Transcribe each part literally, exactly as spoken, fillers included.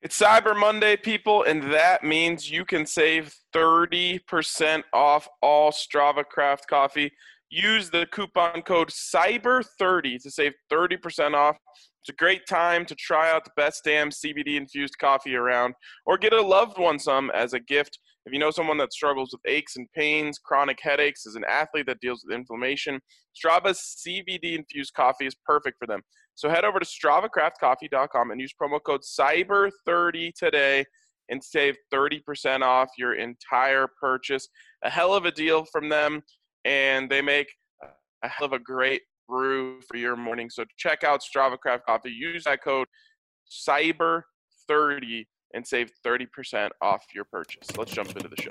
It's Cyber Monday, people, and that means you can save thirty percent off all Strava Craft coffee. Use the coupon code cyber thirty to save thirty percent off. It's a great time to try out the best damn C B D-infused coffee around, or get a loved one some as a gift. If you know someone that struggles with aches and pains, chronic headaches, as an athlete that deals with inflammation, Strava's C B D-infused coffee is perfect for them. So head over to strava craft coffee dot com and use promo code cyber thirty today and save thirty percent off your entire purchase. A hell of a deal from them, and they make a hell of a great brew for your morning. So check out Strava Craft Coffee. Use that code cyber thirty and save thirty percent off your purchase. Let's jump into the show.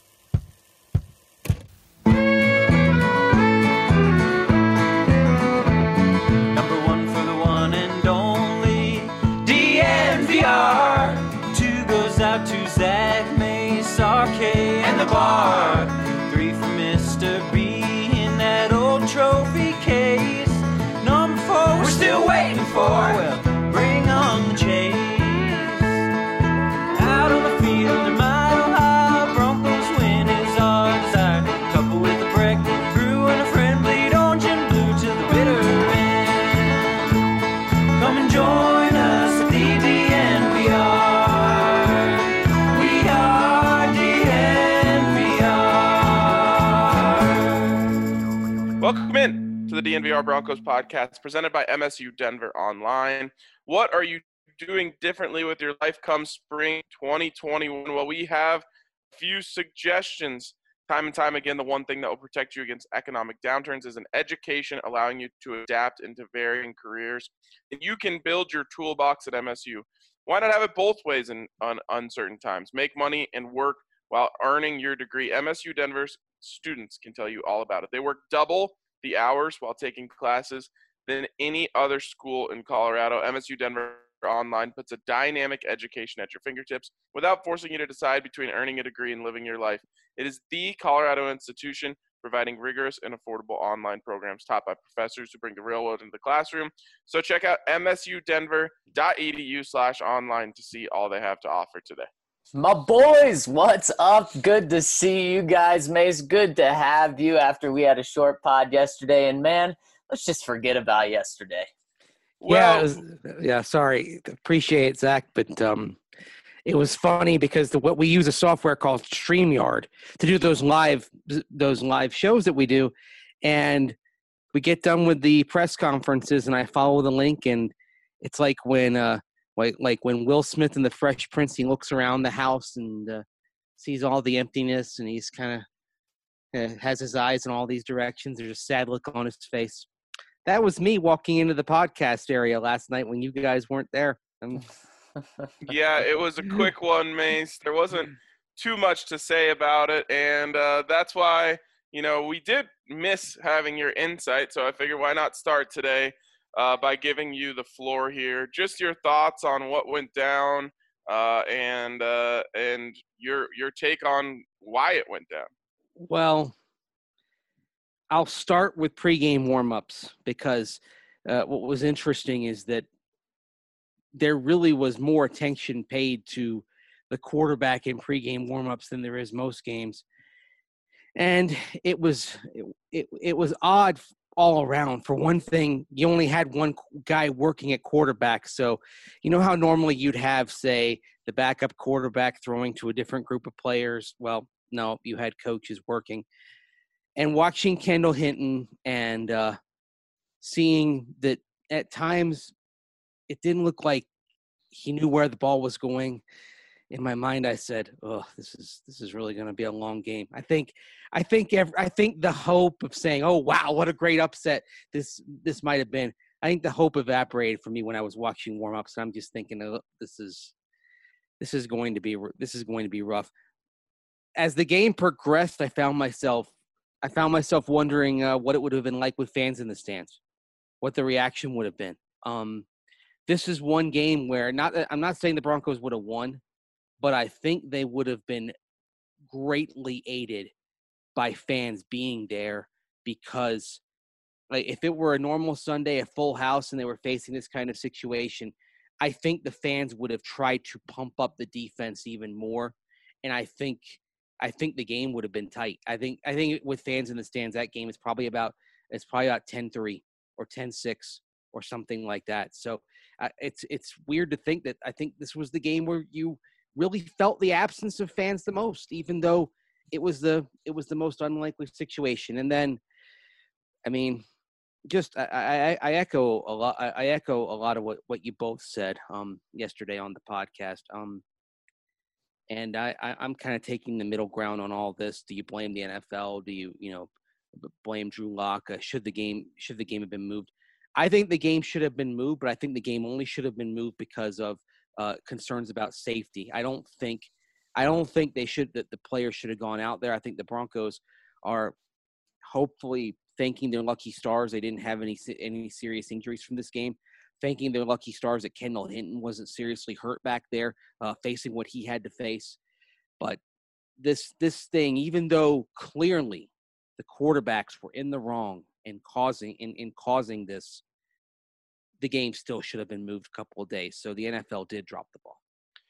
Two goes out to Zach, Mace, R K, and the bar. Three for Mister B in that old trophy case. Number four, we're still waiting for. Well, bring on the chase. Out on the field, in Mile High, Broncos win is our desire. Couple with a break, brew and a friend, bleed orange and blue to the bitter end. Come and join us at the D N V R. Welcome in to the D N V R Broncos podcast presented by M S U Denver Online. What are you doing differently with your life come spring twenty twenty-one? Well, we have a few suggestions. Time and time again, the one thing that will protect you against economic downturns is an education allowing you to adapt into varying careers. And you can build your toolbox at M S U. Why not have it both ways in on uncertain times? Make money and work while earning your degree. M S U Denver's students can tell you all about it. They work double the hours while taking classes than any other school in Colorado. M S U Denver Online puts a dynamic education at your fingertips without forcing you to decide between earning a degree and living your life. It is the Colorado institution providing rigorous and affordable online programs taught by professors who bring the real world into the classroom. So check out msudenver.edu slash online to see all they have to offer today. My boys, what's up? Good to see you guys, Mace. Good to have you after we had a short pod yesterday. And, man, let's just forget about yesterday. Well, yeah, it was, yeah, sorry. Appreciate it, Zach. But um, it was funny because the, what we use a software called StreamYard to do those live those live shows that we do. And we get done with the press conferences, and I follow the link, and it's like when uh, – Like, like when Will Smith in The Fresh Prince, he looks around the house and uh, sees all the emptiness, and he's kind of uh, has his eyes in all these directions. There's a sad look on his face. That was me walking into the podcast area last night when you guys weren't there. Yeah, it was a quick one, Mace. There wasn't too much to say about it, and uh, that's why, you know, we did miss having your insight, so I figured why not start today Uh, by giving you the floor here. Just your thoughts on what went down uh, and uh, and your your take on why it went down. Well, I'll start with pregame warmups because uh, what was interesting is that there really was more attention paid to the quarterback in pregame warmups than there is most games, and it was it it, it was odd all around. For one thing, you only had one guy working at quarterback. So, you know how normally you'd have, say, the backup quarterback throwing to a different group of players? Well, no, you had coaches working. And watching Kendall Hinton and uh, seeing that at times it didn't look like he knew where the ball was going. In my mind, I said, "Oh, this is this is really going to be a long game." I think, I think, every, I think the hope of saying, "Oh, wow, what a great upset this this might have been." I think the hope evaporated for me when I was watching warm-ups. I'm just thinking, oh, "This is this is going to be this is going to be rough." As the game progressed, I found myself I found myself wondering uh, what it would have been like with fans in the stands, what the reaction would have been. Um, this is one game where not I'm not saying the Broncos would have won, but I think they would have been greatly aided by fans being there because like, if it were a normal Sunday, a full house, and they were facing this kind of situation, I think the fans would have tried to pump up the defense even more, and I think I think the game would have been tight. I think I think with fans in the stands, that game is probably about it's probably about ten three or ten six or something like that. So uh, it's it's weird to think that I think this was the game where you really felt the absence of fans the most, even though it was the it was the most unlikely situation. And then, I mean, just I, I, I echo a lot. I, I echo a lot of what, what you both said um, yesterday on the podcast. Um, and I, I I'm kind of taking the middle ground on all this. Do you blame the N F L? Do you you know blame Drew Lock? Uh, should the game should the game have been moved? I think the game should have been moved, but I think the game only should have been moved because of uh, concerns about safety. I don't think I don't think they should that the players should have gone out there. I think the Broncos are hopefully thanking their lucky stars they didn't have any any serious injuries from this game, thanking their lucky stars that Kendall Hinton wasn't seriously hurt back there, uh, facing what he had to face. But this this thing, even though clearly the quarterbacks were in the wrong in causing in, in causing this, the game still should have been moved a couple of days. So the N F L did drop the ball.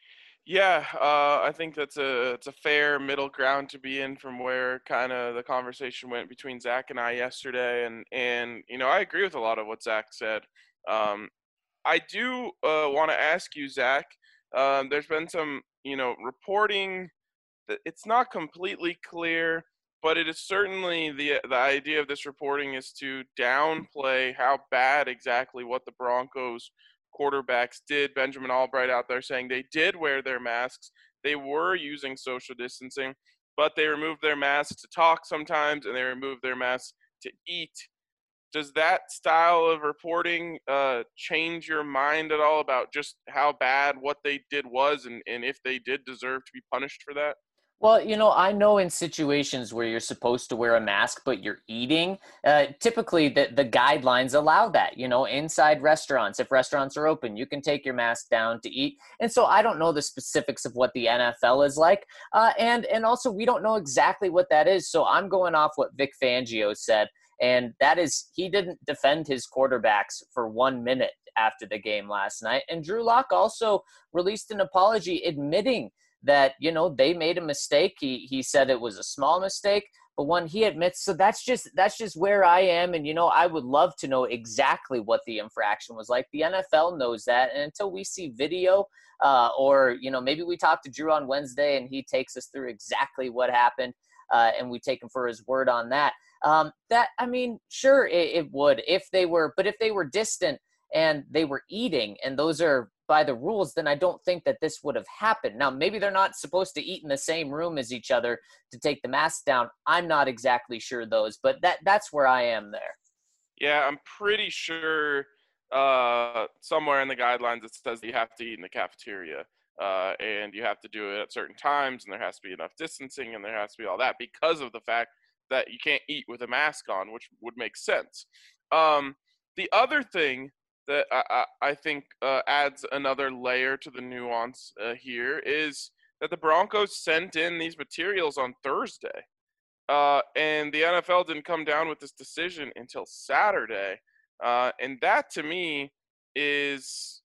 Yeah, uh, I think that's a it's a fair middle ground to be in from where kind of the conversation went between Zach and I yesterday, and and you know I agree with a lot of what Zach said. Um, I do uh, want to ask you, Zach. Um, there's been some you know reporting that it's not completely clear, but it is certainly the the idea of this reporting is to downplay how bad exactly what the Broncos quarterbacks did. Benjamin Albright out there saying they did wear their masks. They were using social distancing, but they removed their masks to talk sometimes, and they removed their masks to eat. Does that style of reporting uh, change your mind at all about just how bad what they did was, and, and if they did deserve to be punished for that? Well, you know, I know in situations where you're supposed to wear a mask, but you're eating, uh, typically the, the guidelines allow that, you know, inside restaurants. If restaurants are open, you can take your mask down to eat. And so I don't know the specifics of what the N F L is like. Uh, and, and also we don't know exactly what that is. So I'm going off what Vic Fangio said. And that is, he didn't defend his quarterbacks for one minute after the game last night. And Drew Lock also released an apology admitting that, you know, they made a mistake. He he said it was a small mistake, but one he admits. So that's just that's just where I am. And, you know, I would love to know exactly what the infraction was like. The N F L knows that. And until we see video uh, or, you know, maybe we talk to Drew on Wednesday and he takes us through exactly what happened uh, and we take him for his word on that. Um, that, I mean, sure, it, it would if they were, but if they were distant and they were eating and those are by the rules, then I don't think that this would have happened. Now, maybe they're not supposed to eat in the same room as each other to take the mask down. I'm not exactly sure those, but that that's where I am there. Yeah, I'm pretty sure uh, somewhere in the guidelines it says you have to eat in the cafeteria uh, and you have to do it at certain times and there has to be enough distancing and there has to be all that because of the fact that you can't eat with a mask on, which would make sense. Um, the other thing that I, I, I think uh, adds another layer to the nuance uh, here is that the Broncos sent in these materials on Thursday. Uh, and the N F L didn't come down with this decision until Saturday. Uh, and that, to me, is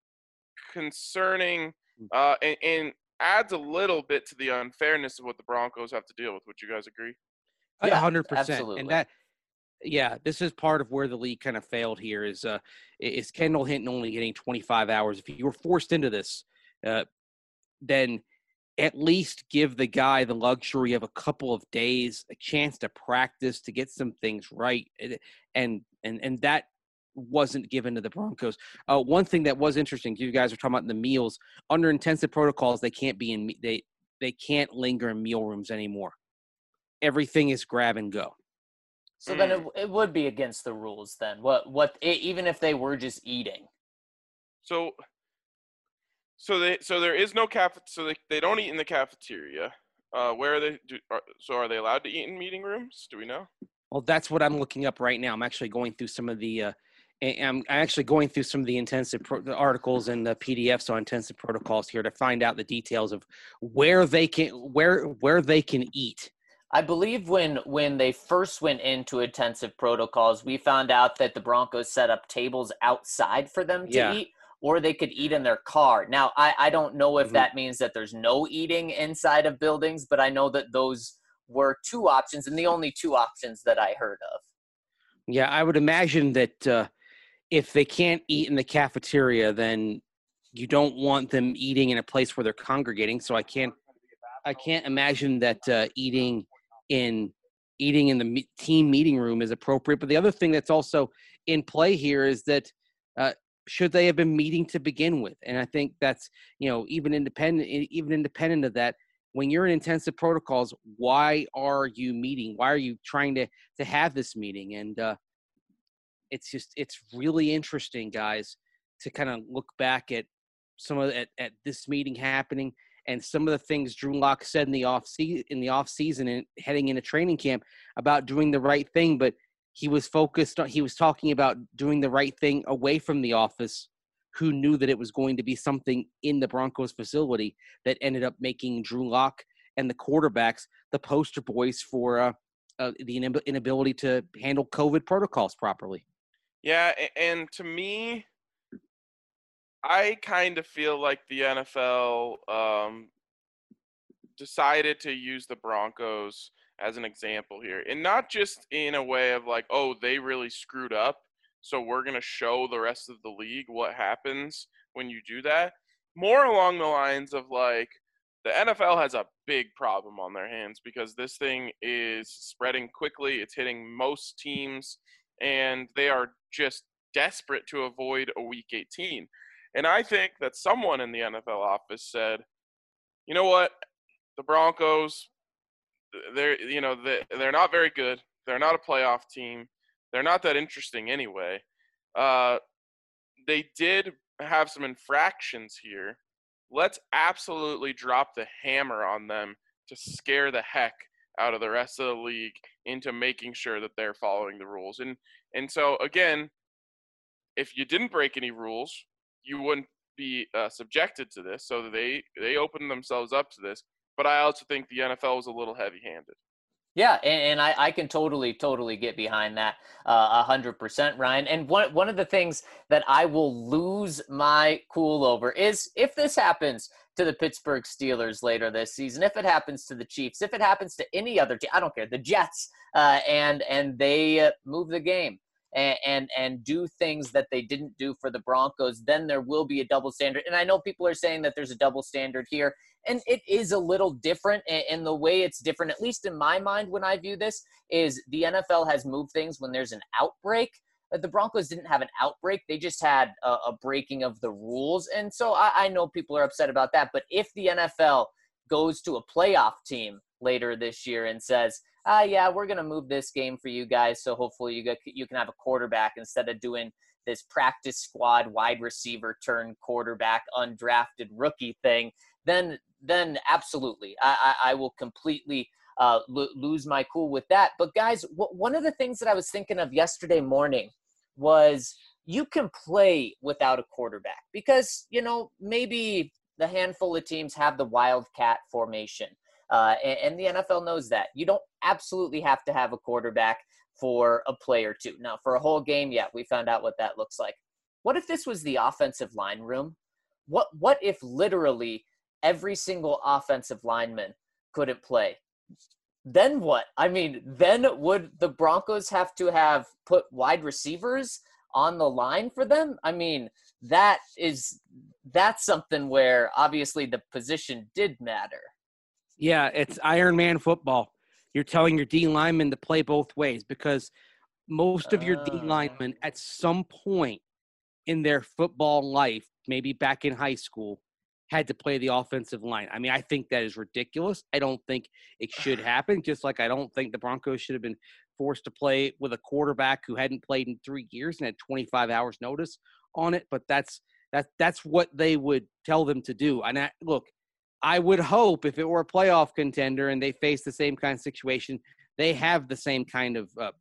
concerning uh, and, and adds a little bit to the unfairness of what the Broncos have to deal with. Would you guys agree? Yeah, Yeah, one hundred percent. absolutely. And that, yeah, this is part of where the league kind of failed here is uh, is Kendall Hinton only getting twenty-five hours. If you were forced into this, uh, then at least give the guy the luxury of a couple of days, a chance to practice, to get some things right. And and and that wasn't given to the Broncos. Uh, one thing that was interesting, you guys were talking about the meals. Under intensive protocols, they can't be in they they can't linger in meal rooms anymore. Everything is grab and go. So then it, it would be against the rules then. What what even if they were just eating. So so they so there is no caf so they, they don't eat in the cafeteria. Uh, where are they do, are, so are they allowed to eat in meeting rooms? Do we know? Well, that's what I'm looking up right now. I'm actually going through some of the uh, I'm actually going through some of the intensive pro- the articles and the P D Fs on intensive protocols here to find out the details of where they can where where they can eat. I believe when when they first went into intensive protocols, we found out that the Broncos set up tables outside for them to Yeah. eat, or they could eat in their car. Now, I, I don't know if Mhm. that means that there's no eating inside of buildings, but I know that those were two options and the only two options that I heard of. Yeah, I would imagine that uh, if they can't eat in the cafeteria, then you don't want them eating in a place where they're congregating. So I can't, I can't imagine that uh, eating in eating in the me- team meeting room is appropriate. But the other thing that's also in play here is that uh, should they have been meeting to begin with? And I think that's, you know, even independent, even independent of that, when you're in intensive protocols, why are you meeting? Why are you trying to to have this meeting? And uh, it's just it's really interesting, guys, to kind of look back at some of at, at this meeting happening and some of the things Drew Lock said in the off se- in the off season and heading into training camp about doing the right thing, but he was focused on he was talking about doing the right thing away from the office. Who knew that it was going to be something in the Broncos facility that ended up making Drew Lock and the quarterbacks the poster boys for uh, uh, the inability to handle COVID protocols properly. Yeah, a- and to me, I kind of feel like the N F L um, decided to use the Broncos as an example here. And not just in a way of like, oh, they really screwed up, so we're going to show the rest of the league what happens when you do that. More along the lines of like, the N F L has a big problem on their hands because this thing is spreading quickly. It's hitting most teams, and they are just desperate to avoid a week eighteen. And I think that someone in the N F L office said, you know what, the Broncos, they're you know they they're not very good. They're not a playoff team. They're not that interesting anyway. Uh, they did have some infractions here. Let's absolutely drop the hammer on them to scare the heck out of the rest of the league into making sure that they're following the rules. And and so again, if you didn't break any rules, you wouldn't be uh, subjected to this. So they they opened themselves up to this. But I also think the N F L was a little heavy-handed. Yeah, and, and I, I can totally, totally get behind that uh, a hundred percent, Ryan. And one one of the things that I will lose my cool over is if this happens to the Pittsburgh Steelers later this season, if it happens to the Chiefs, if it happens to any other team, I don't care, the Jets, uh, and and they uh, move the game and, and and do things that they didn't do for the Broncos, then there will be a double standard. And I know people are saying that there's a double standard here. And it is a little different, and the way it's different, at least in my mind when I view this, is the N F L has moved things when there's an outbreak. But the Broncos didn't have an outbreak. They just had a, a breaking of the rules. And so I, I know people are upset about that. But if the N F L goes to a playoff team later this year and says, ah, yeah, we're going to move this game for you guys, so hopefully you get, you can have a quarterback instead of doing this practice squad wide receiver turn quarterback undrafted rookie thing, then then absolutely, I, I, I will completely uh, lo- lose my cool with that. But guys, w- one of the things that I was thinking of yesterday morning was you can play without a quarterback because, you know, maybe the handful of teams have the wildcat formation. Uh, and, and the N F L knows that. You don't absolutely have to have a quarterback for a play or two. Now, for a whole game, yeah, we found out what that looks like. What if this was the offensive line room? What What if literally every single offensive lineman couldn't play? Then what? I mean, then would the Broncos have to have put wide receivers on the line for them? I mean, that is that's something where obviously the position did matter. Yeah, it's Iron Man football. You're telling your D linemen to play both ways because most of your D Uh, linemen at some point in their football life, maybe back in high school, had to play the offensive line. I mean, I think that is ridiculous. I don't think it should happen, just like I don't think the Broncos should have been forced to play with a quarterback who hadn't played in three years and had twenty-five hours notice on it. But that's that that's what they would tell them to do. And I, look, I would hope if it were a playoff contender and they face the same kind of situation, they have the same kind of uh,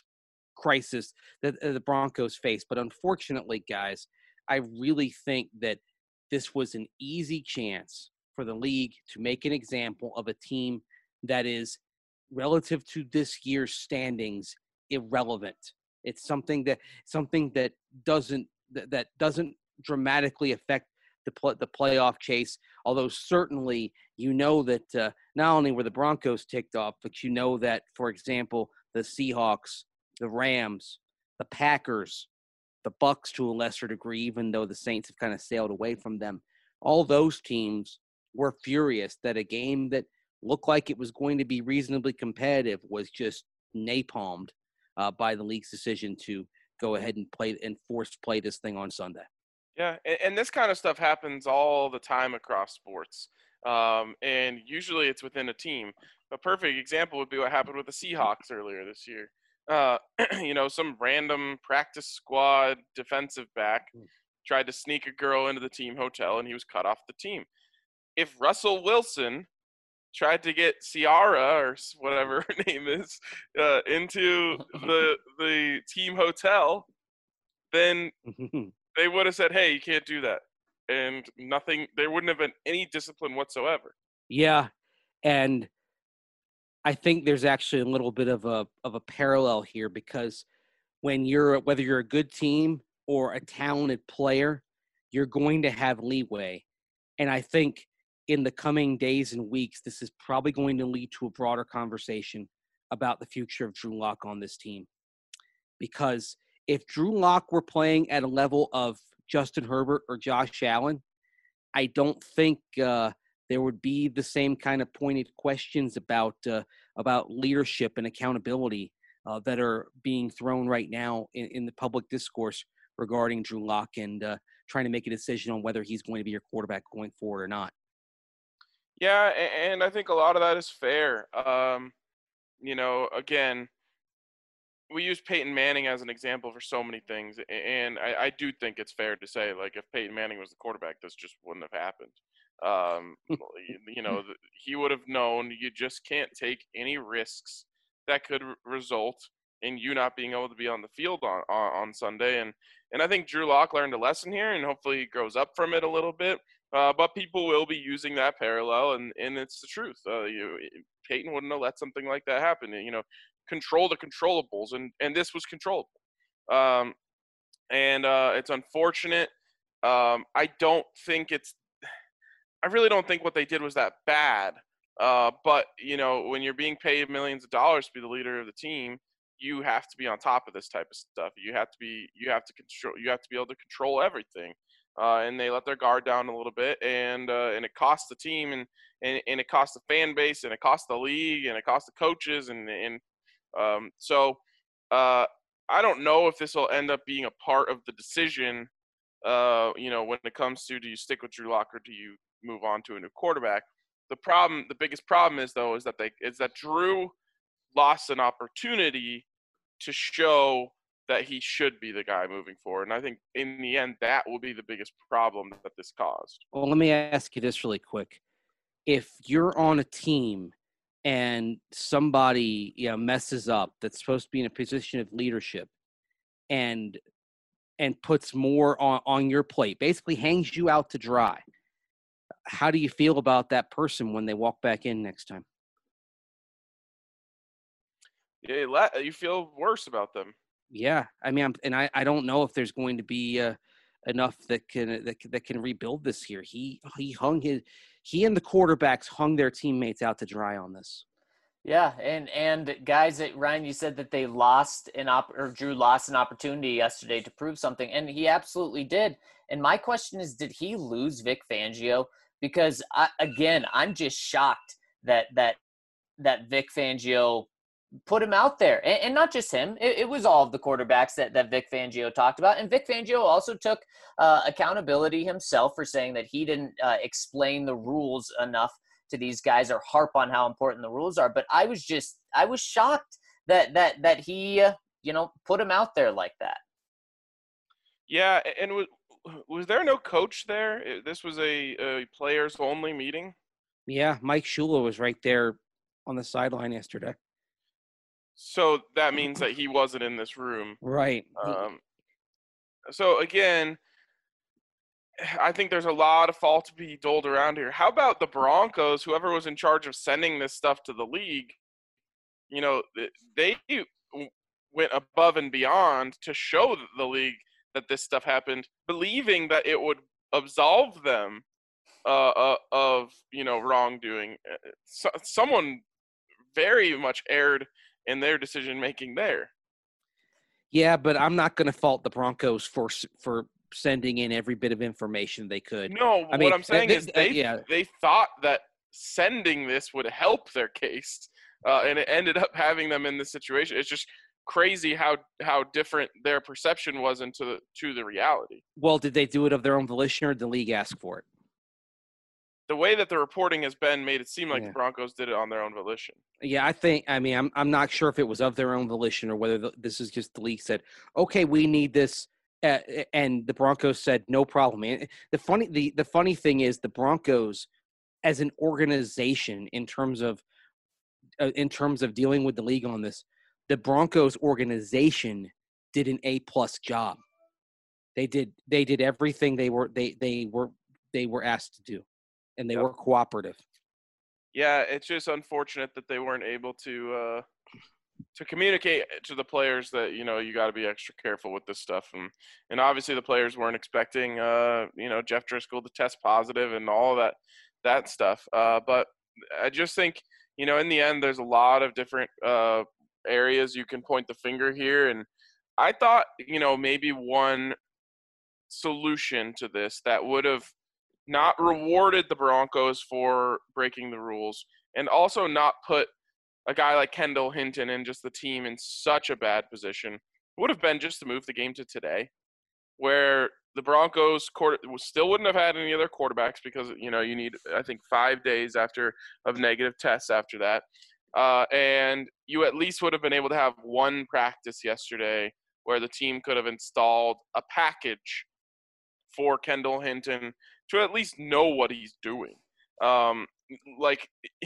crisis that uh, the Broncos face. But unfortunately, guys, I really think that this was an easy chance for the league to make an example of a team that is, relative to this year's standings, irrelevant. It's something that something that doesn't that, that doesn't dramatically affect the pl- the playoff chase. Although certainly you know that uh, not only were the Broncos ticked off, but you know that, for example, the Seahawks, the Rams, the Packers, the Bucks to a lesser degree, even though the Saints have kind of sailed away from them, all those teams were furious that a game that looked like it was going to be reasonably competitive was just napalmed uh, by the league's decision to go ahead and play and force play this thing on Sunday. Yeah, and, and this kind of stuff happens all the time across sports, um, and usually it's within a team. A perfect example would be what happened with the Seahawks earlier this year. Uh, you know, some random practice squad defensive back tried to sneak a girl into the team hotel, and he was cut off the team. If Russell Wilson tried to get Ciara or whatever her name is uh, into the the team hotel, then they would have said, hey, you can't do that. And nothing, there wouldn't have been any discipline whatsoever. Yeah. And I think there's actually a little bit of a of a parallel here, because when you're, whether you're a good team or a talented player, you're going to have leeway. And I think in the coming days and weeks, this is probably going to lead to a broader conversation about the future of Drew Lock on this team. Because if Drew Lock were playing at a level of Justin Herbert or Josh Allen, I don't think uh, there would be the same kind of pointed questions about uh, about leadership and accountability uh, that are being thrown right now in, in the public discourse regarding Drew Lock and uh, trying to make a decision on whether he's going to be your quarterback going forward or not. Yeah, and I think a lot of that is fair. Um, you know, again, we use Peyton Manning as an example for so many things, and I, I do think it's fair to say, like, if Peyton Manning was the quarterback, this just wouldn't have happened. Um, you know, he would have known you just can't take any risks that could result in you not being able to be on the field on, on, on Sunday. And, and I think Drew Lock learned a lesson here, and hopefully he grows up from it a little bit. Uh, but people will be using that parallel, and, and it's the truth. Uh, you, Peyton wouldn't have let something like that happen. You know, control the controllables, and, and this was controllable. Um, and uh, it's unfortunate. Um, I don't think it's – I really don't think what they did was that bad. Uh, but, you know, when you're being paid millions of dollars to be the leader of the team, you have to be on top of this type of stuff. You have to be – you have to control – you have to be able to control everything. Uh, and they let their guard down a little bit, and uh, and it cost the team, and, and, and it cost the fan base, and it cost the league, and it cost the coaches, and and um, so uh, I don't know if this will end up being a part of the decision. Uh, you know, when it comes to, do you stick with Drew Lock or do you move on to a new quarterback? The problem, the biggest problem is though, is that they is that Drew lost an opportunity to show that he should be the guy moving forward. And I think in the end, that will be the biggest problem that this caused. Well, let me ask you this really quick. If you're on a team and somebody, you know, messes up that's supposed to be in a position of leadership and and puts more on, on your plate, basically hangs you out to dry, how do you feel about that person when they walk back in next time? Yeah, you feel worse about them. Yeah, I mean, I'm, and I, I don't know if there's going to be uh, enough that can that, that can rebuild this here. He he hung his he and the quarterbacks hung their teammates out to dry on this. Yeah, and and guys, that Ryan, you said that they lost an op or Drew lost an opportunity yesterday to prove something, and he absolutely did. And my question is, did he lose Vic Fangio? Because I, again, I'm just shocked that that that Vic Fangio put him out there, and, and not just him. It, it was all of the quarterbacks that, that Vic Fangio talked about. And Vic Fangio also took uh, accountability himself for saying that he didn't uh, explain the rules enough to these guys or harp on how important the rules are. But I was just, I was shocked that, that, that he, uh, you know, put him out there like that. Yeah. And was, was there no coach there? This was a, a players only meeting. Yeah. Mike Shula was right there on the sideline yesterday. So that means that he wasn't in this room. Right. Um, so, again, I think there's a lot of fault to be doled around here. How about the Broncos, whoever was in charge of sending this stuff to the league? You know, they went above and beyond to show the league that this stuff happened, believing that it would absolve them uh, uh, of, you know, wrongdoing. So, someone very much erred in their decision making there. Yeah, but I'm not going to fault the Broncos for for sending in every bit of information they could. No, I mean, what I'm saying they, is they uh, yeah. they thought that sending this would help their case, uh, and it ended up having them in this situation. It's just crazy how how different their perception was into the, to the reality. Well, did they do it of their own volition, or did the league ask for it? The way that the reporting has been made it seem like Yeah. the Broncos did it on their own volition. Yeah, I think. I mean, I'm I'm not sure if it was of their own volition or whether the, this is just the league said, "Okay, we need this," uh, and the Broncos said, "No problem." And the funny the the funny thing is, the Broncos, as an organization, in terms of uh, in terms of dealing with the league on this, the Broncos organization did an A plus job. They did they did everything they were they they were they were asked to do, and they Yep. were cooperative. Yeah, it's just unfortunate that they weren't able to uh, to communicate to the players that, you know, you got to be extra careful with this stuff, and and obviously the players weren't expecting uh, you know, Jeff Driscoll to test positive and all that that stuff. Uh, but I just think, you know, in the end, there's a lot of different uh, areas you can point the finger here, and I thought, you know, maybe one solution to this that would have not rewarded the Broncos for breaking the rules, and also not put a guy like Kendall Hinton and just the team in such a bad position, would have been just to move the game to today, where the Broncos quarter still wouldn't have had any other quarterbacks, because, you know, you need, I think, five days after of negative tests after that. Uh, and you at least would have been able to have one practice yesterday where the team could have installed a package for Kendall Hinton to at least know what he's doing. Um, like,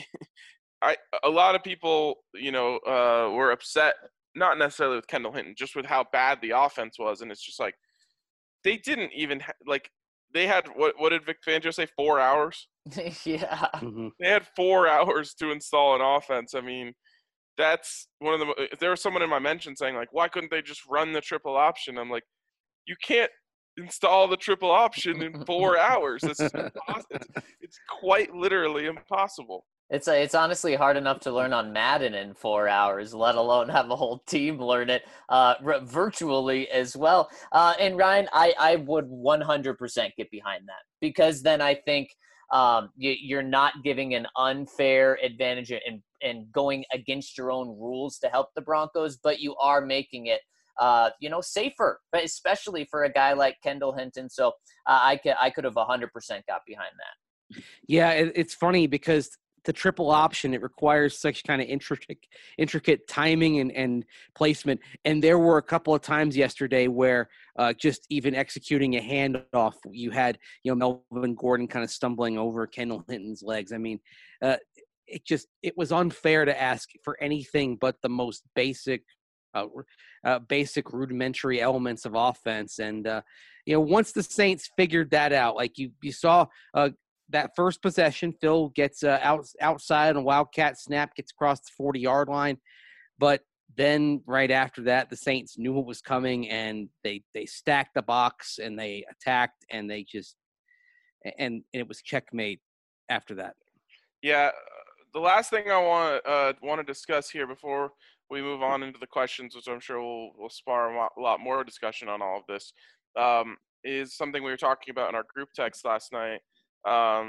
I a lot of people, you know, uh, were upset, not necessarily with Kendall Hinton, just with how bad the offense was. And it's just like, they didn't even ha- like they had what what did Vic Fangio say? Four hours. Yeah. Mm-hmm. They had four hours to install an offense. I mean, that's one of the. There was someone in my mention saying, like, why couldn't they just run the triple option? I'm like, you can't install the triple option in four hours. It's, impossible. It's, it's quite literally impossible. It's a, it's honestly hard enough to learn on Madden in four hours, let alone have a whole team learn it uh, r- virtually as well. Uh, and Ryan, I, I would one hundred percent get behind that, because then I think um, you, you're not giving an unfair advantage and, and going against your own rules to help the Broncos, but you are making it uh, you know, safer, but especially for a guy like Kendall Hinton. So uh, I could I could have one hundred percent got behind that. Yeah, it, it's funny because the triple option, it requires such kind of intricate, intricate timing and, and placement. And there were a couple of times yesterday where uh, just even executing a handoff, you had, you know, Melvin Gordon kind of stumbling over Kendall Hinton's legs. I mean, uh, it just, it was unfair to ask for anything but the most basic, uh, uh, basic rudimentary elements of offense. And, uh, you know, once the Saints figured that out, like you, you saw, uh, that first possession, Phil gets uh, out, outside on a Wildcat snap, gets across the forty-yard line. But then right after that, the Saints knew what was coming, and they they stacked the box, and they attacked, and they just – and it was checkmate after that. Yeah, the last thing I want uh, want to discuss here before we move on into the questions, which I'm sure will will spar a lot, a lot more discussion on all of this, um, is something we were talking about in our group text last night. Um,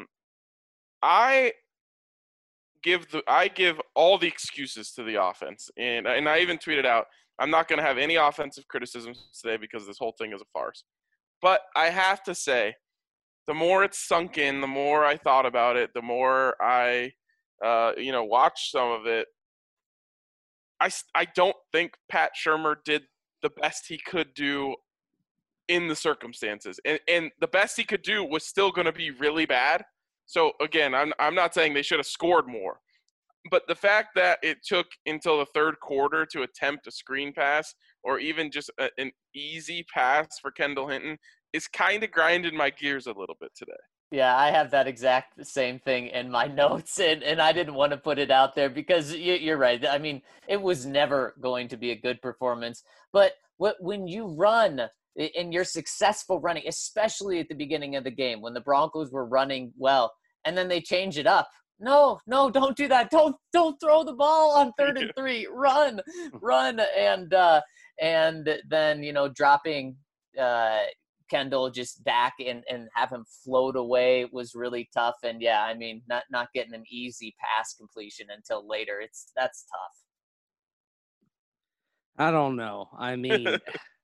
I give the I give all the excuses to the offense, and and I even tweeted out, I'm not going to have any offensive criticisms today because this whole thing is a farce. But I have to say, the more it's sunk in, the more I thought about it, the more I, uh, you know, watched some of it. I I don't think Pat Shurmur did the best he could do in the circumstances, and and the best he could do was still going to be really bad. So again, I'm I'm not saying they should have scored more, but the fact that it took until the third quarter to attempt a screen pass or even just a, an easy pass for Kendall Hinton is kind of grinding my gears a little bit today. Yeah, I have that exact same thing in my notes, and, and I didn't want to put it out there because you, you're right. I mean, it was never going to be a good performance, but what, when you run in your successful running, especially at the beginning of the game when the Broncos were running well, and then they change it up. No, no, don't do that. Don't don't throw the ball on third and three. Run, run, and uh, and then you know dropping uh, Kendall just back and, and have him float away was really tough. And yeah, I mean, not not getting an easy pass completion until later. It's that's tough. I don't know. I mean,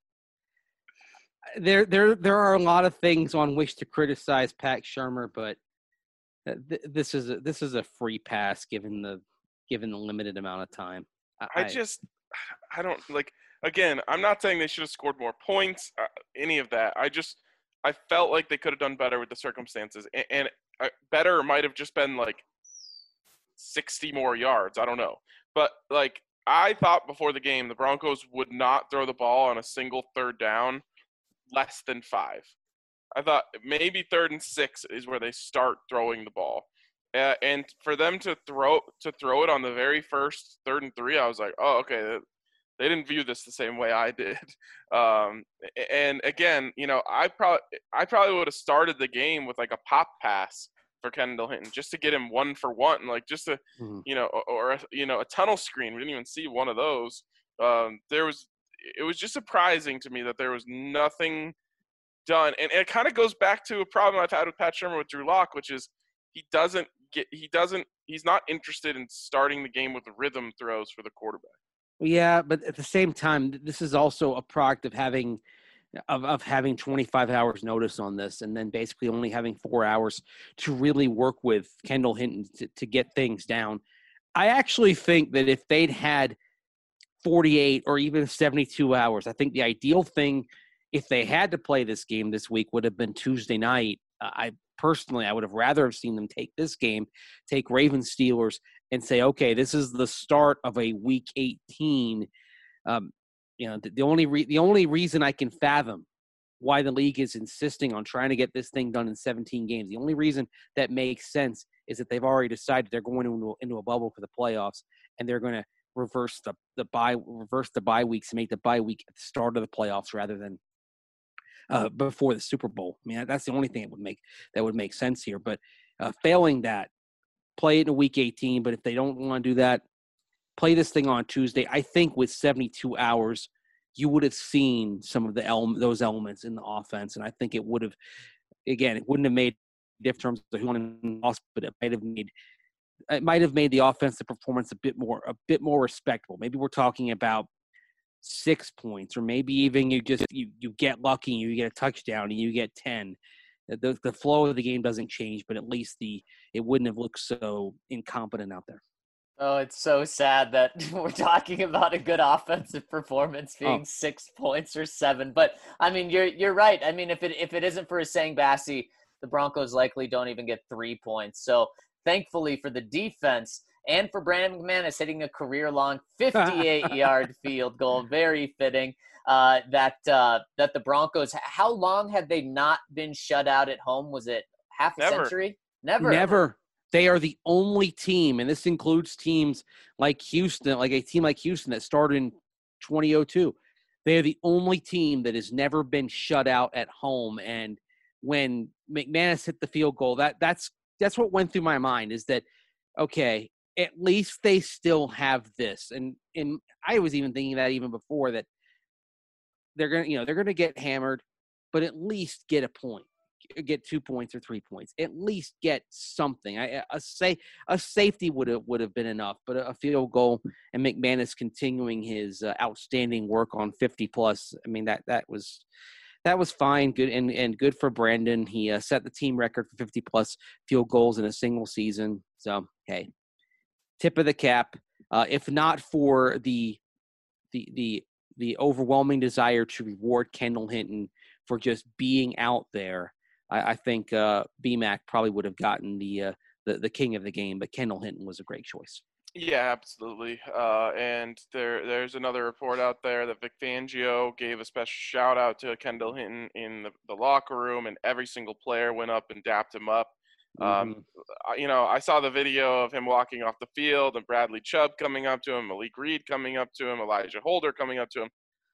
there there there are a lot of things on which to criticize Pat Shurmur, but th- this is a, this is a free pass given the given the limited amount of time. I, I just I don't like. Again, I'm not saying they should have scored more points, uh, any of that. I just I felt like they could have done better with the circumstances, and, and uh, better might have just been like sixty more yards. I don't know, but like I thought before the game, the Broncos would not throw the ball on a single third down less than five. I thought maybe third and six is where they start throwing the ball, uh, and for them to throw to throw it on the very first third and three, I was like, oh, okay. They didn't view this the same way I did. Um, and again, you know, I probably I probably would have started the game with like a pop pass for Kendall Hinton just to get him one for one, like just to, mm-hmm. you know, or, or you know, a tunnel screen. We didn't even see one of those. Um, there was, it was just surprising to me that there was nothing done, and, and it kind of goes back to a problem I've had with Pat Shurmur with Drew Lock, which is he doesn't get, he doesn't, he's not interested in starting the game with rhythm throws for the quarterback. Yeah, but at the same time, this is also a product of having of, of having twenty-five hours notice on this, and then basically only having four hours to really work with Kendall Hinton to, to get things down. I actually think that if they'd had forty-eight or even seventy-two hours, I think the ideal thing, if they had to play this game this week, would have been Tuesday night. Uh, I personally, I would have rather have seen them take this game, take Ravens Steelers, and say, okay, this is the start of a week eighteen. Um, you know, the, the only re- the only reason I can fathom why the league is insisting on trying to get this thing done in seventeen games, the only reason that makes sense is that they've already decided they're going into, into a bubble for the playoffs, and they're going to reverse the the bye reverse the bye weeks and make the bye week at the start of the playoffs rather than uh, before the Super Bowl. I mean, that's the only thing that would make that would make sense here. But uh, failing that, play it in week eighteen. But if they don't want to do that, play this thing on Tuesday. I think with seventy-two hours, you would have seen some of the ele- those elements in the offense, and I think it would have. Again, it wouldn't have made diff terms of who won and lost, but it might have made it might have made the offensive performance a bit more a bit more respectable. Maybe we're talking about six points, or maybe even you just you, you get lucky and you get a touchdown and you get ten. The the flow of the game doesn't change, but at least the it wouldn't have looked so incompetent out there. Oh, it's so sad that we're talking about a good offensive performance being oh. six points or seven. But I mean, you're you're right. I mean, if it if it isn't for Essang Bassey, the Broncos likely don't even get three points. So thankfully for the defense and for Brandon McManus hitting a career-long fifty-eight-yard field goal, very fitting. Uh, that uh, that the Broncos. How long have they not been shut out at home? Was it half a Never. century? Never. Never. They are the only team, and this includes teams like Houston, like a team like Houston that started in twenty oh two. They are the only team that has never been shut out at home. And when McManus hit the field goal, that that's that's what went through my mind is that, okay, at least they still have this. And and I was even thinking that even before that they're gonna, you know, they're gonna get hammered, but at least get a point. Get two points or three points, at least get something. I, a say a safety would have would have been enough, but a field goal and McManus continuing his uh, outstanding work on fifty plus. I mean that that was that was fine, good and, and good for Brandon. He uh, set the team record for fifty plus field goals in a single season. So hey, tip of the cap. Uh, if not for the the the the overwhelming desire to reward Kendall Hinton for just being out there, I think uh, B-Mac probably would have gotten the, uh, the the king of the game, but Kendall Hinton was a great choice. Yeah, absolutely. Uh, and there there's another report out there that Vic Fangio gave a special shout out to Kendall Hinton in the, the locker room, and every single player went up and dapped him up. Mm-hmm. Um, you know, I saw the video of him walking off the field and Bradley Chubb coming up to him, Malik Reed coming up to him, Elijah Holder coming up to him.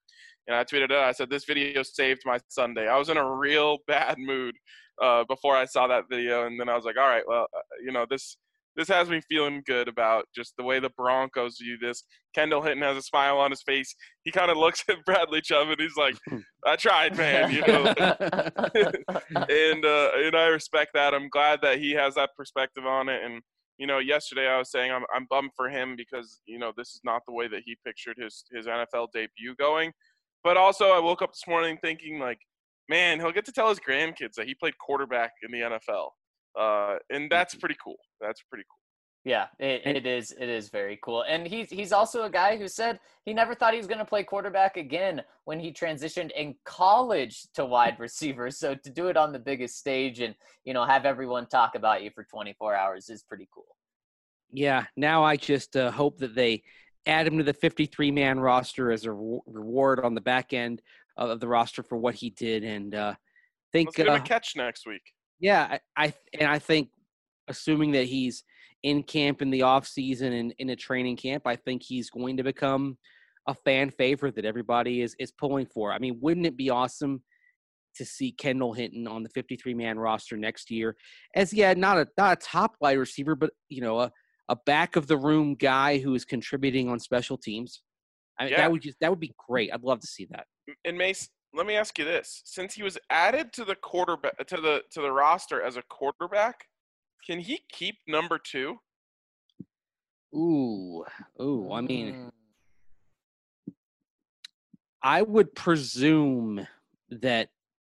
And I tweeted it out. I said, this video saved my Sunday. I was in a real bad mood uh, before I saw that video. And then I was like, all right, well, uh, you know, this this has me feeling good about just the way the Broncos view this. Kendall Hinton has a smile on his face. He kind of looks at Bradley Chubb and he's like, I tried, man. You know, and uh, and I respect that. I'm glad that he has that perspective on it. And you know, yesterday I was saying I'm I'm bummed for him because you know this is not the way that he pictured his his N F L debut going. But also, I woke up this morning thinking, like, man, he'll get to tell his grandkids that he played quarterback in the N F L, uh, and that's pretty cool. That's pretty cool. Yeah, it, it is. It is very cool. And he's he's also a guy who said he never thought he was going to play quarterback again when he transitioned in college to wide receiver. So to do it on the biggest stage and, you know, have everyone talk about you for twenty-four hours is pretty cool. Yeah, now I just uh, hope that they add him to the fifty-three man roster as a re- reward on the back end of the roster for what he did. And uh, think Let's give him uh, a catch next week. Yeah, I, I and I think assuming that he's in camp in the off season and in a training camp, I think he's going to become a fan favorite that everybody is is pulling for. I mean, wouldn't it be awesome to see Kendall Hinton on the fifty-three man roster next year as, yeah, not a not a top wide receiver, but, you know, a, a back of the room guy who is contributing on special teams. I mean, Yeah. that would just that would be great. I'd love to see that. And Mace, let me ask you this: since he was added to the quarterback to the to the roster as a quarterback, can he keep number two? Ooh, ooh. I mean, Mm. I would presume that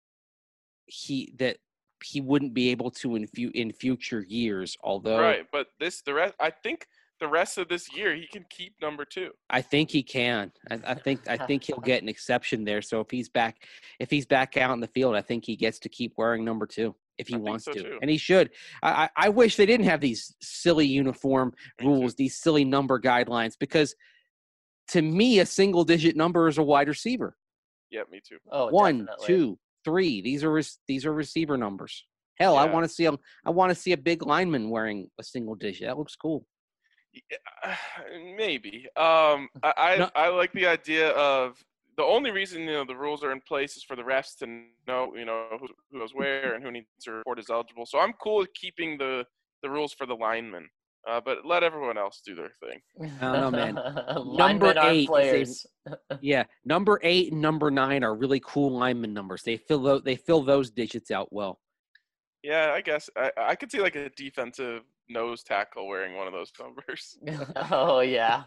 he that he wouldn't be able to in fu- in future years. Although Right, but this the rest. I think the rest of this year he can keep number two. I think he can. I, I think I think he'll get an exception there. So if he's back, if he's back out in the field, I think he gets to keep wearing number two if he I think wants so, to, too. and he should. I, I I wish they didn't have these silly uniform Me rules, too. these silly number guidelines, because to me, a single digit number is a wide receiver. Yeah, me too. Oh, One, definitely. two, three. These are rec- these are receiver numbers. Hell, I Yeah. want to see a I want to see a big lineman wearing a single digit. That looks cool. Yeah, maybe. Um, I I, No. I like the idea of the only reason you know the rules are in place is for the refs to know you know who, who goes where and who needs to report is eligible. So I'm cool with keeping the the rules for the linemen, uh, but let everyone else do their thing. I don't know, man. Linemen Number aren't eight is a- players. Yeah, number eight and number nine are really cool lineman numbers. They fill tho- they fill those digits out well. Yeah, I guess I I could see like a defensive nose tackle wearing one of those numbers. Oh, yeah.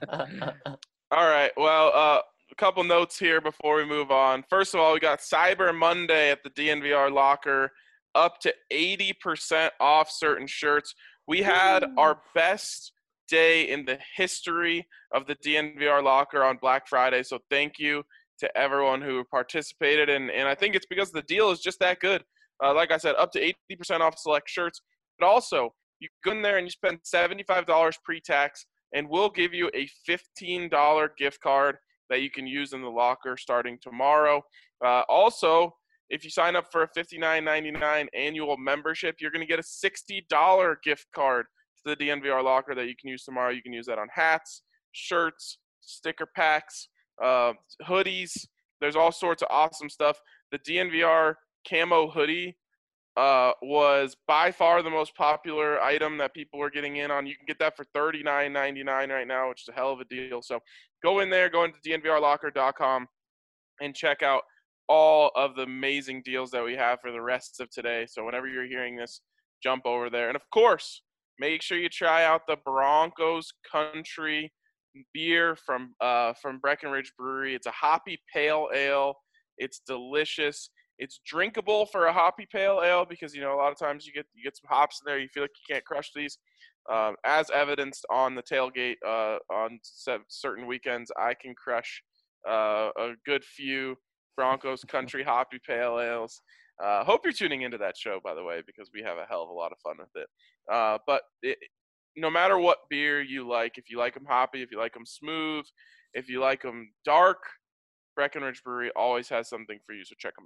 All right. Well, uh, a couple notes here before we move on. First of all, we got Cyber Monday at the D N V R locker, up to eighty percent off certain shirts. We had our best day in the history of the D N V R locker on Black Friday. So thank you to everyone who participated. And, and I think it's because the deal is just that good. Uh, like I said, up to eighty percent off select shirts. But also, you go in there and you spend seventy-five dollars pre-tax, and we'll give you a fifteen dollars gift card that you can use in the locker starting tomorrow. Uh, also, if you sign up for a fifty-nine ninety-nine annual membership, you're going to get a sixty dollars gift card to the D N V R locker that you can use tomorrow. You can use that on hats, shirts, sticker packs, uh, hoodies. There's all sorts of awesome stuff. The D N V R camo hoodie uh, was by far the most popular item that people were getting in on. You can get that for thirty-nine ninety-nine right now, which is a hell of a deal. So go in there, go into D N V R locker dot com and check out all of the amazing deals that we have for the rest of today. So whenever you're hearing this, jump over there. And of course, make sure you try out the Broncos Country beer from uh, from Breckenridge Brewery. It's a hoppy pale ale. It's delicious. It's drinkable for a hoppy pale ale because, you know, a lot of times you get you get some hops in there. You feel like you can't crush these. Um, as evidenced on the tailgate uh, on se- certain weekends, I can crush uh, a good few Broncos Country hoppy pale ales. Uh, hope you're tuning into that show, by the way, because we have a hell of a lot of fun with it. Uh, but it, no matter what beer you like, if you like them hoppy, if you like them smooth, if you like them dark, Breckenridge Brewery always has something for you, so check them out.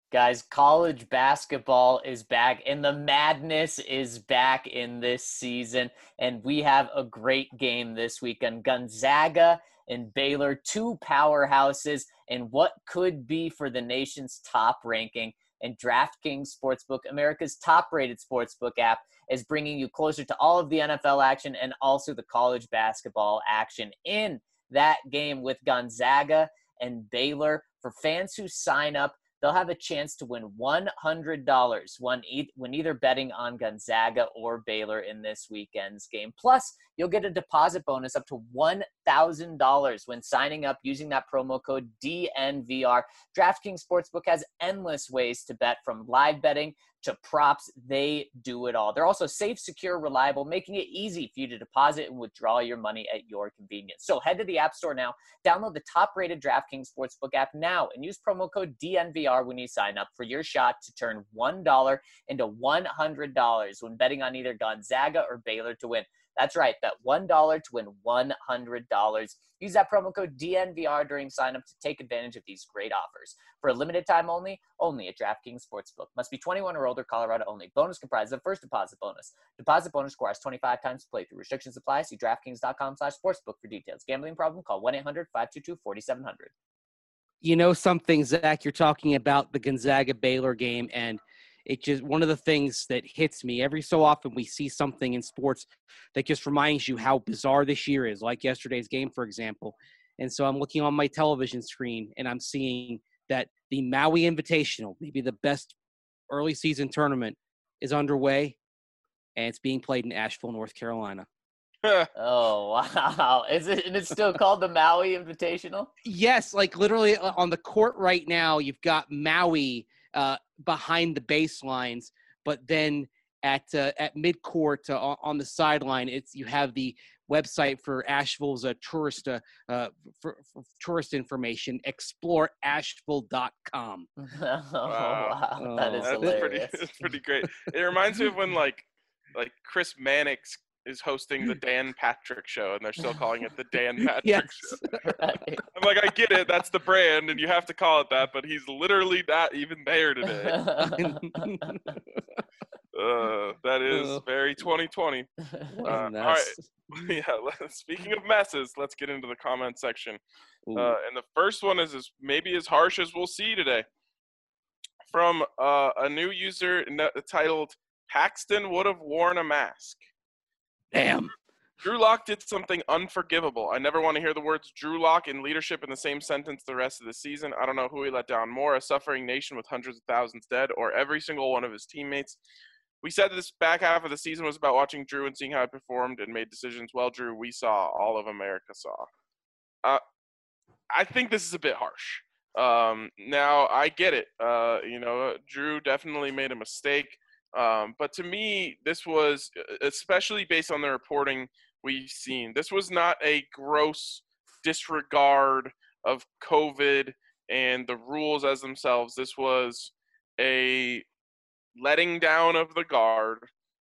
Guys, college basketball is back, and the madness is back in this season. And we have a great game this weekend. Gonzaga and Baylor, two powerhouses, and what could be for the nation's top ranking. And DraftKings Sportsbook, America's top-rated sportsbook app, is bringing you closer to all of the N F L action and also the college basketball action in that game with Gonzaga and Baylor. For fans who sign up, they'll have a chance to win one hundred dollars when, e- when either betting on Gonzaga or Baylor in this weekend's game. Plus, you'll get a deposit bonus up to one thousand dollars when signing up using that promo code D N V R. DraftKings Sportsbook has endless ways to bet, from live betting to props. They do it all. They're also safe, secure, reliable, making it easy for you to deposit and withdraw your money at your convenience. So head to the App Store now, download the top-rated DraftKings Sportsbook app now, and use promo code D N V R when you sign up for your shot to turn one dollar into one hundred dollars when betting on either Gonzaga or Baylor to win. That's right, bet one dollar to win one hundred dollars. Use that promo code D N V R during sign-up to take advantage of these great offers. For a limited time only, only at DraftKings Sportsbook. Must be twenty-one or older, Colorado only. Bonus comprises of first deposit bonus. Deposit bonus requires twenty-five times playthrough. Restrictions apply. See DraftKings.com slash sportsbook for details. Gambling problem? Call one eight hundred five two two four seven zero zero. You know something, Zach, you're talking about the Gonzaga-Baylor game, and it just, one of the things that hits me every so often, we see something in sports that just reminds you how bizarre this year is, like yesterday's game, for example. And so I'm looking on my television screen and I'm seeing that the Maui Invitational, maybe the best early season tournament, is underway, and it's being played in Asheville, North Carolina. Oh, wow. Is it, and it's still called the Maui Invitational? Yes, like literally on the court right now, you've got Maui uh, behind the baselines, but then at uh, at midcourt uh, on the sideline, it's you have the website for Asheville's uh, tourist uh, uh, for, for tourist information, explore asheville dot com. Oh, wow. Oh, That is That's hilarious. pretty, that's pretty great. It reminds me of when like like Chris Mannix is hosting the Dan Patrick Show, and they're still calling it the Dan Patrick Yes. Show. Right. I'm like, I get it, that's the brand, and you have to call it that, but he's literally not even there today. Uh, that is Oh. very twenty twenty. What Uh, a all mess. Yeah, let- speaking of messes, let's get into the comment section. Ooh. Uh, and the first one is as, maybe as harsh as we'll see today. From uh, a new user n- titled Paxton Would Have Worn a Mask. Damn. Drew Lock did something unforgivable. I never want to hear the words Drew Lock and leadership in the same sentence the rest of the season. I don't know who he let down more, a suffering nation with hundreds of thousands dead, or every single one of his teammates. We said this back half of the season was about watching Drew and seeing how he performed and made decisions. Well, Drew, we saw, all of America saw. Uh, I think this is a bit harsh. Um, now, I get it. Uh, you know, Drew definitely made a mistake. Um, but to me, this was, especially based on the reporting we've seen, this was not a gross disregard of COVID and the rules as themselves. This was a letting down of the guard,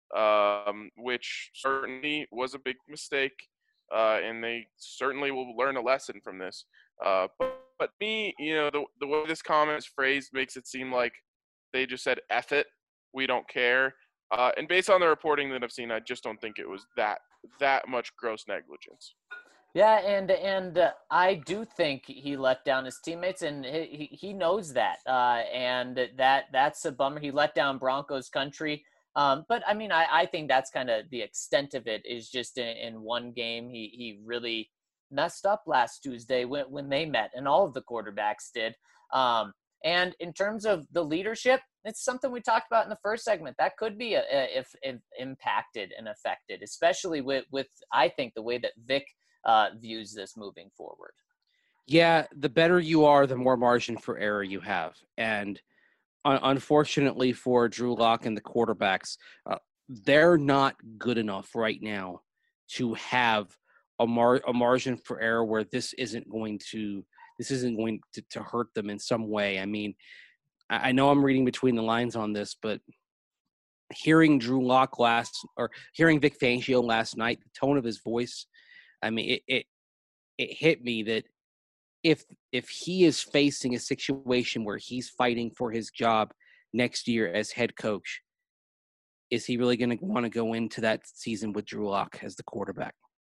um, which certainly was a big mistake, uh, and they certainly will learn a lesson from this. Uh, but, but me, you know, the, the way this comment is phrased makes it seem like they just said, F it. We don't care. Uh, and based on the reporting that I've seen, I just don't think it was that that much gross negligence. Yeah, and and uh, I do think he let down his teammates, and he he knows that, uh, and that that's a bummer. He let down Broncos country, um, but I mean, I, I think that's kind of the extent of it. Is just in, in one game, he he really messed up last Tuesday when when they met, and all of the quarterbacks did. Um, and in terms of the leadership, it's something we talked about in the first segment. That could be a, a, if, if impacted and affected, especially with with I think the way that Vic uh, views this moving forward. Yeah, the better you are, the more margin for error you have. And un- unfortunately for Drew Lock and the quarterbacks, uh, they're not good enough right now to have a, mar- a margin for error where this isn't going to this isn't going to, to hurt them in some way. I mean, I, I know I'm reading between the lines on this, but hearing Drew Lock last or hearing Vic Fangio last night, the tone of his voice, I mean, it, it it hit me that if if he is facing a situation where he's fighting for his job next year as head coach, is he really going to want to go into that season with Drew Lock as the quarterback?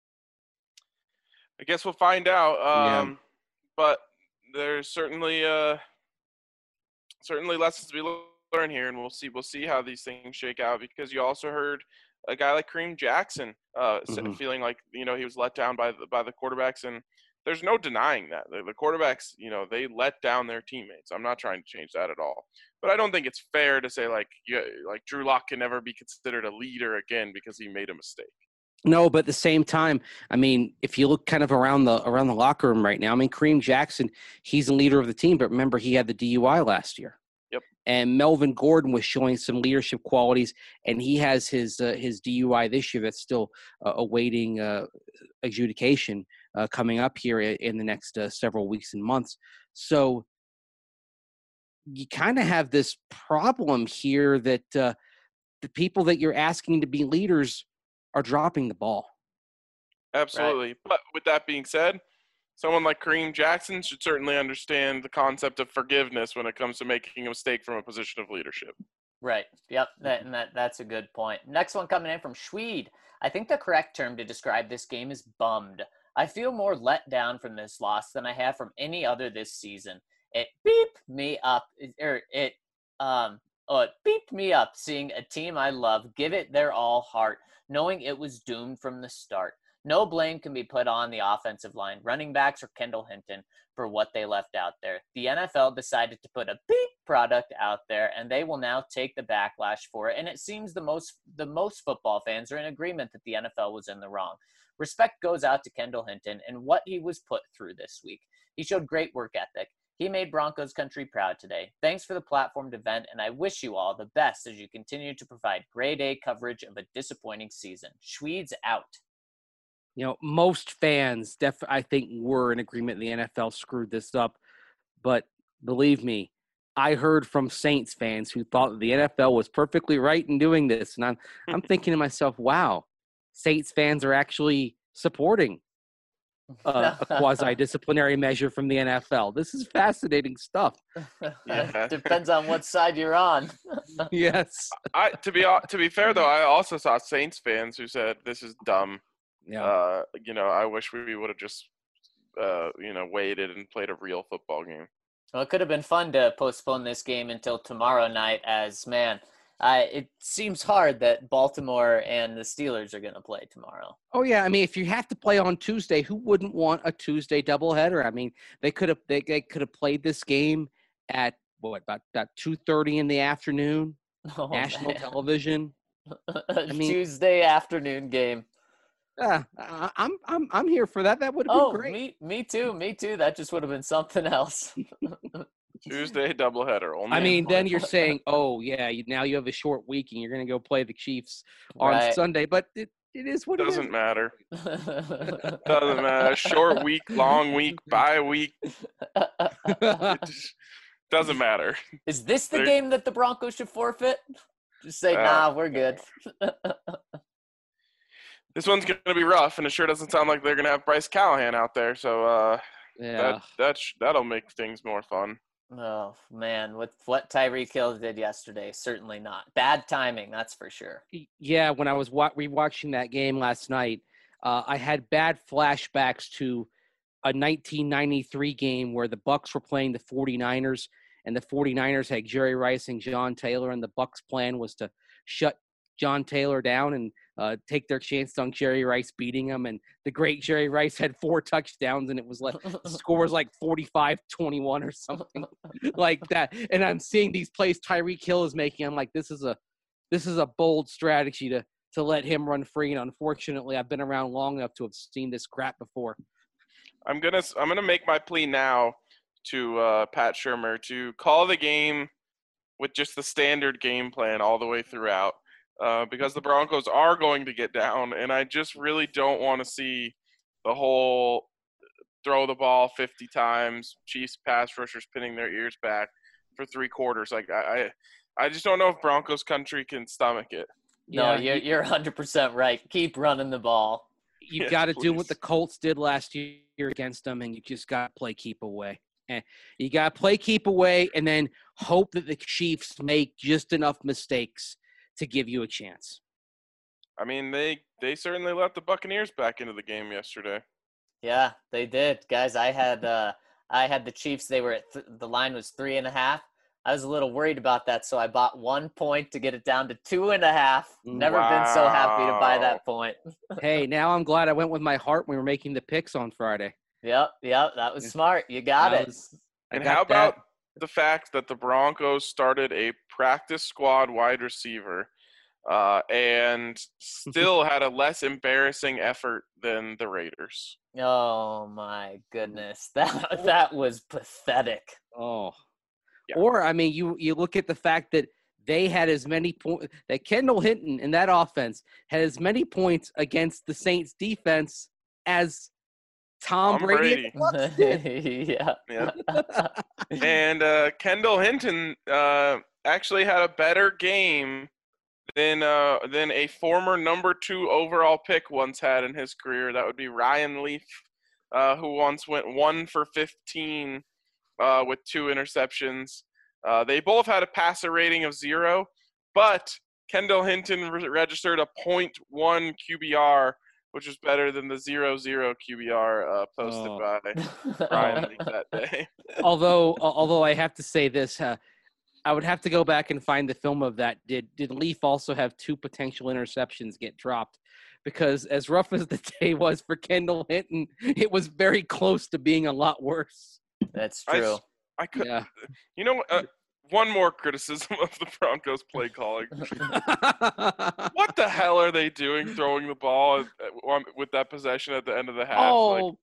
I guess we'll find out. Um, Yeah. But there's certainly uh, certainly lessons to be learned here, and we'll see we'll see how these things shake out. Because you also heard a guy like Kareem Jackson uh, Mm-hmm. feeling like you know he was let down by the by the quarterbacks, and there's no denying that the, the quarterbacks you know they let down their teammates. I'm not trying to change that at all, but I don't think it's fair to say like you, like Drew Lock can never be considered a leader again because he made a mistake. No, but at the same time, I mean, if you look kind of around the around the locker room right now, I mean, Kareem Jackson, he's the leader of the team, but remember he had the D U I last year. Yep. And Melvin Gordon was showing some leadership qualities, and he has his uh, his D U I this year that's still uh, awaiting uh, adjudication uh, coming up here in the next uh, several weeks and months. So you kind of have this problem here that uh, the people that you're asking to be leaders are dropping the ball. Absolutely. Right. But with that being said, someone like Kareem Jackson should certainly understand the concept of forgiveness when it comes to making a mistake from a position of leadership. Right. Yep. That, and that, that's a good point. Next one coming in from Schweed. I think the correct term to describe this game is bummed. I feel more let down from this loss than I have from any other this season. It beeped me up, or it, um, oh, it beeped me up seeing a team I love give it their all heart, knowing it was doomed from the start. No blame can be put on the offensive line, running backs, or Kendall Hinton for what they left out there. The N F L decided to put a beep product out there, and they will now take the backlash for it. And it seems the most the most football fans are in agreement that the N F L was in the wrong. Respect goes out to Kendall Hinton and what he was put through this week. He showed great work ethic. He made Broncos country proud today. Thanks for the platform to vent, and I wish you all the best as you continue to provide grade A coverage of a disappointing season. Schweed's out. You know, most fans, def- I think, were in agreement the N F L screwed this up. But believe me, I heard from Saints fans who thought that the N F L was perfectly right in doing this. And I'm, I'm thinking to myself, wow, Saints fans are actually supporting uh, a quasi-disciplinary measure from the N F L. This is fascinating stuff. Yeah. Depends on what side you're on. Yes. I to be to be fair though, I also saw Saints fans who said this is dumb. Yeah. Uh, you know, I wish we would have just uh, you know, waited and played a real football game. Well, it could have been fun to postpone this game until tomorrow night as, man, uh, it seems hard that Baltimore and the Steelers are going to play tomorrow. Oh, yeah. I mean, if you have to play on Tuesday, who wouldn't want a Tuesday doubleheader? I mean, they could have they, they could have played this game at, what, about, about two thirty in the afternoon, oh, national man. television. I mean, Tuesday afternoon game. Yeah, uh, I'm I'm I'm here for that. That would have oh, been great. me me too, me too. That just would have been something else. Tuesday doubleheader. Only I mean, then you're saying, oh yeah, you, now you have a short week and you're going to go play the Chiefs on right. Sunday. But it, it is what doesn't it is. matter. Doesn't matter. Short week, long week, bye week. It just doesn't matter. Is this the They're, game that the Broncos should forfeit? Just say, uh, nah, we're good. This one's going to be rough, and it sure doesn't sound like they're going to have Bryce Callahan out there. So uh, yeah. that that sh- that'll make things more fun. Oh, man. With what Tyreek Hill did yesterday, certainly not. Bad timing, that's for sure. Yeah, when I was wa- rewatching that game last night, uh, I had bad flashbacks to a nineteen ninety-three game where the Bucs were playing the 49ers, and the 49ers had Jerry Rice and John Taylor, and the Bucs' plan was to shut John Taylor down and uh, take their chance on Jerry Rice beating him. And the great Jerry Rice had four touchdowns, and it was like the score was like forty-five twenty-one or something like that. And I'm seeing these plays Tyreek Hill is making. I'm like, this is a this is a bold strategy to to let him run free. And unfortunately, I've been around long enough to have seen this crap before. I'm gonna I'm gonna make my plea now to uh, Pat Shurmur to call the game with just the standard game plan all the way throughout. Uh, because the Broncos are going to get down, and I just really don't want to see the whole throw the ball fifty times, Chiefs pass rushers pinning their ears back for three quarters. Like I, I just don't know if Broncos country can stomach it. No, Yeah, you're you're one hundred percent right. Keep running the ball. you've Yes, got to do what please. the Colts did last year against them, and you just got to play keep away. And you got to play keep away and then hope that the Chiefs make just enough mistakes to give you a chance. I mean, they they certainly let the Buccaneers back into the game yesterday. Yeah, they did, guys. I had uh, I had the Chiefs. They were at th- the line was three and a half. I was a little worried about that, so I bought one point to get it down to two and a half. Never been so happy to buy Wow. that point. Hey, now I'm glad I went with my heart when we were making the picks on Friday. Yep, yep, that was Yeah. smart. You got That it. was- I And got how about that. the fact that the Broncos started a practice squad wide receiver uh, and still had a less embarrassing effort than the Raiders? Oh my goodness, that that was pathetic. Oh. Yeah. Or, I mean, you, you look at the fact that they had as many points – that Kendall Hinton in that offense had as many points against the Saints defense as Tom, Tom Brady. Brady. Yeah. Yeah. And uh, Kendall Hinton uh, actually had a better game than uh, than a former number two overall pick once had in his career. That would be Ryan Leaf, uh, who once went one for fifteen uh, with two interceptions. Uh, they both had a passer rating of zero, but Kendall Hinton re- registered a point one Q B R, which was better than the zero zero Q B R uh, posted Oh. by Ryan Leaf that day. although although I have to say this, uh, I would have to go back and find the film of that. Did did Leaf also have two potential interceptions get dropped? Because as rough as the day was for Kendall Hinton, it was very close to being a lot worse. That's I, true. s- I could, Yeah. you know, uh, one more criticism of the Broncos play calling. What the hell are they doing throwing the ball at, at, with that possession at the end of the half? Like, Oh,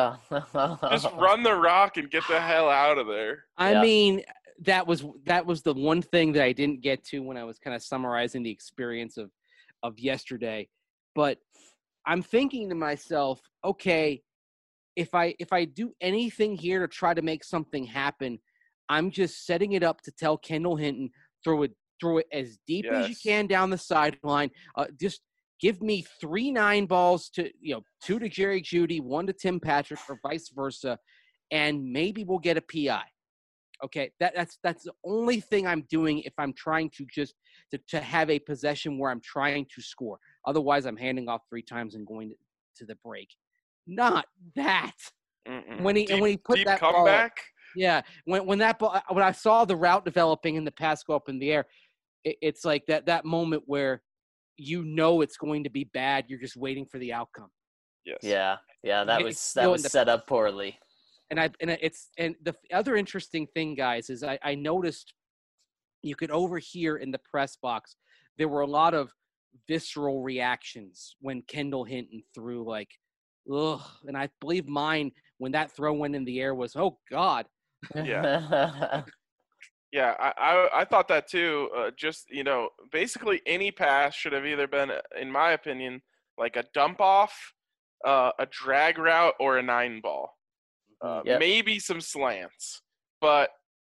Oh. just run the rock and get the hell out of there. I Yeah. mean, that was that was the one thing that I didn't get to when I was kind of summarizing the experience of of yesterday. But I'm thinking to myself, okay, if I if I do anything here to try to make something happen, I'm just setting it up to tell Kendall Hinton, throw it throw it as deep as you Yes. can down the sideline. Uh, just give me three nine balls to, you know, two to Jerry Jeudy, one to Tim Patrick, or vice versa, and maybe we'll get a P I. Okay, that, that's that's the only thing I'm doing if I'm trying to just to, to have a possession where I'm trying to score. Otherwise, I'm handing off three times and going to, to the break. Not that. Mm-mm. When he deep, and when he put deep that ball up, comeback. yeah, when when that ball, when I saw the route developing and the pass go up in the air, it, it's like that that moment where you know it's going to be bad. You're just waiting for the outcome. Yes. Yeah, yeah, that You was feel that in was the- set up poorly. And I and it's and the other interesting thing, guys, is I, I noticed you could overhear in the press box there were a lot of visceral reactions when Kendall Hinton threw, like, ugh. And I believe mine when that throw went in the air was, oh God. Yeah. Yeah, I, I I thought that too. Uh, just, you know, basically any pass should have either been, in my opinion, like a dump off, uh, a drag route, or a nine ball. Uh, Yep. Maybe some slants, but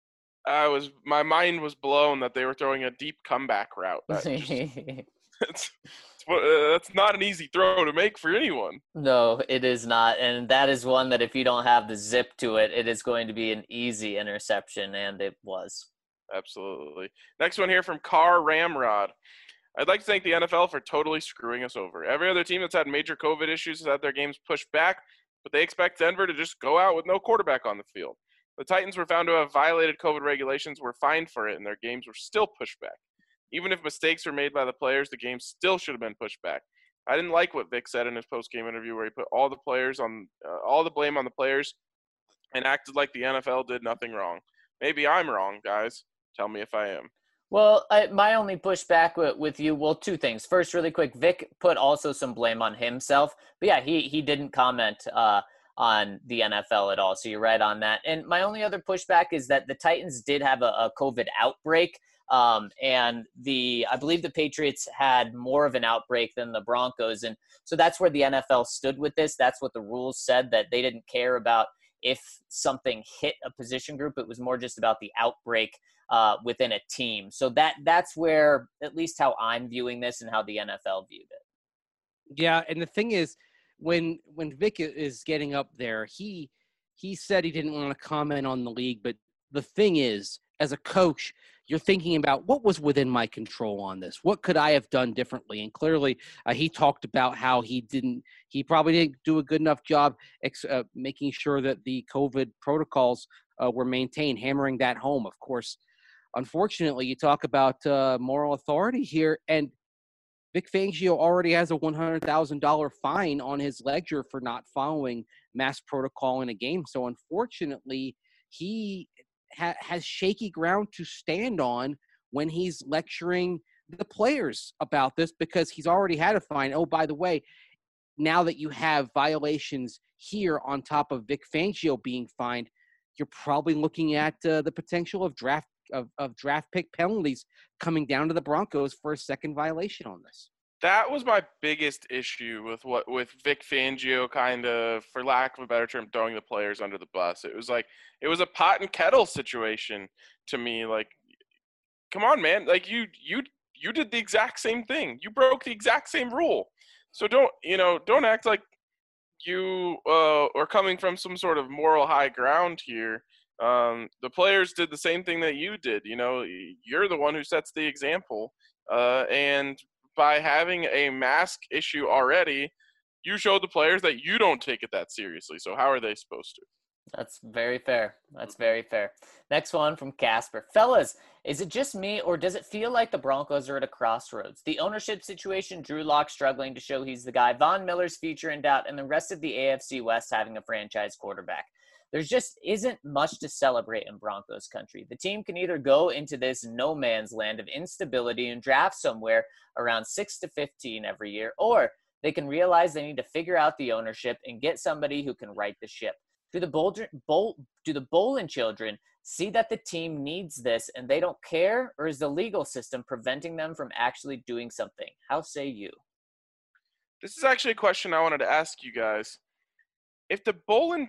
I was my mind was blown that they were throwing a deep comeback route. That just, it's, it's, uh, that's not an easy throw to make for anyone. No, it is not. And that is one that if you don't have the zip to it, it is going to be an easy interception, and it was. Absolutely. Next one here from Carr Ramrod. I'd like to thank the N F L for totally screwing us over. Every other team that's had major COVID issues has had their games pushed back, but they expect Denver to just go out with no quarterback on the field. The Titans were found to have violated COVID regulations, were fined for it, and their games were still pushed back. Even if mistakes were made by the players, the game still should have been pushed back. I didn't like what Vic said in his post-game interview, where he put all the players on, uh, all the blame on the players, and acted like the N F L did nothing wrong. Maybe I'm wrong, guys. Tell me if I am. Well, I, my only pushback with, with you, well, two things. First, really quick, Vic put also some blame on himself. But yeah, he he didn't comment uh, on the N F L at all. So you're right on that. And my only other pushback is that the Titans did have a, a COVID outbreak. Um, and the I believe the Patriots had more of an outbreak than the Broncos. And so that's where the N F L stood with this. That's what the rules said, that they didn't care about if something hit a position group. It was more just about the outbreak uh, within a team. So that that's where, at least how I'm viewing this and how the N F L viewed it. Yeah, and the thing is, when when Vic is getting up there, he he said he didn't want to comment on the league, but the thing is, as a coach, you're thinking about what was within my control on this. What could I have done differently? And clearly, uh, he talked about how he didn't, he probably didn't do a good enough job ex- uh, making sure that the COVID protocols uh, were maintained, hammering that home. Of course, unfortunately, you talk about uh, moral authority here, and Vic Fangio already has a one hundred thousand dollars fine on his ledger for not following mask protocol in a game. So unfortunately, he ha- has shaky ground to stand on when he's lecturing the players about this, because he's already had a fine. Oh, by the way, now that you have violations here on top of Vic Fangio being fined, you're probably looking at uh, the potential of draft Of, of draft pick penalties coming down to the Broncos for a second violation on this. That was my biggest issue with what with Vic Fangio kind of, for lack of a better term, throwing the players under the bus. It was like it was a pot and kettle situation to me. Like, come on, man! Like you you you did the exact same thing. You broke the exact same rule. So don't you know? Don't act like you uh, are coming from some sort of moral high ground here. Um, the players did the same thing that you did. You know, you're the one who sets the example. Uh, and by having a mask issue already, you showed the players that you don't take it that seriously. So how are they supposed to? That's very fair. That's very fair. Next one from Casper. Fellas, is it just me, or does it feel like the Broncos are at a crossroads? The ownership situation, Drew Lock struggling to show he's the guy, Von Miller's future in doubt, and the rest of the A F C West having a franchise quarterback. There's just isn't much to celebrate in Broncos country. The team can either go into this no man's land of instability and draft somewhere around six to fifteen every year, or they can realize they need to figure out the ownership and get somebody who can right the ship. Do the Bolger, Bol, do the Bolin children see that the team needs this and they don't care, or is the legal system preventing them from actually doing something? How say you? This is actually a question I wanted to ask you guys. If the Bolin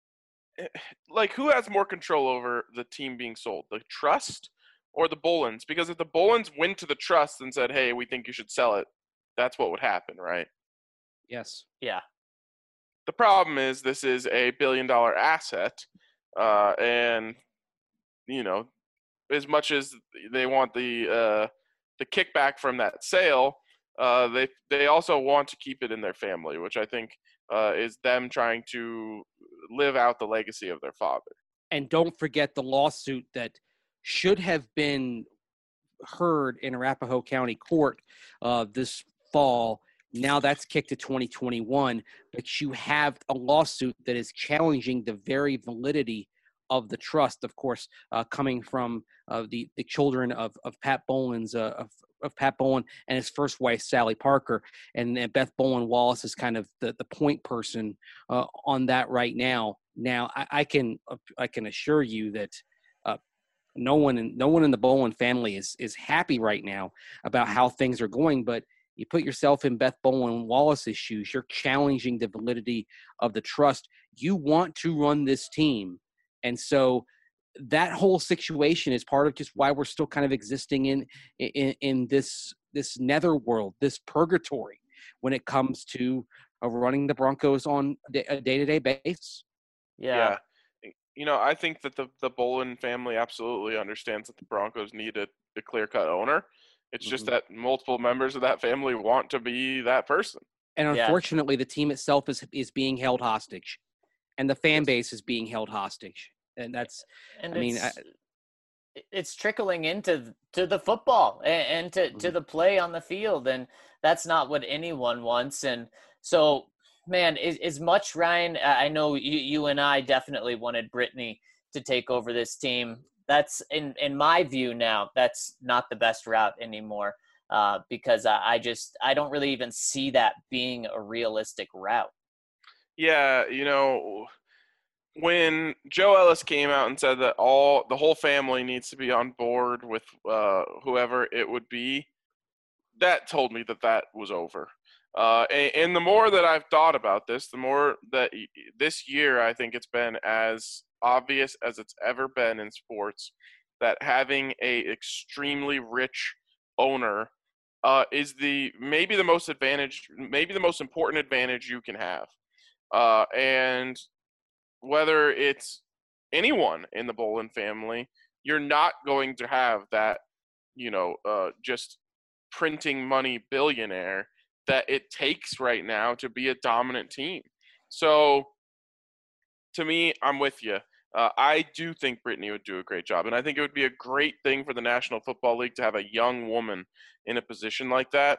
like, who has more control over the team being sold, the trust or the Bolins? Because if the Bolins went to the trust and said, hey, we think you should sell it, that's what would happen, right? Yes. Yeah. The problem is this is a billion dollar asset. Uh, and, you know, as much as they want the uh, the kickback from that sale, uh, they they also want to keep it in their family, which I think uh, is them trying to live out the legacy of their father. And don't forget the lawsuit that should have been heard in Arapahoe County Court uh, this fall. Now that's kicked to twenty twenty-one, but you have a lawsuit that is challenging the very validity of the trust, of course, uh, coming from uh, the, the children of, of Pat Bolin's, uh, of, of Pat Bolin and his first wife, Sally Parker. And, and Beth Bolin Wallace is kind of the, the point person uh, on that right now. Now, I, I can I can assure you that uh, no one in no one in the Bolin family is is happy right now about how things are going. But you put yourself in Beth Bolin Wallace's shoes. You're challenging the validity of the trust. You want to run this team, and so that whole situation is part of just why we're still kind of existing in in, in this this netherworld, this purgatory, when it comes to uh, running the Broncos on a day-to-day basis. Yeah. yeah. You know, I think that the, the Bolin family absolutely understands that the Broncos need a, a clear-cut owner. It's mm-hmm. just that multiple members of that family want to be that person. And unfortunately, yeah. the team itself is is being held hostage, and the fan yes. base is being held hostage. And that's, and I mean, I, it's trickling into to the football and, and to, mm-hmm. to the play on the field. And that's not what anyone wants. And so, man, as, as much, Ryan, I know you, you and I definitely wanted Brittany to take over this team. That's in, in my view now, that's not the best route anymore uh, because I, I just, I don't really even see that being a realistic route. Yeah. You know, when Joe Ellis came out and said that all the whole family needs to be on board with uh, whoever it would be, that told me that that was over. Uh, and, and the more that I've thought about this, the more that this year I think it's been as obvious as it's ever been in sports that having a extremely rich owner uh, is the maybe the most advantage, maybe the most important advantage you can have. Uh, and whether it's anyone in the Bolin family, you're not going to have that, you know, uh, just printing money billionaire that it takes right now to be a dominant team. So to me, I'm with you. Uh, I do think Brittany would do a great job, and I think it would be a great thing for the National Football League to have a young woman in a position like that.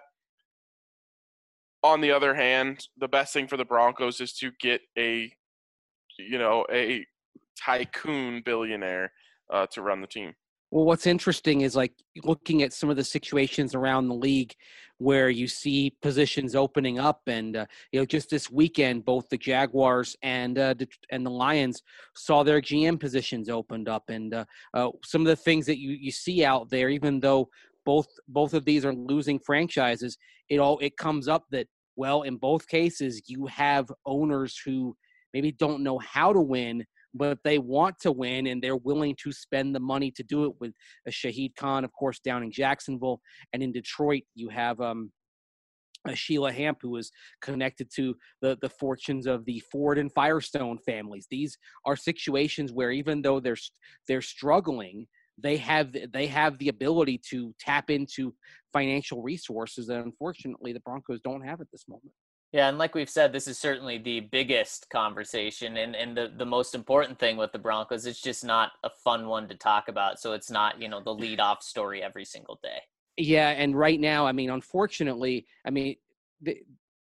On the other hand, the best thing for the Broncos is to get a, you know, a tycoon billionaire uh, to run the team. Well, what's interesting is like looking at some of the situations around the league where you see positions opening up, and uh, you know, just this weekend, both the Jaguars and uh, the, and the Lions saw their G M positions opened up, and uh, uh, some of the things that you, you see out there, even though both both of these are losing franchises, it all it comes up that, well, in both cases, you have owners who maybe don't know how to win, but they want to win, and they're willing to spend the money to do it. With a Shahid Khan, of course, down in Jacksonville, and in Detroit, you have um, a Sheila Hamp, who is connected to the, the fortunes of the Ford and Firestone families. These are situations where even though they're they're struggling, they have they have the ability to tap into financial resources that unfortunately the Broncos don't have at this moment. Yeah, and like we've said, this is certainly the biggest conversation, and, and the, the most important thing with the Broncos. It's just not a fun one to talk about, so it's not, you know, the lead-off story every single day. Yeah, and right now, I mean, unfortunately, I mean, the,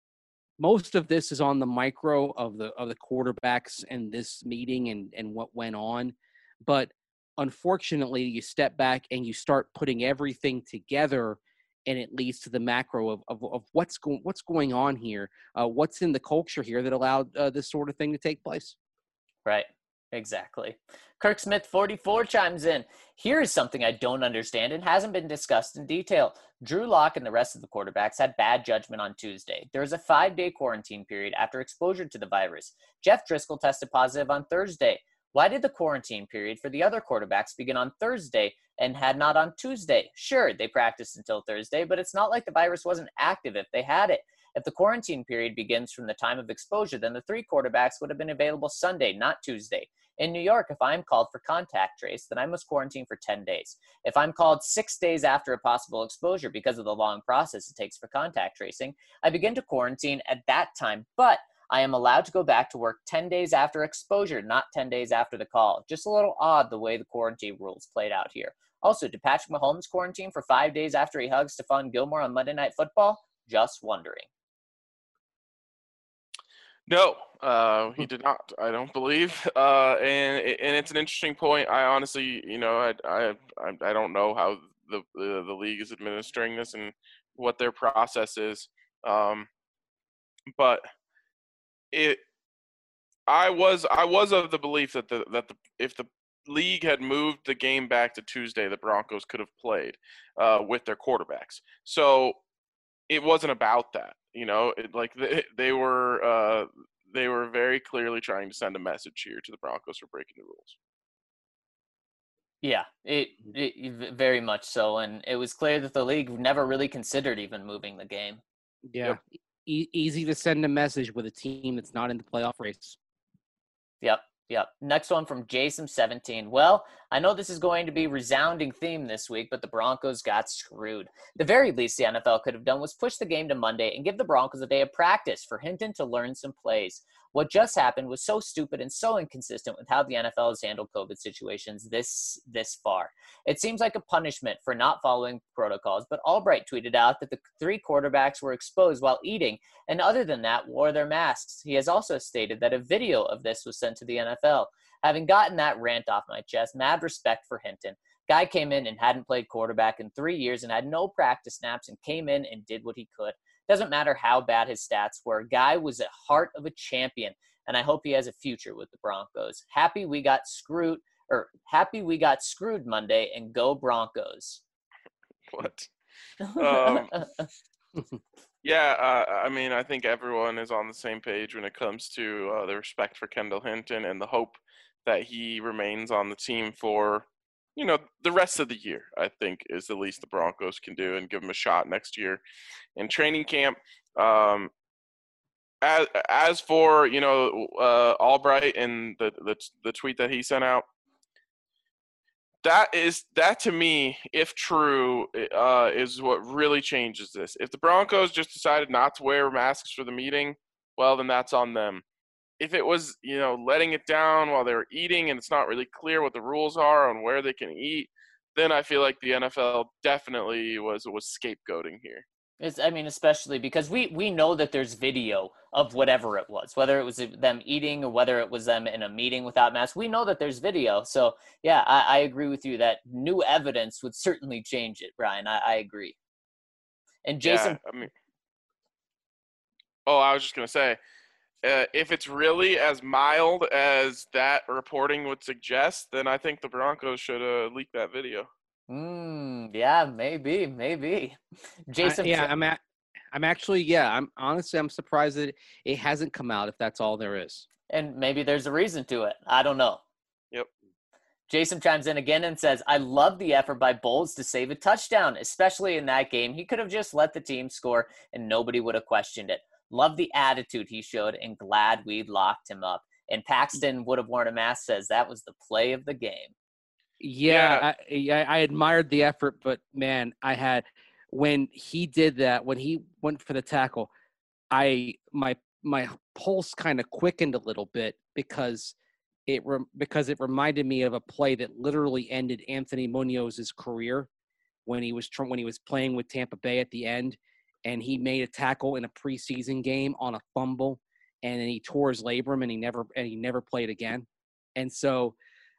most of this is on the micro of the of the quarterbacks and this meeting and, and what went on. But unfortunately, you step back and you start putting everything together, and it leads to the macro of, of, of what's going what's going on here, uh, what's in the culture here that allowed uh, this sort of thing to take place. Right, exactly. Kirk Smith, forty-four, chimes in. Here is something I don't understand and hasn't been discussed in detail. Drew Lock and the rest of the quarterbacks had bad judgment on Tuesday. There was a five-day quarantine period after exposure to the virus. Jeff Driscoll tested positive on Thursday. Why did the quarantine period for the other quarterbacks begin on Thursday and had not on Tuesday? Sure, they practiced until Thursday, but it's not like the virus wasn't active if they had it. If the quarantine period begins from the time of exposure, then the three quarterbacks would have been available Sunday, not Tuesday. In New York, if I'm called for contact trace, then I must quarantine for ten days. If I'm called six days after a possible exposure because of the long process it takes for contact tracing, I begin to quarantine at that time, but I am allowed to go back to work ten days after exposure, not ten days after the call. Just a little odd the way the quarantine rules played out here. Also, did Patrick Mahomes quarantine for five days after he hugged Stephon Gilmore on Monday Night Football? Just wondering. No, uh, he did not. I don't believe, uh, and and it's an interesting point. I honestly, you know, I I I don't know how the the, the league is administering this and what their process is, um, but it. I was I was of the belief that the that the if the league had moved the game back to Tuesday, the Broncos could have played uh, with their quarterbacks. So it wasn't about that, you know. It, like they, they were uh, they were very clearly trying to send a message here to the Broncos for breaking the rules. Yeah, it, it very much so, and it was clear that the league never really considered even moving the game. Yeah, Yep. e- easy to send a message with a team that's not in the playoff race. Yep, yep. Next one from Jason seventeen. Well, I know this is going to be a resounding theme this week, but the Broncos got screwed. The very least the N F L could have done was push the game to Monday and give the Broncos a day of practice for Hinton to learn some plays. What just happened was so stupid and so inconsistent with how the N F L has handled COVID situations this this far. It seems like a punishment for not following protocols, but Albright tweeted out that the three quarterbacks were exposed while eating, and other than that, wore their masks. He has also stated that a video of this was sent to the N F L. Having gotten that rant off my chest, mad respect for Hinton. Guy came in and hadn't played quarterback in three years and had no practice snaps and came in and did what he could. Doesn't matter how bad his stats were. Guy was a heart of a champion, and I hope he has a future with the Broncos. Happy we got screwed, or happy we got screwed Monday, and go Broncos. What? Um, yeah, uh, I mean, I think everyone is on the same page when it comes to uh, the respect for Kendall Hinton and the hope that he remains on the team for you know, the rest of the year, I think, is the least the Broncos can do and give them a shot next year in training camp. Um, as, as for, you know, uh, Albright and the, the the tweet that he sent out, that is that to me, if true, uh, is what really changes this. If the Broncos just decided not to wear masks for the meeting, well, then that's on them. If it was, you know, letting it down while they were eating and it's not really clear what the rules are on where they can eat, then I feel like the N F L definitely was was scapegoating here. It's, I mean, especially because we, we know that there's video of whatever it was, whether it was them eating or whether it was them in a meeting without masks. We know that there's video. So, yeah, I, I agree with you that new evidence would certainly change it, Brian. I, I agree. And Jason. Yeah, I mean, oh, I was just going to say, uh, if it's really as mild as that reporting would suggest, then I think the Broncos should uh, leak that video. Mm, yeah, maybe, maybe. Jason. I, yeah, I'm at, I'm actually, yeah, I'm honestly, I'm surprised that it hasn't come out if that's all there is. And maybe there's a reason to it. I don't know. Yep. Jason chimes in again and says, I love the effort by Bowles to save a touchdown, especially in that game. He could have just let the team score and nobody would have questioned it. Love the attitude he showed and glad we locked him up. And Paxton would have worn a mask, says that was the play of the game. Yeah, yeah. I, I admired the effort, but man, I had when he did that, when he went for the tackle, I my my pulse kind of quickened a little bit because it re, because it reminded me of a play that literally ended Anthony Munoz's career when he was when he was playing with Tampa Bay at the end, and he made a tackle in a preseason game on a fumble, and then he tore his labrum and he never and he never played again, and so.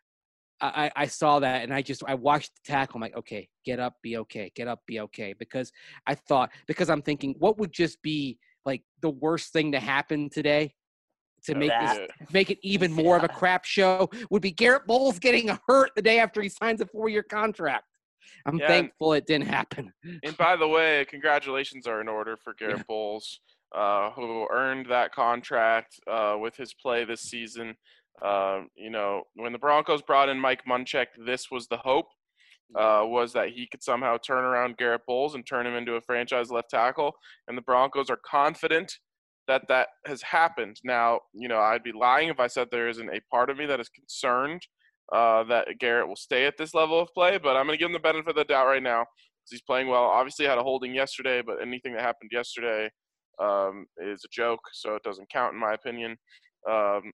I, I saw that and I just I watched the tackle. I'm like, okay, get up, be okay, get up, be okay. Because I thought because I'm thinking, what would just be like the worst thing to happen today to make That. this make it even more of a crap show would be Garrett Bowles getting hurt the day after he signs a four year contract. I'm yeah, thankful it didn't happen. And by the way, congratulations are in order for Garrett yeah. Bowles, uh, who earned that contract uh, with his play this season. Uh, you know, when the Broncos brought in Mike Munchak, this was the hope, uh, was that he could somehow turn around Garrett Bowles and turn him into a franchise left tackle. And the Broncos are confident that that has happened. Now, you know, I'd be lying if I said there isn't a part of me that is concerned uh, that Garrett will stay at this level of play, but I'm going to give him the benefit of the doubt right now because he's playing well. Obviously had a holding yesterday, but anything that happened yesterday um, is a joke, so it doesn't count in my opinion. Um,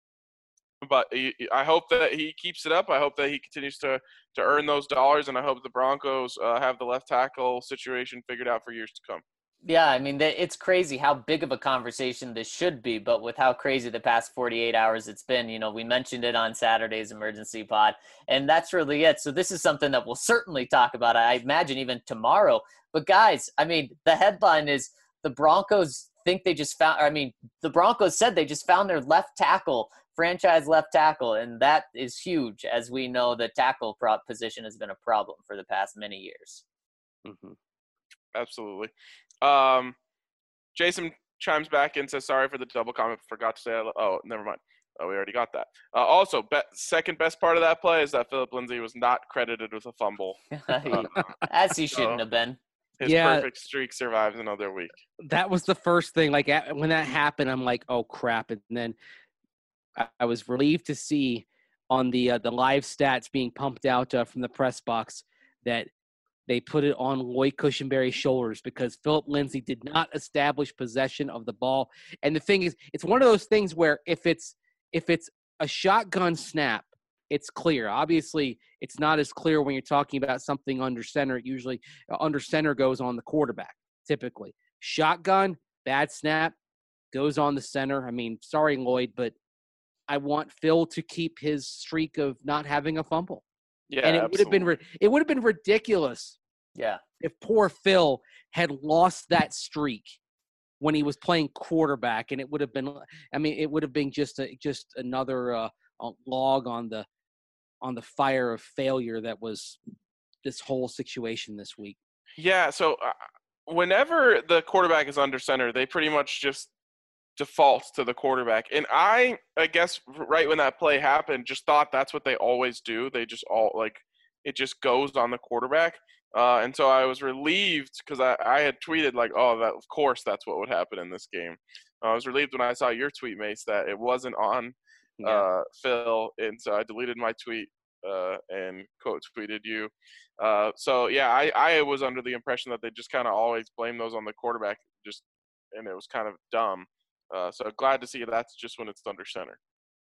But I hope that he keeps it up. I hope that he continues to, to earn those dollars, and I hope the Broncos uh, have the left tackle situation figured out for years to come. Yeah, I mean, it's crazy how big of a conversation this should be, but with how crazy the past forty-eight hours it's been, you know, we mentioned it on Saturday's Emergency Pod, and that's really it. So this is something that we'll certainly talk about, I imagine, even tomorrow. But guys, I mean, the headline is the Broncos think they just found – I mean, the Broncos said they just found their left tackle – franchise left tackle, and that is huge, as we know the tackle prop position has been a problem for the past many years. Mm-hmm. Absolutely. Um, Jason chimes back and says, sorry for the double comment, forgot to say that. Oh, never mind. Oh, we already got that. Uh, also, be- second best part of that play is that Philip Lindsay was not credited with a fumble. uh, as he shouldn't so have been. His yeah. perfect streak survives another week. That was the first thing. Like, when that happened, I'm like, oh, crap. And then I was relieved to see on the uh, the live stats being pumped out uh, from the press box that they put it on Lloyd Cushenberry's shoulders because Philip Lindsay did not establish possession of the ball. And the thing is, it's one of those things where if it's if it's a shotgun snap, it's clear. Obviously, it's not as clear when you're talking about something under center. It usually uh, under center goes on the quarterback, typically. Shotgun, bad snap, goes on the center. I mean, sorry, Lloyd, but I want Phil to keep his streak of not having a fumble. Yeah, and it absolutely. would have been it would have been ridiculous. Yeah, if poor Phil had lost that streak when he was playing quarterback, and it would have been. I mean, it would have been just a just another uh, log on the on the fire of failure that was this whole situation this week. Yeah. So uh, whenever the quarterback is under center, they pretty much just default to the quarterback. And I, I guess right when that play happened, just thought that's what they always do. They just all like it just goes on the quarterback. Uh, and so I was relieved because I, I had tweeted like, oh, that, of course that's what would happen in this game. I was relieved when I saw your tweet, Mace, that it wasn't on Yeah. uh, Phil. And so I deleted my tweet uh, and quote tweeted you. Uh, so, yeah, I, I was under the impression that they just kind of always blame those on the quarterback, just and it was kind of dumb. Uh, so glad to see that's just when it's under center.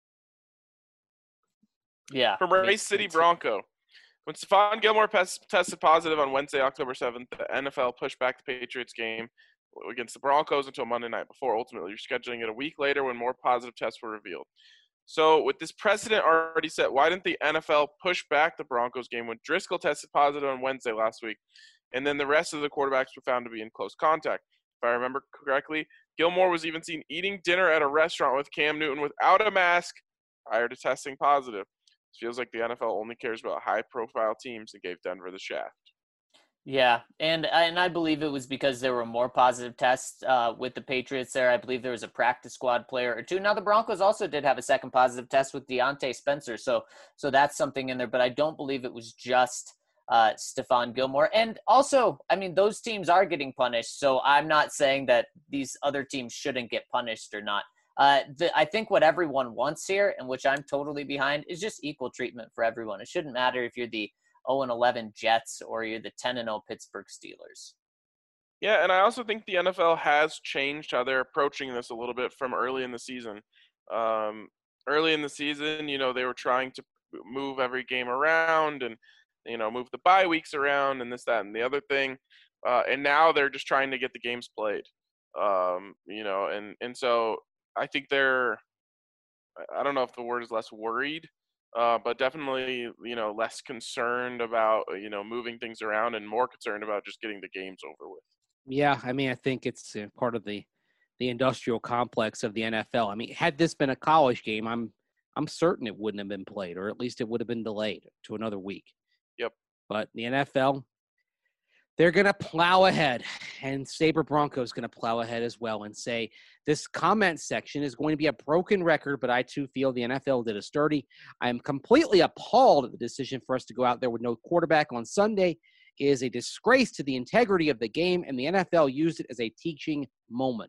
Yeah. From Race City Bronco. When Stephon Gilmore pes- tested positive on Wednesday, October seventh, the N F L pushed back the Patriots game against the Broncos until Monday night before ultimately rescheduling it a week later when more positive tests were revealed. So with this precedent already set, why didn't the N F L push back the Broncos game when Driscoll tested positive on Wednesday last week, and then the rest of the quarterbacks were found to be in close contact? If I remember correctly, Gilmore was even seen eating dinner at a restaurant with Cam Newton without a mask prior to testing positive. It feels like the N F L only cares about high-profile teams and gave Denver the shaft. Yeah, and and I believe it was because there were more positive tests uh, with the Patriots there. I believe there was a practice squad player or two. Now the Broncos also did have a second positive test with Deontay Spencer, so so that's something in there. But I don't believe it was just uh, Stephon Gilmore. And also, I mean, those teams are getting punished, so I'm not saying that these other teams shouldn't get punished or not. Uh, the, I think what everyone wants here, and which I'm totally behind, is just equal treatment for everyone. It shouldn't matter if you're the oh and eleven Jets or you're the ten and oh Pittsburgh Steelers. Yeah, and I also think the N F L has changed how they're approaching this a little bit from early in the season. Um, early in the season, you know, they were trying to move every game around and, you know, move the bye weeks around and this, that, and the other thing. Uh, and now they're just trying to get the games played. Um, you know, and, and so I think they're, I don't know if the word is less worried, uh, but definitely, you know, less concerned about, you know, moving things around and more concerned about just getting the games over with. Yeah, I mean, I think it's uh, part of the the industrial complex of the N F L. I mean, had this been a college game, I'm I'm certain it wouldn't have been played, or at least it would have been delayed to another week. Yep. But the N F L, they're going to plow ahead, and Sabre Broncos going to plow ahead as well and say this comment section is going to be a broken record, but I too feel the N F L did us dirty. I am completely appalled at the decision for us to go out there with no quarterback on Sunday. It is a disgrace to the integrity of the game, and the N F L used it as a teaching moment.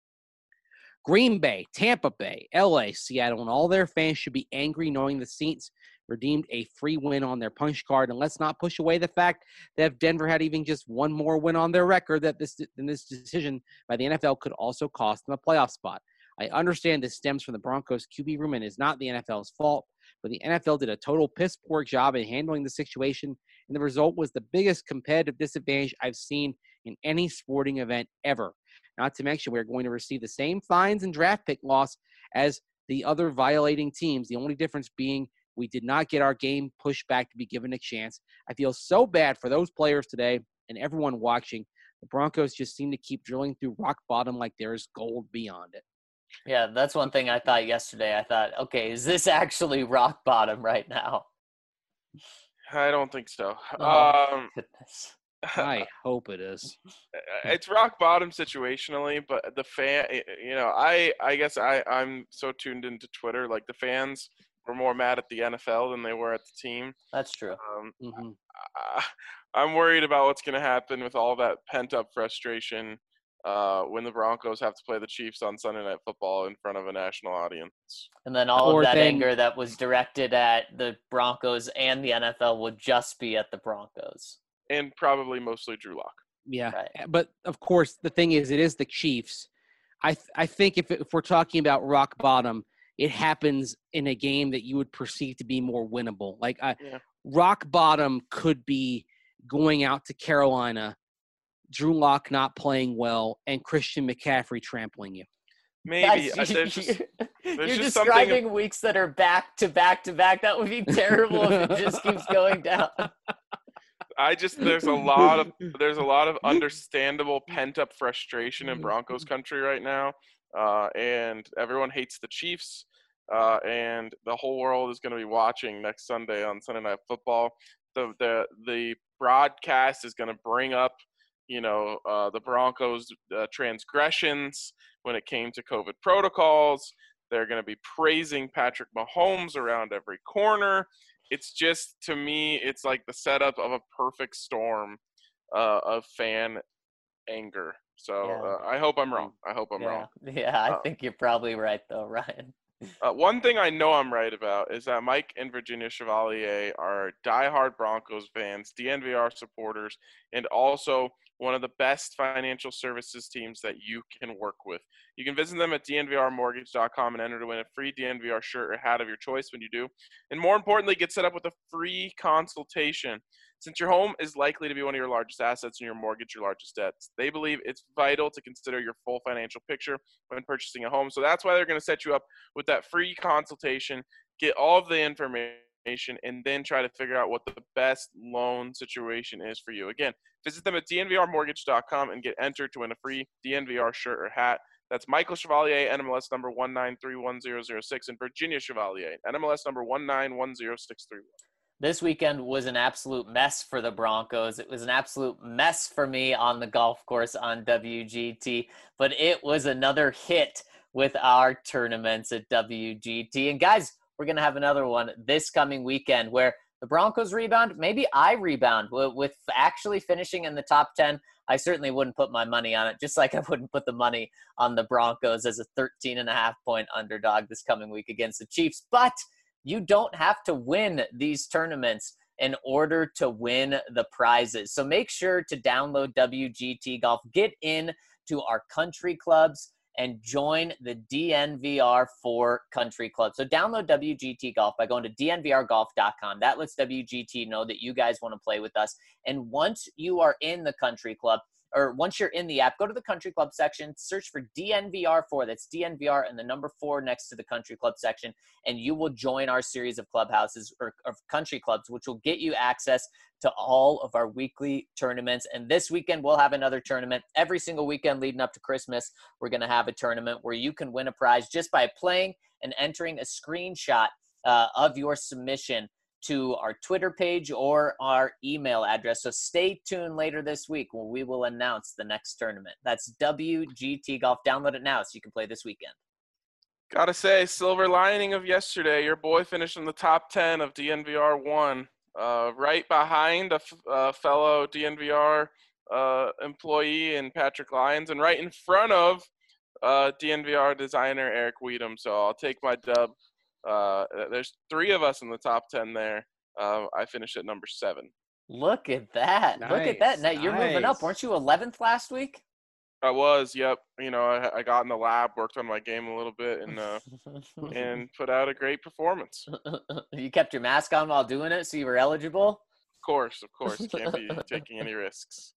Green Bay, Tampa Bay, L A, Seattle, and all their fans should be angry knowing the Saints redeemed a free win on their punch card. And let's not push away the fact that if Denver had even just one more win on their record, that this, then this decision by the N F L could also cost them a playoff spot. I understand this stems from the Broncos Q B room and is not the N F L's fault, but the N F L did a total piss-poor job in handling the situation, and the result was the biggest competitive disadvantage I've seen in any sporting event ever. Not to mention, we're going to receive the same fines and draft pick loss as the other violating teams, the only difference being we did not get our game pushed back to be given a chance. I feel so bad for those players today and everyone watching. The Broncos just seem to keep drilling through rock bottom like there's gold beyond it. Yeah, that's one thing I thought yesterday. I thought, okay, is this actually rock bottom right now? I don't think so. Oh, um, goodness. I hope it is. It's rock bottom situationally, but the fan, you know, I, I guess I, I'm so tuned into Twitter. Like the fans were more mad at the N F L than they were at the team. That's true. Um, Mm-hmm. I, I'm worried about what's going to happen with all that pent up frustration uh, when the Broncos have to play the Chiefs on Sunday Night Football in front of a national audience. And then all Or of that then- anger that was directed at the Broncos and the N F L would just be at the Broncos. And probably mostly Drew Lock. Yeah, Right. but of course, the thing is, it is the Chiefs. I th- I think if, if we're talking about rock bottom, it happens in a game that you would perceive to be more winnable. Like I, Yeah. rock bottom could be going out to Carolina, Drew Lock not playing well, and Christian McCaffrey trampling you. Maybe. Guys, uh, there's just, you're there's you're just something. describing weeks that are back to back to back. That would be terrible if it just keeps going down. I just there's a lot of there's a lot of understandable pent up frustration in Broncos country right now, uh, and everyone hates the Chiefs, uh, and the whole world is going to be watching next Sunday on Sunday Night Football. The the the broadcast is going to bring up, you know, uh, the Broncos' uh, transgressions when it came to COVID protocols. They're going to be praising Patrick Mahomes around every corner. it's just, to me, it's like the setup of a perfect storm uh, of fan anger. So Yeah. uh, I hope I'm wrong. I hope I'm Yeah. wrong. Yeah, I Uh, think you're probably right though, Ryan. Uh, one thing I know I'm right about is that Mike and Virginia Chevalier are diehard Broncos fans, D N V R supporters, and also one of the best financial services teams that you can work with. You can visit them at D N V R mortgage dot com and enter to win a free D N V R shirt or hat of your choice when you do. And more importantly, get set up with a free consultation. Since your home is likely to be one of your largest assets and your mortgage your largest debts, they believe it's vital to consider your full financial picture when purchasing a home. So that's why they're going to set you up with that free consultation, get all of the information, and then try to figure out what the best loan situation is for you. Again, visit them at D N V R mortgage dot com and get entered to win a free D N V R shirt or hat. That's Michael Chevalier, N M L S number one nine three one zero zero six, and Virginia Chevalier, N M L S number one nine one zero six three one. This weekend was an absolute mess for the Broncos. It was an absolute mess for me on the golf course on W G T, but it was another hit with our tournaments at W G T. And guys, we're going to have another one this coming weekend where the Broncos rebound. Maybe I rebound with actually finishing in the top ten. I certainly wouldn't put my money on it, just like I wouldn't put the money on the Broncos as a thirteen and a half point underdog this coming week against the Chiefs. But you don't have to win these tournaments in order to win the prizes. So make sure to download W G T Golf, get in to our country clubs, and join the D N V R four country club. So download W G T Golf by going to D N V R golf dot com. That lets W G T know that you guys want to play with us. And once you are in the country club, or once you're in the app, go to the country club section, search for D N V R four. That's D N V R and the number four next to the country club section. And you will join our series of clubhouses or of country clubs, which will get you access to all of our weekly tournaments. And this weekend, we'll have another tournament. Every single weekend leading up to Christmas, we're going to have a tournament where you can win a prize just by playing and entering a screenshot uh, of your submission to our Twitter page or our email address. So stay tuned later this week when we will announce the next tournament. That's W G T Golf. Download it now so you can play this weekend. Gotta say, silver lining of yesterday, your boy finished in the top ten of D N V R one, uh, right behind a f- uh, fellow D N V R uh, employee in Patrick Lyons, and right in front of uh, D N V R designer Eric Weedham. So I'll take my dub. Uh, there's three of us in the top ten there. Uh, I finished at number seven. Look at that. Nice, Look at that. Now you're moving up. nice. Weren't you eleventh last week? I was, yep. You know, I, I got in the lab, worked on my game a little bit, and uh, and put out a great performance. Of You kept your mask on while doing it, so you were eligible? course, of course. Can't be taking any risks.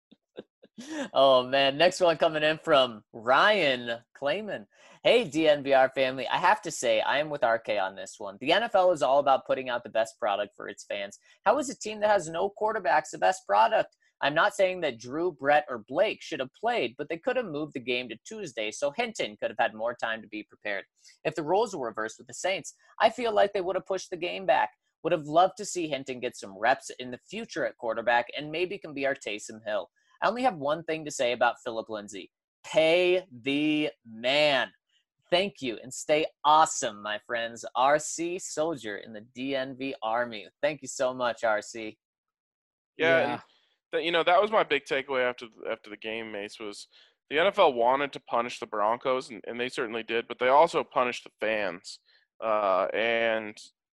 Oh, man. Next one coming in from Ryan Clayman. Hey, D N V R family. I have to say, I am with R K on this one. The N F L is all about putting out the best product for its fans. How is a team that has no quarterbacks the best product? I'm not saying that Drew, Brett, or Blake should have played, but they could have moved the game to Tuesday, so Hinton could have had more time to be prepared. If the roles were reversed with the Saints, I feel like they would have pushed the game back. Would have loved to see Hinton get some reps in the future at quarterback and maybe can be our Taysom Hill. I only have one thing to say about Philip Lindsay. Pay the man. Thank you, and stay awesome, my friends. R C Soldier in the D N V Army. Thank you so much, R C. Yeah, Yeah. and that, you know, that was my big takeaway after after the game, Mace, was the N F L wanted to punish the Broncos, and, and they certainly did, but they also punished the fans. Uh, and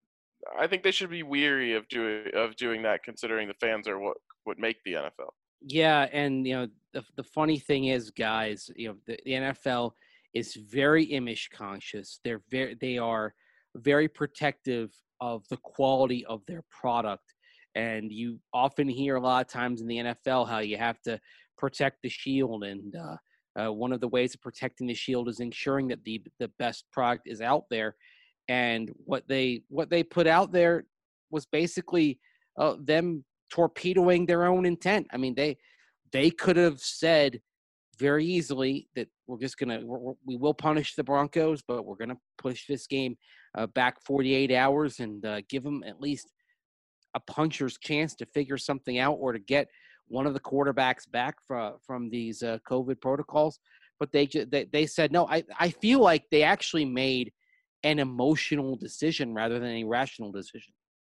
I think they should be weary of doing of doing that, considering the fans are what, what make the N F L. Yeah, and you know the the funny thing is, guys, you know the, the N F L is very image conscious. They're very they are very protective of the quality of their product, and you often hear a lot of times in the N F L how you have to protect the shield, and uh, uh, one of the ways of protecting the shield is ensuring that the the best product is out there. And what they what they put out there was basically uh, them torpedoing their own intent. I mean, they they could have said very easily that we're just gonna we're, we will punish the Broncos, but we're gonna push this game uh, back forty-eight hours and uh, give them at least a puncher's chance to figure something out or to get one of the quarterbacks back from from these uh, COVID protocols. But they they they said no. I I feel like they actually made an emotional decision rather than a rational decision.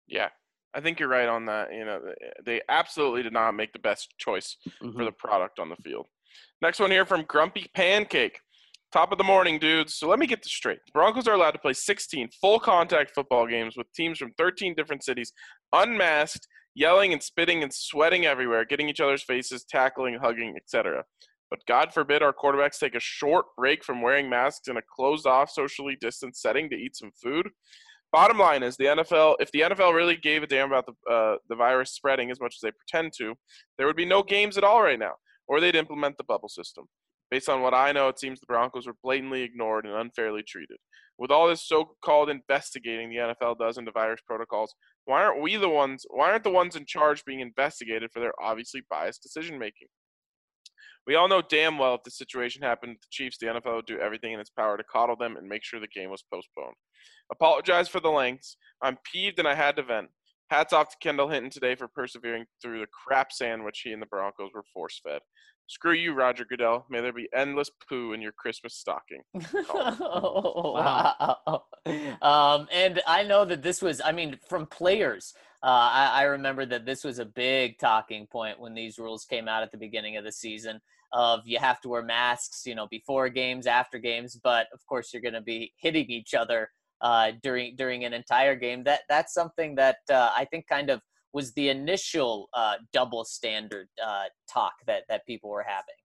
Yeah, I think you're right on that. You know, they absolutely did not make the best choice Mm-hmm. for the product on the field. Next one here from Grumpy Pancake. Top of the morning, dudes. So let me get this straight. The Broncos are allowed to play sixteen full contact football games with teams from thirteen different cities, unmasked, yelling and spitting and sweating everywhere, getting each other's faces, tackling, hugging, et cetera. But God forbid our quarterbacks take a short break from wearing masks in a closed-off, socially distanced setting to eat some food. Bottom line is the N F L. If the N F L really gave a damn about the uh, the virus spreading as much as they pretend to, there would be no games at all right now, or they'd implement the bubble system. Based on what I know, it seems the Broncos were blatantly ignored and unfairly treated. With all this so-called investigating the N F L does into virus protocols, why aren't we the ones? Why aren't the ones in charge being investigated for their obviously biased decision making? We all know damn well if the situation happened with the Chiefs, the N F L would do everything in its power to coddle them and make sure the game was postponed. Apologize for the lengths. I'm peeved and I had to vent. Hats off to Kendall Hinton today for persevering through the crap sandwich he and the Broncos were force-fed. Screw you, Roger Goodell. May there be endless poo in your Christmas stocking. Oh, wow. Um, and I know that this was, I mean, from players, uh, I, I remember that this was a big talking point when these rules came out at the beginning of the season of you have to wear masks, you know, before games, after games, but of course you're going to be hitting each other uh, during during an entire game. That That's something that uh, I think kind of was the initial uh, double standard uh, talk that, that people were having.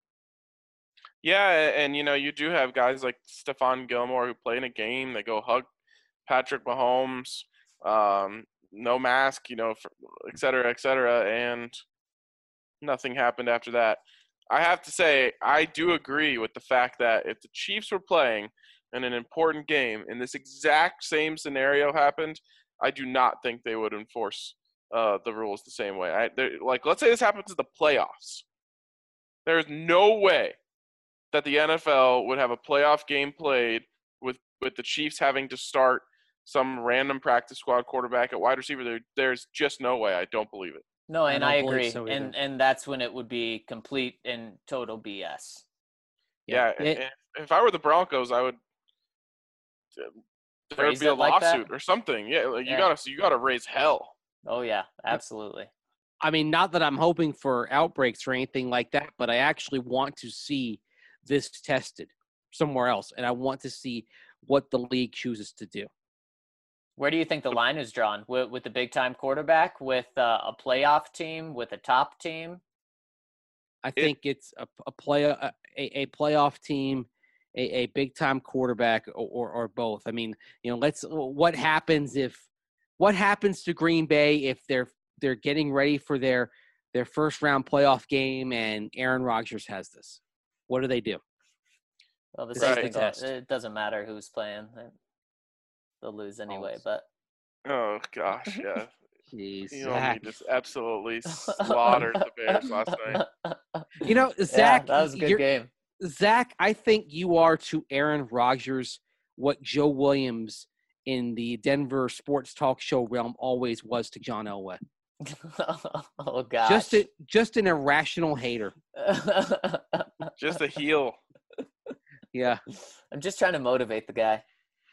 Yeah, and, you know, you do have guys like Stephon Gilmore who play in a game. They go hug Patrick Mahomes, um, no mask, you know, for, et cetera, et cetera, and nothing happened after that. I have to say, I do agree with the fact that if the Chiefs were playing in an important game and this exact same scenario happened, I do not think they would enforce uh, the rules the same way. I, like, let's say this happens in the playoffs. There's no way that the N F L would have a playoff game played with, with the Chiefs having to start some random practice squad quarterback at wide receiver. There, there's just no way. I don't believe it. No, and I, I agree. So and and that's when it would be complete and total B S. Yeah, yeah. It, if, if I were the Broncos, I would there would be a lawsuit like or something. Yeah, like you yeah. gotta you gotta raise hell. Oh yeah, absolutely. I mean, not that I'm hoping for outbreaks or anything like that, but I actually want to see this tested somewhere else, and I want to see what the league chooses to do. Where do you think the line is drawn? With, with the big-time quarterback, with uh, a playoff team, with a top team? I think it, it's a, a play a, a playoff team, a, a big-time quarterback, or, or or both. I mean, you know, let's. What happens if? What happens to Green Bay if they're they're getting ready for their their first-round playoff game and Aaron Rodgers has this? What do they do? Well, the same thing. It doesn't matter who's playing. They'll lose anyway, oh. but oh gosh, yeah. Jeez, you know, he just absolutely slaughtered the Bears last night. You know, Zach, yeah, that was a good game. Zach, I think you are to Aaron Rodgers what Joe Williams in the Denver sports talk show realm always was to John Elway. Oh gosh, just a, just an irrational hater, just a heel. Yeah, I'm just trying to motivate the guy.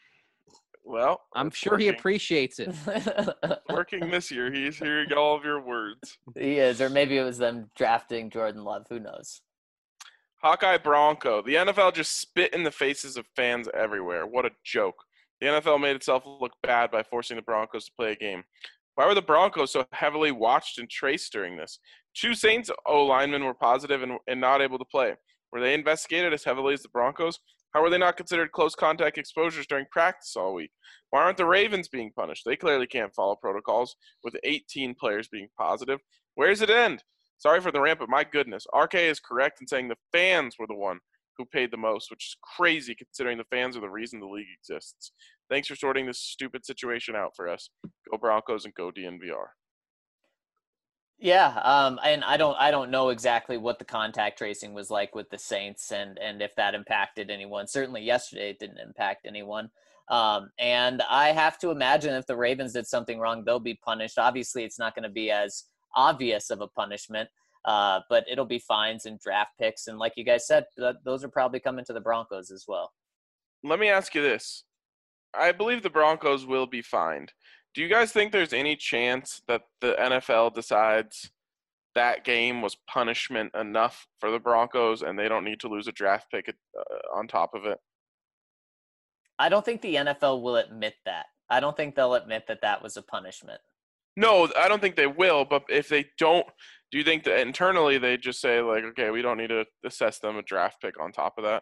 Well, I'm sure working. he appreciates it. Working this year, he's hearing all of your words. He is, or maybe it was them drafting Jordan Love. Who knows? Hawkeye Bronco. The N F L just spit in the faces of fans everywhere. What a joke. The N F L made itself look bad by forcing the Broncos to play a game. Why were the Broncos so heavily watched and traced during this? Two Saints O-linemen were positive and, and not able to play. Were they investigated as heavily as the Broncos? How were they not considered close contact exposures during practice all week? Why aren't the Ravens being punished? They clearly can't follow protocols with eighteen players being positive. Where does it end? Sorry for the rant, but my goodness. R K is correct in saying the fans were the one who paid the most, which is crazy considering the fans are the reason the league exists. Thanks for sorting this stupid situation out for us. Go Broncos and go D N V R. Yeah, um, and I don't, I don't know exactly what the contact tracing was like with the Saints, and and if that impacted anyone. Certainly, yesterday it didn't impact anyone. Um, and I have to imagine if the Ravens did something wrong, they'll be punished. Obviously, it's not going to be as obvious of a punishment, uh, but it'll be fines and draft picks. And like you guys said, th- those are probably coming to the Broncos as well. Let me ask you this: I believe the Broncos will be fined. Do you guys think there's any chance that the N F L decides that game was punishment enough for the Broncos and they don't need to lose a draft pick uh, on top of it? I don't think the N F L will admit that. I don't think they'll admit that that was a punishment. No, I don't think they will. But if they don't, do you think that internally they just say, like, okay, we don't need to assess them a draft pick on top of that?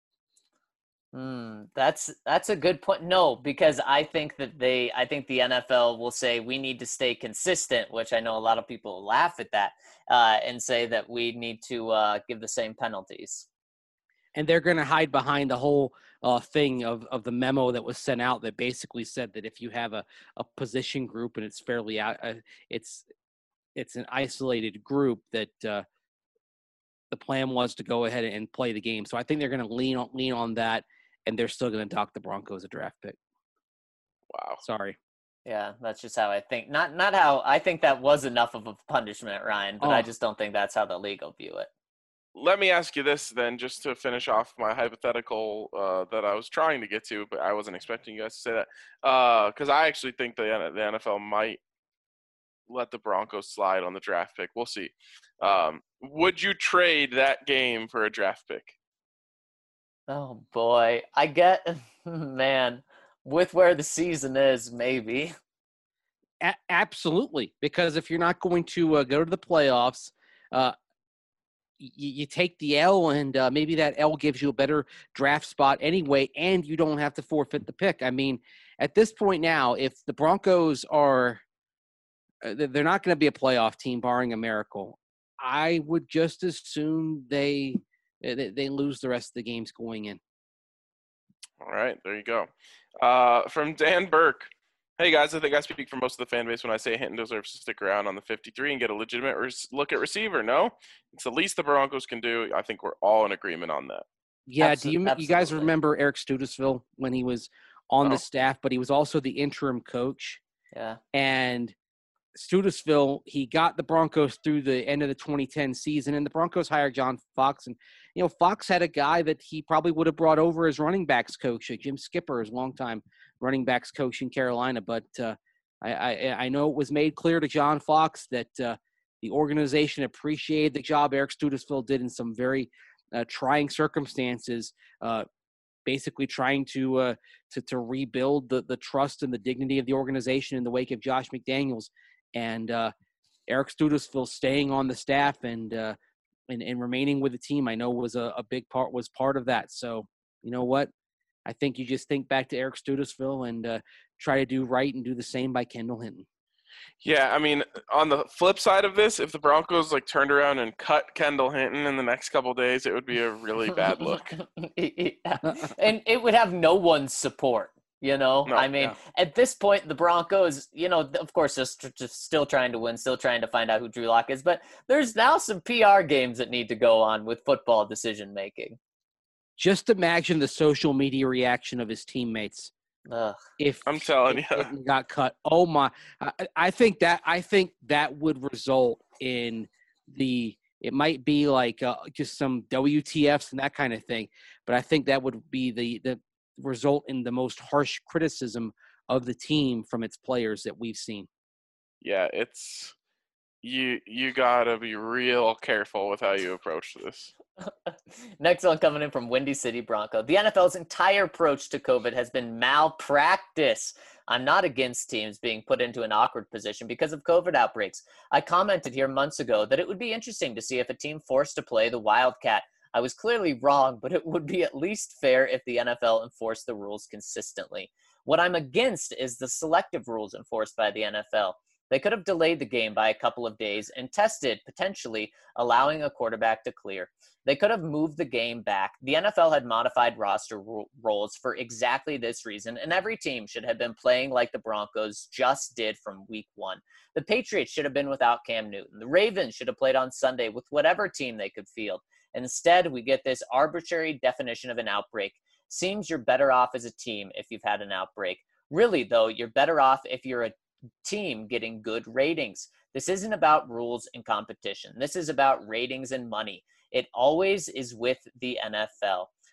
Hmm, that's that's a good point. No, because I think that they, I think the N F L will say we need to stay consistent, which I know a lot of people laugh at that, uh, and say that we need to uh, give the same penalties. And they're going to hide behind the whole uh, thing of, of the memo that was sent out that basically said that if you have a, a position group and it's fairly out, uh, it's it's an isolated group that uh, the plan was to go ahead and play the game. So I think they're going to lean on lean on that. And they're still going to dock the Broncos a draft pick. Wow. Sorry. Yeah, that's just how I think. Not not how I think that was enough of a punishment, Ryan, but oh. I just don't think that's how the league will view it. Let me ask you this then, just to finish off my hypothetical uh, that I was trying to get to, but I wasn't expecting you guys to say that. Because uh, I actually think the, the N F L might let the Broncos slide on the draft pick. We'll see. Um, would you trade that game for a draft pick? Oh, boy. I get, man, with where the season is, maybe. A- absolutely. Because if you're not going to uh, go to the playoffs, uh, y- you take the L, and uh, maybe that L gives you a better draft spot anyway, and you don't have to forfeit the pick. I mean, at this point now, if the Broncos are uh, – they're not going to be a playoff team, barring a miracle, I would just as soon they – They, they lose the rest of the games going in. All right, there you go. Uh, from Dan Burke. Hey, guys, I think I speak for most of the fan base when I say Hinton deserves to stick around on the fifty-three and get a legitimate res- look at receiver. No? It's the least the Broncos can do. I think we're all in agreement on that. Yeah, Absol- do you you guys remember Eric Studesville when he was on oh. the staff, but he was also the interim coach? Yeah. And Studesville, he got the Broncos through the end of the twenty ten season, and the Broncos hired John Fox. And, you know, Fox had a guy that he probably would have brought over as running backs coach, Jim Skipper, his longtime running backs coach in Carolina. But uh, I, I, I know it was made clear to John Fox that uh, the organization appreciated the job Eric Studesville did in some very uh, trying circumstances, uh, basically trying to, uh, to to rebuild the, the trust and the dignity of the organization in the wake of Josh McDaniels. And uh, Eric Studesville staying on the staff and, uh, and and remaining with the team, I know was a, a big part was part of that. So you know what? I think you just think back to Eric Studesville and uh, try to do right and do the same by Kendall Hinton. Yeah, I mean, on the flip side of this, if the Broncos like turned around and cut Kendall Hinton in the next couple of days, it would be a really bad look. Yeah. And it would have no one's support. You know, no, I mean, yeah. At this point, the Broncos, you know, of course, just, just still trying to win, still trying to find out who Drew Lock is. But there's now some P R games that need to go on with football decision making. Just imagine the social media reaction of his teammates. Ugh. If I'm telling if you, it got cut. Oh my! I, I think that I think that would result in the. It might be like uh, just some W T Fs and that kind of thing, but I think that would be the the. result in the most harsh criticism of the team from its players that we've seen. Yeah, it's you you gotta be real careful with how you approach this. Next one coming in from Windy City Bronco. The N F L's entire approach to COVID has been malpractice. I'm not against teams being put into an awkward position because of COVID outbreaks. I commented here months ago that it would be interesting to see if a team forced to play the Wildcat. I was clearly wrong, but it would be at least fair if the N F L enforced the rules consistently. What I'm against is the selective rules enforced by the N F L. They could have delayed the game by a couple of days and tested, potentially allowing a quarterback to clear. They could have moved the game back. The N F L had modified roster ro- roles for exactly this reason, and every team should have been playing like the Broncos just did from week one. The Patriots should have been without Cam Newton. The Ravens should have played on Sunday with whatever team they could field. Instead, we get this arbitrary definition of an outbreak. Seems you're better off as a team if you've had an outbreak. Really, though, you're better off if you're a team getting good ratings. This isn't about rules and competition. This is about ratings and money. It always is with the N F L.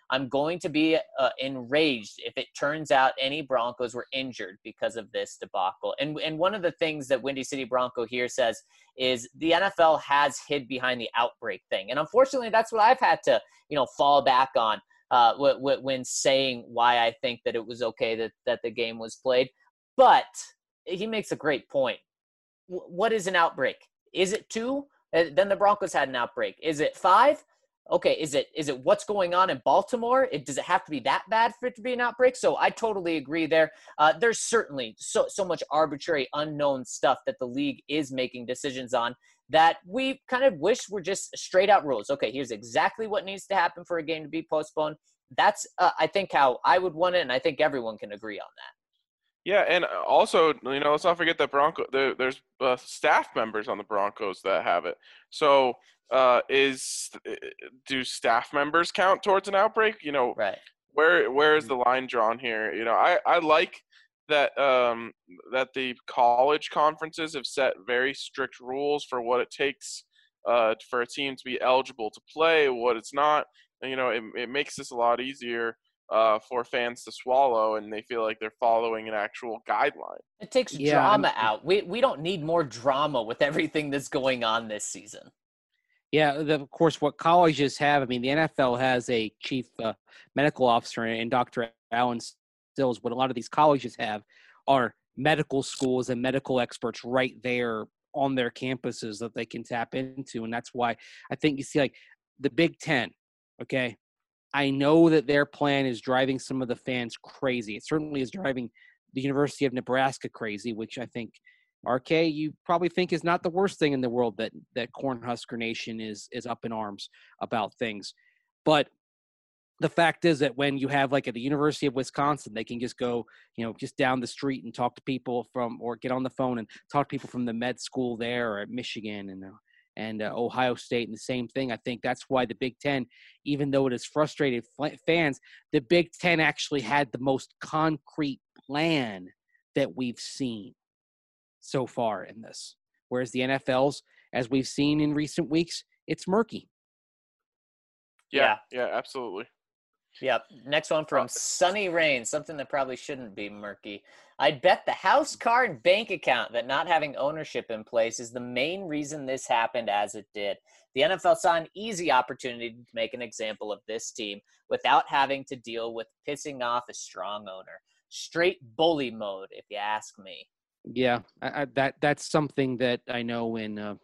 I'm going to be uh, enraged if it turns out any Broncos were injured because of this debacle. And and one of the things that Windy City Bronco here says is the N F L has hid behind the outbreak thing. And unfortunately, that's what I've had to, you know, fall back on uh, w- w- when saying why I think that it was okay that, that the game was played. But he makes a great point. W- what is an outbreak? Is it two? Uh, then the Broncos had an outbreak. Is it five? Okay, is it is it what's going on in Baltimore? It, does it have to be that bad for it to be an outbreak? So I totally agree there. Uh, there's certainly so so much arbitrary, unknown stuff that the league is making decisions on that we kind of wish were just straight out rules. Okay, here's exactly what needs to happen for a game to be postponed. That's, uh, I think, how I would want it, and I think everyone can agree on that. Yeah, and also, you know, let's not forget that Bronco. There, there's uh, staff members on the Broncos that have it. So, uh, is do staff members count towards an outbreak? You know, right? Where where is the line drawn here? You know, I, I like that um, that the college conferences have set very strict rules for what it takes uh, for a team to be eligible to play, what it's not. And, you know, it it makes this a lot easier uh, for fans to swallow, and they feel like they're following an actual guideline. It takes Yeah, drama I'm- out. We we don't need more drama with everything that's going on this season. Yeah, the, of course, what colleges have, I mean, the N F L has a chief uh, medical officer, and Doctor Alan Stills. What a lot of these colleges have are medical schools and medical experts right there on their campuses that they can tap into. And that's why I think you see, like, the Big Ten, okay? I know that their plan is driving some of the fans crazy. It certainly is driving the University of Nebraska crazy, which I think – R K, you probably think is not the worst thing in the world that that Cornhusker Nation is is up in arms about things. But the fact is that when you have, like, at the University of Wisconsin, they can just go, you know, just down the street and talk to people from, or get on the phone and talk to people from the med school there, or at Michigan and uh, and uh, Ohio State, and the same thing. I think that's why the Big Ten, even though it has frustrated fans, the Big Ten actually had the most concrete plan that we've seen so far in this, whereas the N F L's, as we've seen in recent weeks, it's murky. Yeah, yeah, yeah, absolutely. Yep. Next one from Sunny Rain, something that probably shouldn't be murky. I'd bet the house, car, and bank account that not having ownership in place is the main reason this happened as it did. The N F L saw an easy opportunity to make an example of this team without having to deal with pissing off a strong owner. Straight bully mode, if you ask me. Yeah, I, I, that that's something that I know in uh,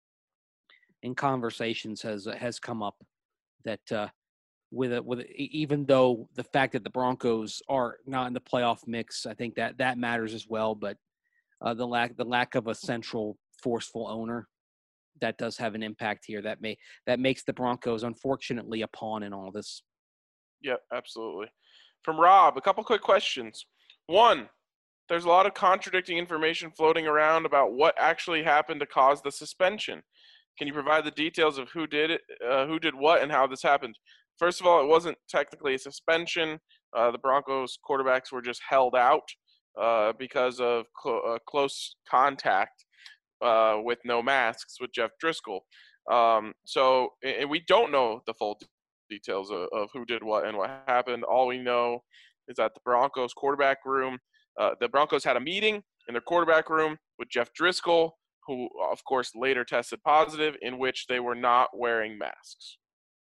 in conversations has has come up, that uh, with a, with a, even though the fact that the Broncos are not in the playoff mix, I think that that matters as well. But uh, the lack the lack of a central forceful owner, that does have an impact here. That may that makes the Broncos, unfortunately, a pawn in all this. Yep, absolutely. From Rob, a couple quick questions. One, there's a lot of contradicting information floating around about what actually happened to cause the suspension. Can you provide the details of who did it, uh, who did what, and how this happened? First of all, it wasn't technically a suspension. Uh, the Broncos quarterbacks were just held out uh, because of cl- uh, close contact uh, with no masks with Jeff Driscoll. Um, so and we don't know the full details of, of who did what and what happened. All we know is that the Broncos quarterback room, uh, the Broncos had a meeting in their quarterback room with Jeff Driscoll, who, of course, later tested positive, in which they were not wearing masks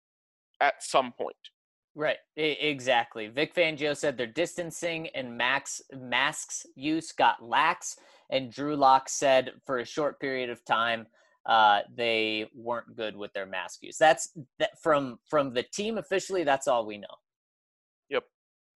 at some point. Right, I- exactly. Vic Fangio said their distancing and max masks use got lax, and Drew Lock said for a short period of time uh, they weren't good with their mask use. That's that from from the team officially. That's all we know. Yep.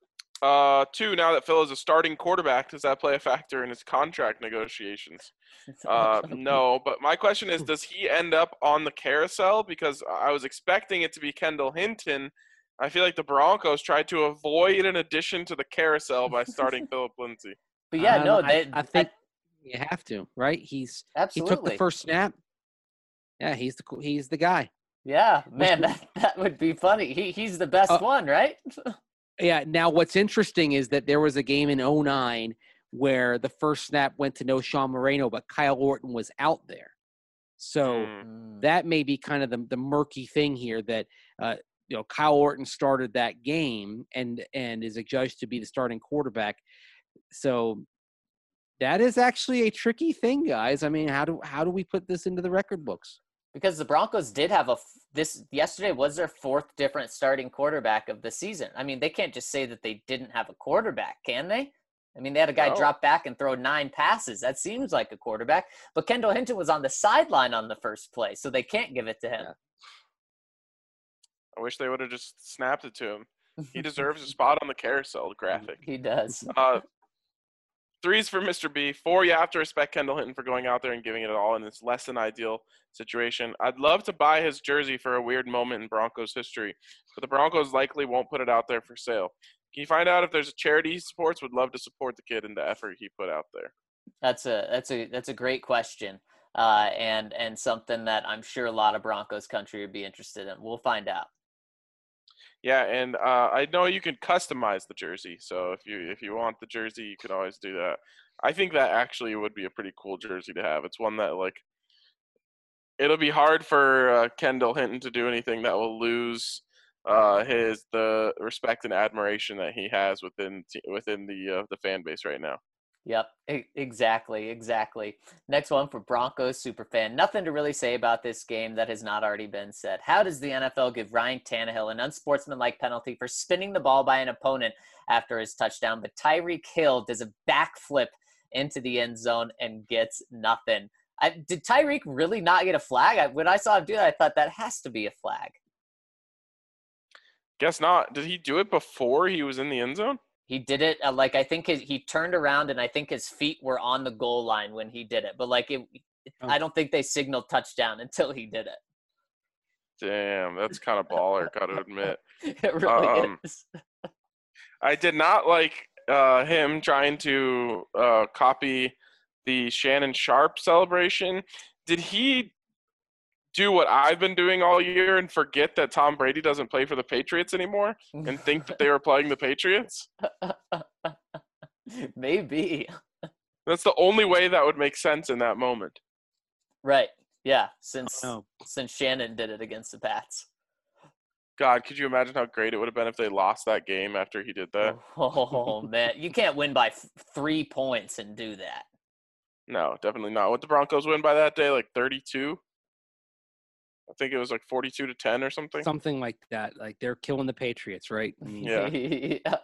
Uh, two, now that Phil is a starting quarterback, does that play a factor in his contract negotiations? Uh, no, but my question is, does he end up on the carousel? Because I was expecting it to be Kendall Hinton. I feel like the Broncos tried to avoid an addition to the carousel by starting Philip Lindsay. But yeah, I no, don't know. they, I, I think you have to, right? He's absolutely. He took the first snap. Yeah, he's the he's the guy. Yeah, man, that, that would be funny. He he's the best uh, one, right? Yeah. Now, what's interesting is that there was a game in oh nine where the first snap went to no Sean Moreno, but Kyle Orton was out there. So Mm. that may be kind of the, the murky thing here, that uh, you know, Kyle Orton started that game and and is adjudged to be the starting quarterback. So that is actually a tricky thing, guys. I mean, how do how do we put this into the record books? Because the Broncos did have a this yesterday was their fourth different starting quarterback of the season. I mean, they can't just say that they didn't have a quarterback, can they? I mean, they had a guy No. drop back and throw nine passes. That seems like a quarterback. But Kendall Hinton was on the sideline on the first play, so they can't give it to him. Yeah. I wish they would have just snapped it to him. He deserves a spot on the carousel graphic. He does. Uh, threes for Mister B. Four, you have to respect Kendall Hinton for going out there and giving it all in this less than ideal situation. I'd love to buy his jersey for a weird moment in Broncos history, but the Broncos likely won't put it out there for sale. Can you find out if there's a charity he supports? Would love to support the kid and the effort he put out there. That's a that's a that's a great question, uh, and and something that I'm sure a lot of Broncos country would be interested in. We'll find out. Yeah, and uh, I know you can customize the jersey. So if you if you want the jersey, you can always do that. I think that actually would be a pretty cool jersey to have. It's one that, like, it'll be hard for uh, Kendall Hinton to do anything that will lose uh, his the respect and admiration that he has within within the uh, the fan base right now. Yep, e- exactly, exactly. Next one for Broncos superfan. Nothing to really say about this game that has not already been said. How does the N F L give Ryan Tannehill an unsportsmanlike penalty for spinning the ball by an opponent after his touchdown, but Tyreek Hill does a backflip into the end zone and gets nothing? I, did Tyreek really not get a flag? I, when I saw him do that, I thought that has to be a flag. Guess not. Did he do it before he was in the end zone? He did it uh, like I think his, he turned around and I think his feet were on the goal line when he did it. But like it, Oh. I don't think they signaled touchdown until he did it. Damn, that's kind of baller, gotta admit. It really Um, is. I did not like uh, him trying to uh, copy the Shannon Sharp celebration. Did he do what I've been doing all year and forget that Tom Brady doesn't play for the Patriots anymore and think that they were playing the Patriots? Maybe. That's the only way that would make sense in that moment. Right. Yeah. Since Oh. since Shannon did it against the Pats. God, could you imagine how great it would have been if they lost that game after he did that? Oh man, you can't win by f- three points and do that. No, definitely not. What the Broncos win by that day? Like thirty-two? I think it was like forty-two to ten or something. Something like that. Like they're killing the Patriots, right? I mean, Yeah.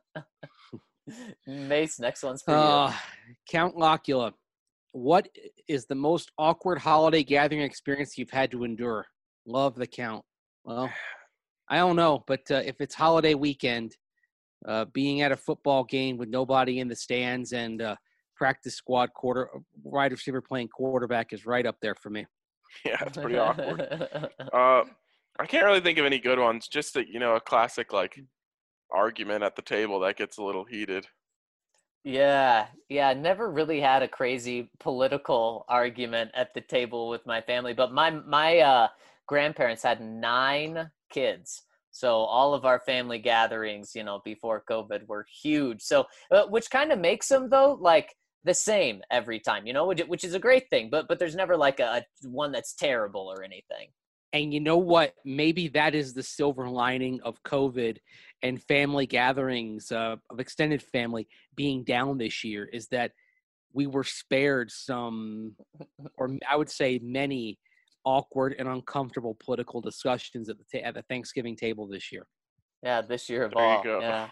Mace, next one's for you. Uh, Count Locula, what is the most awkward holiday gathering experience you've had to endure? Love the count. Well, I don't know, but uh, if it's holiday weekend, uh, being at a football game with nobody in the stands and uh, practice squad quarter wide receiver playing quarterback is right up there for me. Yeah, it's pretty awkward. Uh, I can't really think of any good ones. Just that, you know, a classic like argument at the table that gets a little heated. Yeah, yeah, never really had a crazy political argument at the table with my family, but my my uh, grandparents had nine kids. So all of our family gatherings, you know, before COVID were huge. So uh, which kind of makes them though like the same every time, you know, which, which is a great thing, but but there's never like a, a one that's terrible or anything. And you know what? Maybe that is the silver lining of COVID and family gatherings uh, of extended family being down this year is that we were spared some, or I would say many, awkward and uncomfortable political discussions at the ta- at the Thanksgiving table this year. Yeah, this year of There you all. go. Yeah.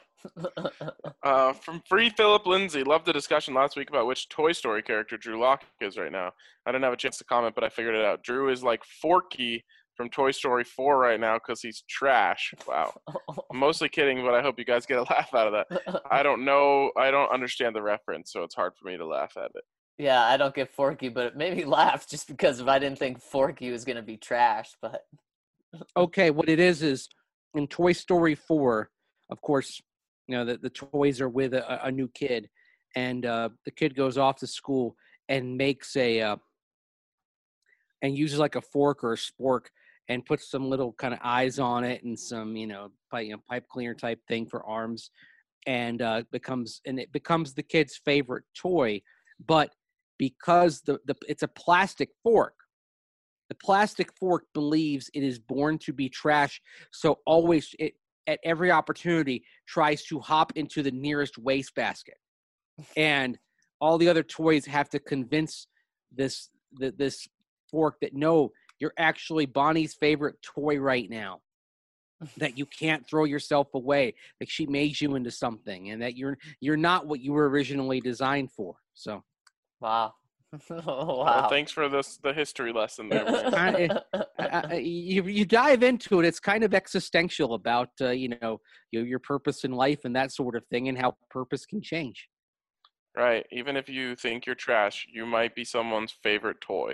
Uh, from Free Philip Lindsay, loved the discussion last week about which Toy Story character Drew Lock is right now. I didn't have a chance to comment, but I figured it out. Drew is like Forky from Toy Story four right now because he's trash. Wow. I'm mostly kidding, but I hope you guys get a laugh out of that. I don't know. I don't understand the reference, so it's hard for me to laugh at it. Yeah, I don't get Forky, but it made me laugh just because if I didn't think Forky was going to be trash. But Okay, what it is is in Toy Story four, of course, you know, the, the toys are with a, a new kid, and uh, the kid goes off to school and makes a uh, and uses like a fork or a spork and puts some little kind of eyes on it and some, you know, pipe, you know, pipe cleaner type thing for arms, and uh, becomes and it becomes the kid's favorite toy. But because the, the it's a plastic fork, The plastic fork believes it is born to be trash, so always, it, at every opportunity, tries to hop into the nearest wastebasket. And all the other toys have to convince this the, this fork that, no, you're actually Bonnie's favorite toy right now, that you can't throw yourself away, that she made you into something, and that you're you're not what you were originally designed for. So, Wow. Wow. Well, thanks for this the history lesson there. Man. Kinda, uh, you you dive into it, it's kind of existential about uh, you know your, your purpose in life and that sort of thing, and how purpose can change. Right. Even if you think you're trash, you might be someone's favorite toy.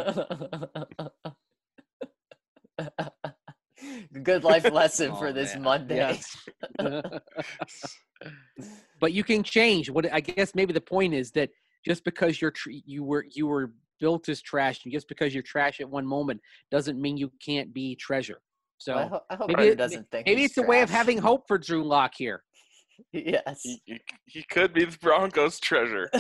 Good life lesson for Oh, this man. Monday. Yes. But you can change. What I guess maybe the point is that just because you're tr- you were you were built as trash, and just because you're trash at one moment doesn't mean you can't be treasure. So I, ho- I hope maybe he it- doesn't think maybe he's it's a way of trash. having hope for Drew Lock here. Yes. He, he, he could be the Broncos' treasure.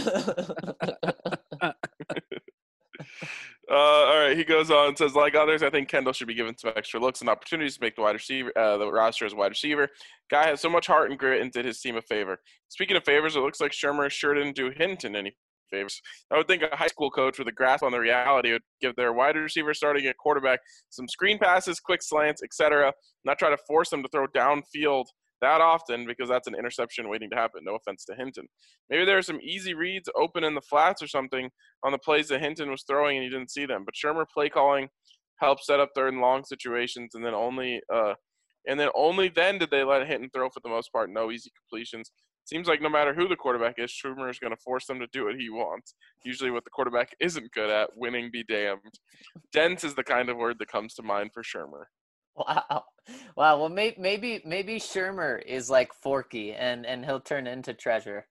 Uh, all right, he goes on and says, like others, I think Kendall should be given some extra looks and opportunities to make the wide receiver, uh, the roster as a wide receiver. Guy has so much heart and grit and did his team a favor. Speaking of favors, it looks like Shermer sure didn't do Hinton any favors. I would think a high school coach with a grasp on the reality would give their wide receiver starting at quarterback some screen passes, quick slants, et cetera, not try to force them to throw downfield that often, because that's an interception waiting to happen. No offense to Hinton. Maybe there are some easy reads open in the flats or something on the plays that Hinton was throwing and you didn't see them. But Shermer play calling helped set up third and long situations, and then only uh, and then only then did they let Hinton throw for the most part. No easy completions. Seems like no matter who the quarterback is, Shermer is going to force them to do what he wants. Usually what the quarterback isn't good at, winning be damned. Dense is the kind of word that comes to mind for Shermer. Wow. Wow. Well, maybe maybe maybe Shermer is like Forky, and and he'll turn into treasure.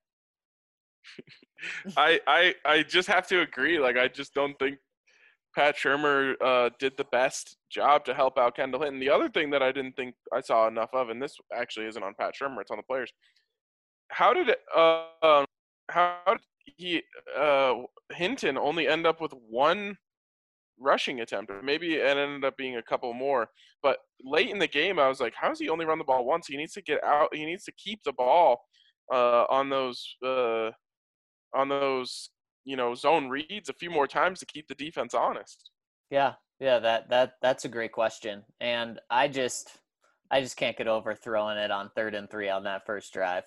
I, I I just have to agree. Like, I just don't think Pat Shermer uh, did the best job to help out Kendall Hinton. The other thing that I didn't think I saw enough of, and this actually isn't on Pat Shermer, it's on the players. How did it, uh, um, how did he uh, Hinton only end up with one rushing attempt? Or maybe it ended up being a couple more. But late in the game, I was like, how does he only run the ball once? He needs to get out. He needs to keep the ball uh, on those uh, on those you know zone reads a few more times to keep the defense honest. Yeah. Yeah. That that that's a great question, and I just I just can't get over throwing it on third and three on that first drive.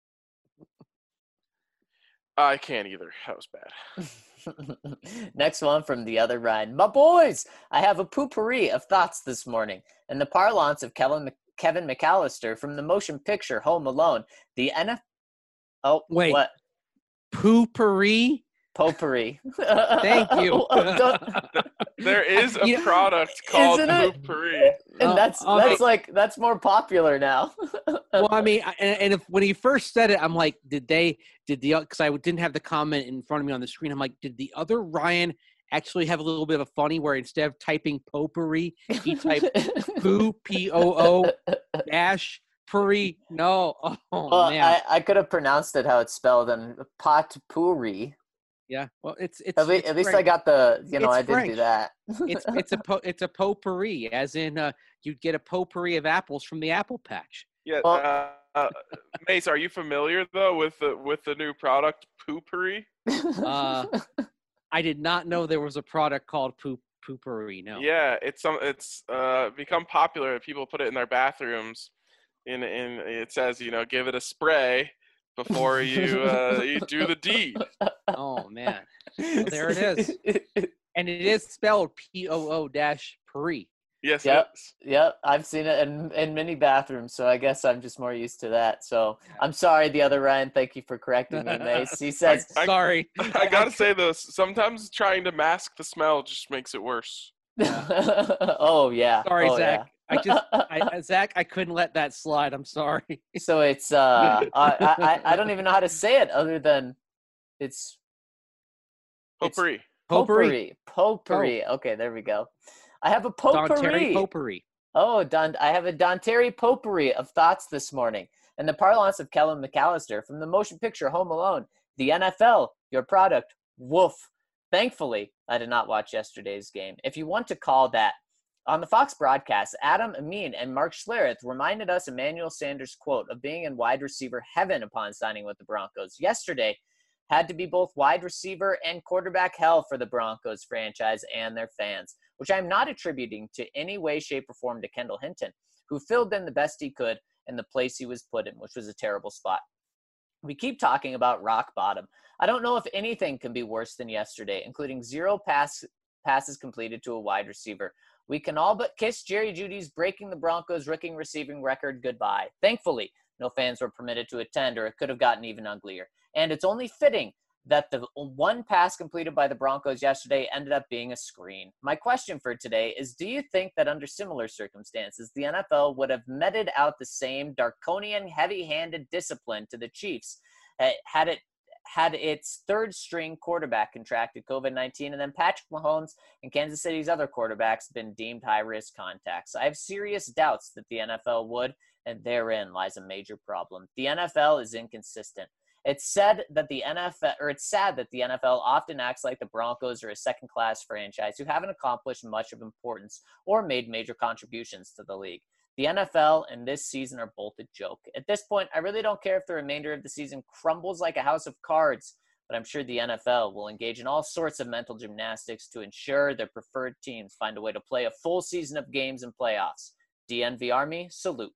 I can't either. That was bad. Next one from the other Ryan. My boys, I have a poopery of thoughts this morning. In the parlance of Kevin, Kevin McAllister from the motion picture Home Alone, the N F L. Oh, Wait. What? Poopery? Potpourri. Thank you. There is a You know, product called isn't it? Poopery. And Uh, that's uh, that's like that's more popular now. Well, I mean, I- and, and if when he first said it, I'm like, did they, did the, because I didn't have the comment in front of me on the screen. I'm like, did the other Ryan actually have a little bit of a funny where instead of typing potpourri, he typed poo, P O O dash puri? No. Oh, Well, man. I, I could have pronounced it how it's spelled, and potpourri. Yeah. Well, it's, it's, At, le- it's at least I French. got the, you know, It's I did French. do that. It's, it's a, po, it's a potpourri, as in uh, you'd get a potpourri of apples from the apple patch. Yeah. Well- uh, uh, Mace, are you familiar though with the with the new product Poopery? Uh, I did not know there was a product called poop poopery. No. Yeah, it's some it's uh become popular. People put it in their bathrooms. In in it says, you know, give it a spray before you uh, you do the deed. Oh man. Well, there it is. And it is spelled P O O dash puri. Yes, Yep. it is. Yep, I've seen it in in many bathrooms, so I guess I'm just more used to that. So I'm sorry, the other Ryan. Thank you for correcting me, Mace. He says, I- Sorry. I gotta say this. Sometimes trying to mask the smell just makes it worse. "Oh yeah, Sorry, oh, Zach. I just, yeah." I, Zach, I couldn't let that slide. I'm sorry. So it's uh, I, I I don't even know how to say it other than it's It's- Potpourri. Potpourri. potpourri. Potpourri. Okay, there we go. I have a Don Terry potpourri. potpourri. Oh, Don, I have a Don Terry potpourri of thoughts this morning. In the parlance of Kellen McAllister from the motion picture Home Alone, the N F L, your product, woof. Thankfully, I did not watch yesterday's game. If you want to call that. On the Fox broadcast, Adam Amin and Mark Schlereth reminded us Emmanuel Sanders' quote of being in wide receiver heaven upon signing with the Broncos yesterday had to be both wide receiver and quarterback hell for the Broncos franchise and their fans, which I'm not attributing to any way, shape, or form to Kendall Hinton, who filled in the best he could in the place he was put in, which was a terrible spot. We keep talking about rock bottom. I don't know if anything can be worse than yesterday, including zero pass, passes completed to a wide receiver. We can all but kiss Jerry Jeudy's breaking the Broncos' rookie receiving record goodbye. Thankfully, no fans were permitted to attend, or it could have gotten even uglier. And it's only fitting that the one pass completed by the Broncos yesterday ended up being a screen. My question for today is, do you think that under similar circumstances, the N F L would have meted out the same draconian, heavy-handed discipline to the Chiefs uh, had it had its third string quarterback contracted COVID nineteen, and then Patrick Mahomes and Kansas City's other quarterbacks been deemed high-risk contacts? I have serious doubts that the N F L would, and therein lies a major problem. The N F L is inconsistent. It's said that the N F L, or it's sad that the N F L often acts like the Broncos are a second-class franchise who haven't accomplished much of importance or made major contributions to the league. The N F L and this season are both a joke. At this point, I really don't care if the remainder of the season crumbles like a house of cards, but I'm sure the N F L will engage in all sorts of mental gymnastics to ensure their preferred teams find a way to play a full season of games and playoffs. D N V Army, salute.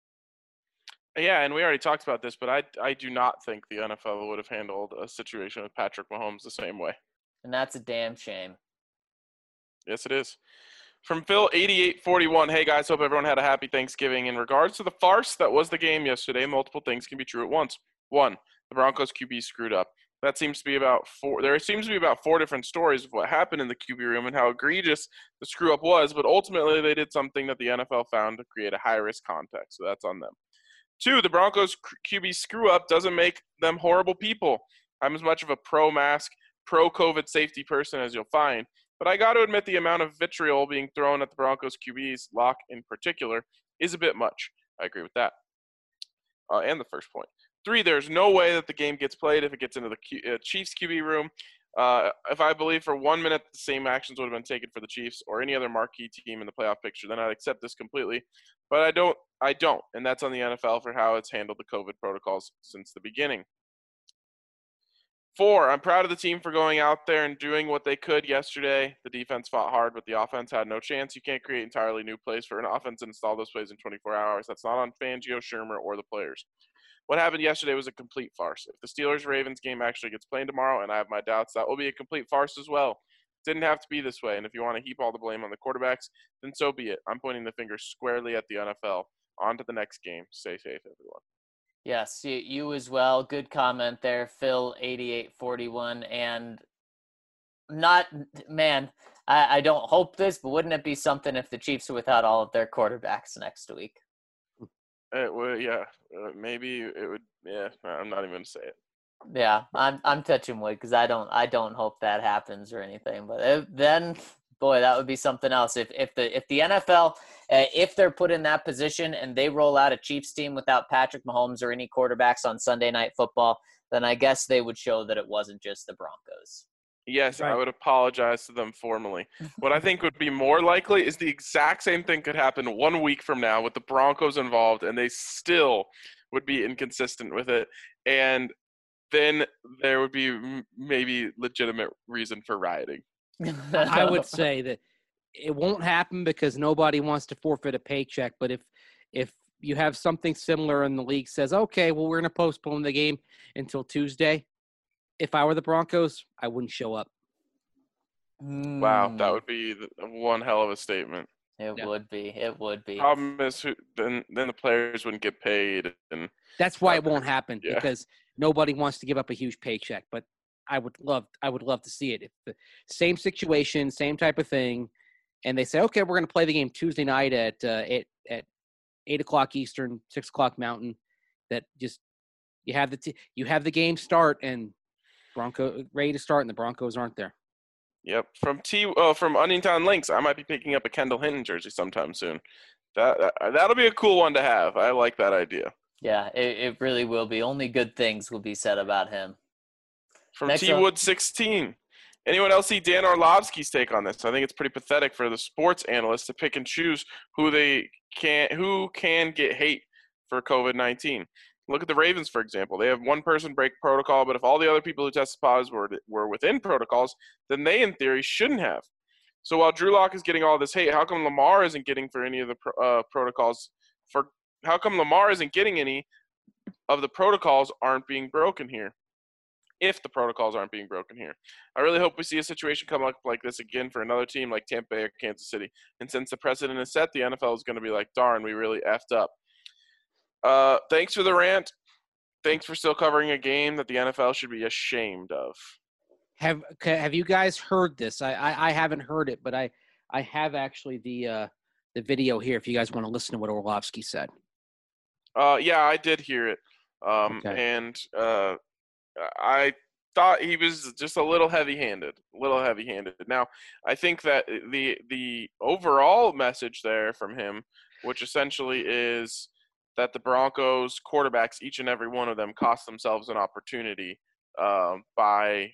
Yeah, and we already talked about this, but I I do not think the N F L would have handled a situation with Patrick Mahomes the same way. And that's a damn shame. Yes, it is. From Phil eighty-eight forty-one, hey guys, hope everyone had a happy Thanksgiving. In regards to the farce that was the game yesterday, multiple things can be true at once. One, the Broncos Q B screwed up. That seems to be about four. There seems to be about four different stories of what happened in the Q B room and how egregious the screw up was, but ultimately they did something that the N F L found to create a high-risk context, so that's on them. Two, the Broncos Q B screw-up doesn't make them horrible people. I'm as much of a pro-mask, pro-COVID safety person as you'll find, but I got to admit the amount of vitriol being thrown at the Broncos Q Bs, Locke in particular, is a bit much. I agree with that. Uh, and the first point. Three, there's no way that the game gets played if it gets into the Q- uh, Chiefs Q B room. Uh, if I believe for one minute the same actions would have been taken for the Chiefs or any other marquee team in the playoff picture, then I'd accept this completely. But I don't, I don't, and that's on the N F L for how it's handled the COVID protocols since the beginning. Four, I'm proud of the team for going out there and doing what they could yesterday. The defense fought hard, but the offense had no chance. You can't create entirely new plays for an offense and install those plays in twenty-four hours. That's not on Fangio, Shermer, or the players. What happened yesterday was a complete farce. If the Steelers-Ravens game actually gets played tomorrow, and I have my doubts, that will be a complete farce as well. It didn't have to be this way, and if you want to heap all the blame on the quarterbacks, then so be it. I'm pointing the finger squarely at the N F L. On to the next game. Stay safe, everyone. Yes, you, you as well. Good comment there, Phil eighty-eight forty-one. And not, man, I, I don't hope this, but wouldn't it be something if the Chiefs are without all of their quarterbacks next week? It would, yeah, uh, maybe it would. Yeah, I'm not even gonna say it. Yeah, I'm I'm touching wood because I don't I don't hope that happens or anything. But if, then, boy, that would be something else. If if the if the N F L uh, if they're put in that position and they roll out a Chiefs team without Patrick Mahomes or any quarterbacks on Sunday Night Football, then I guess they would show that it wasn't just the Broncos. Yes, Right. I would apologize to them formally. What I think would be more likely is the exact same thing could happen one week from now with the Broncos involved, and they still would be inconsistent with it. And then there would be m- maybe legitimate reason for rioting. I would say that it won't happen because nobody wants to forfeit a paycheck. But if if you have something similar and the league says, okay, well, we're going to postpone the game until Tuesday, if I were the Broncos, I wouldn't show up. Wow, that Mm, would be the- one hell of a statement. it Yeah. would be. It would be. Problem is, who, then then the players wouldn't get paid, and That's why it won't happen Yeah. because nobody wants to give up a huge paycheck. But I would love, I would love to see it. If the same situation, same type of thing, and they say, okay, we're going to play the game Tuesday night at uh, eight, at eight o'clock Eastern, six o'clock Mountain. That just you have the t- you have the game start and Bronco ready to start, and the Broncos aren't there. Yep. From T oh, from Onion Links, I might be picking up a Kendall Hinton jersey sometime soon. That, that that'll be a cool one to have. I like that idea. Yeah, it, it really will be. Only good things will be said about him. From Next T up- Wood sixteen, Anyone else see Dan Orlovsky's take on this? I think it's pretty pathetic for the sports analysts to pick and choose who they can who can get hate for COVID nineteen. Look at the Ravens, for example. They have one person break protocol, but if all the other people who tested positive were, were within protocols, then they, in theory, shouldn't have. So while Drew Lock is getting all this hate, how come Lamar isn't getting for any of the uh, protocols? For how come Lamar isn't getting any of the protocols aren't being broken here? If the protocols aren't being broken here, I really hope we see a situation come up like this again for another team like Tampa Bay or Kansas City. And since the precedent is set, the N F L is going to be like, darn, we really effed up. Uh, thanks for the rant. Thanks for still covering a game that the N F L should be ashamed of. Have Have you guys heard this? I, I, I haven't heard it, but I, I have actually the uh, the video here. If you guys want to listen to what Orlovsky said. Uh, yeah, I did hear it, um, Okay. and uh, I thought he was just a little heavy-handed. A little heavy-handed. Now, I think that the the overall message there from him, which essentially is that the Broncos quarterbacks, each and every one of them, cost themselves an opportunity um, by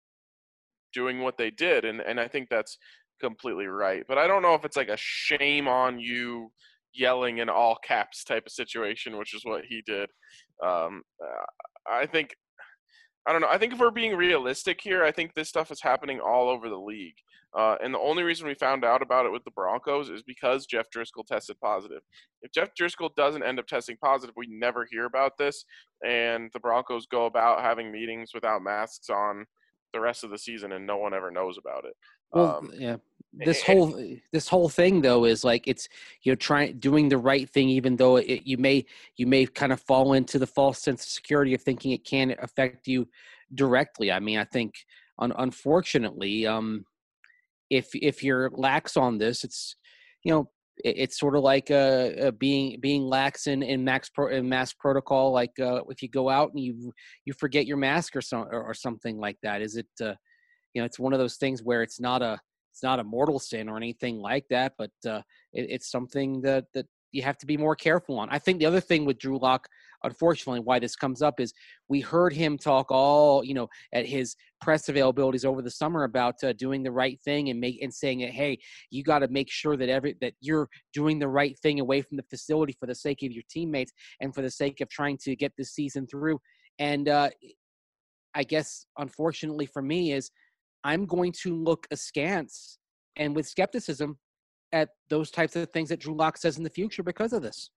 doing what they did. And, and I think that's completely right. But I don't know if it's like a shame on you yelling in all caps type of situation, which is what he did. Um, I think, I don't know. I think if we're being realistic here, I think this stuff is happening all over the league. Uh, and the only reason we found out about it with the Broncos is because Jeff Driscoll tested positive. If Jeff Driscoll doesn't end up testing positive, we never hear about this. And the Broncos go about having meetings without masks on the rest of the season, and no one ever knows about it. Well, Um, yeah. This whole this whole thing though is like it's you know trying doing the right thing, even though it, you may you may kind of fall into the false sense of security of thinking it can affect you directly. I mean, I think un, unfortunately, um, if if you're lax on this, it's you know it, it's sort of like uh, uh, being being lax in in max pro, in mask protocol. Like uh, if you go out and you you forget your mask or some or, or something like that. Is it uh, you know it's one of those things where it's not a it's not a mortal sin or anything like that, but uh, it, it's something that that you have to be more careful on. I think the other thing with Drew Lock, unfortunately, why this comes up is we heard him talk all, you know, at his press availabilities over the summer about uh, doing the right thing and make and saying that, hey, you got to make sure that every that you're doing the right thing away from the facility for the sake of your teammates and for the sake of trying to get this season through. And uh, I guess, unfortunately for me, is I'm going to look askance and with skepticism at those types of things that Drew Lock says in the future because of this.